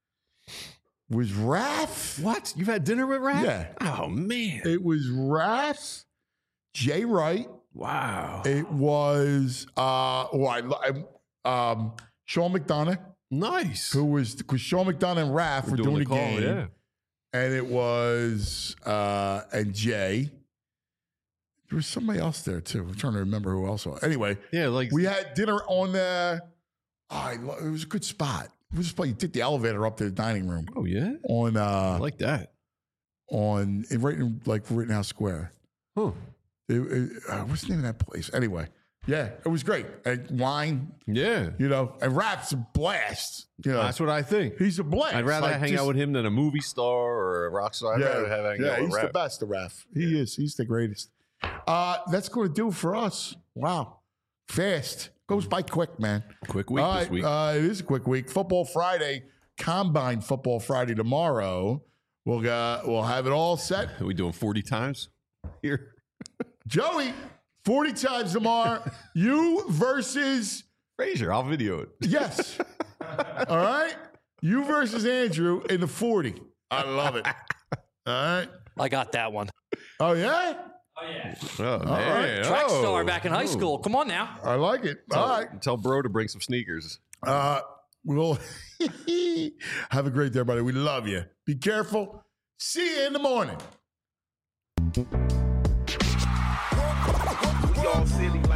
with Raph. What? You've had dinner with Raph? Yeah. Oh, man. It was Raph, Jay Wright. Wow. It was uh, oh, I, I, um, Sean McDonough. Nice. Who was, because Sean McDonough and Raph were, were doing, doing the, the call, game. Yeah. And it was, uh, and Jay. There was somebody else there, too. I'm trying to remember who else was. Anyway. Yeah, like. We had dinner on the, oh, I, it was a good spot. It was just like you took the elevator up to the dining room. Oh, yeah? On, uh. I like that. On, right in, like, Rittenhouse Square. Huh. It, it, uh, what's the name of that place? Anyway, yeah, it was great. And wine, yeah, you know, and Rap's a blast. You know, that's what I think. He's a blast. I'd rather like hang just, out with him than a movie star or a rock star. I'd yeah, rather have hang yeah, out with he's Raph. the best, the Raph. He yeah. is. He's the greatest. Uh, that's going to do it for us. Wow, fast goes by quick, man. Quick week All this right, week. Uh, it is a quick week. Football Friday, Combine Football Friday tomorrow. We'll uh, we'll have it all set. Are we doing forty times here? Joey, forty times tomorrow. You versus Frazier. I'll video it. Yes. All right. You versus Andrew in the forty. I love it. All right. I got that one. Oh, yeah? Oh, yeah. Oh, All man. right. Track oh. star back in high school. Come on now. I like it. Tell, All right. Tell bro to bring some sneakers. Uh, we'll have a great day, everybody. We love you. Be careful. See you in the morning. Y'all silly.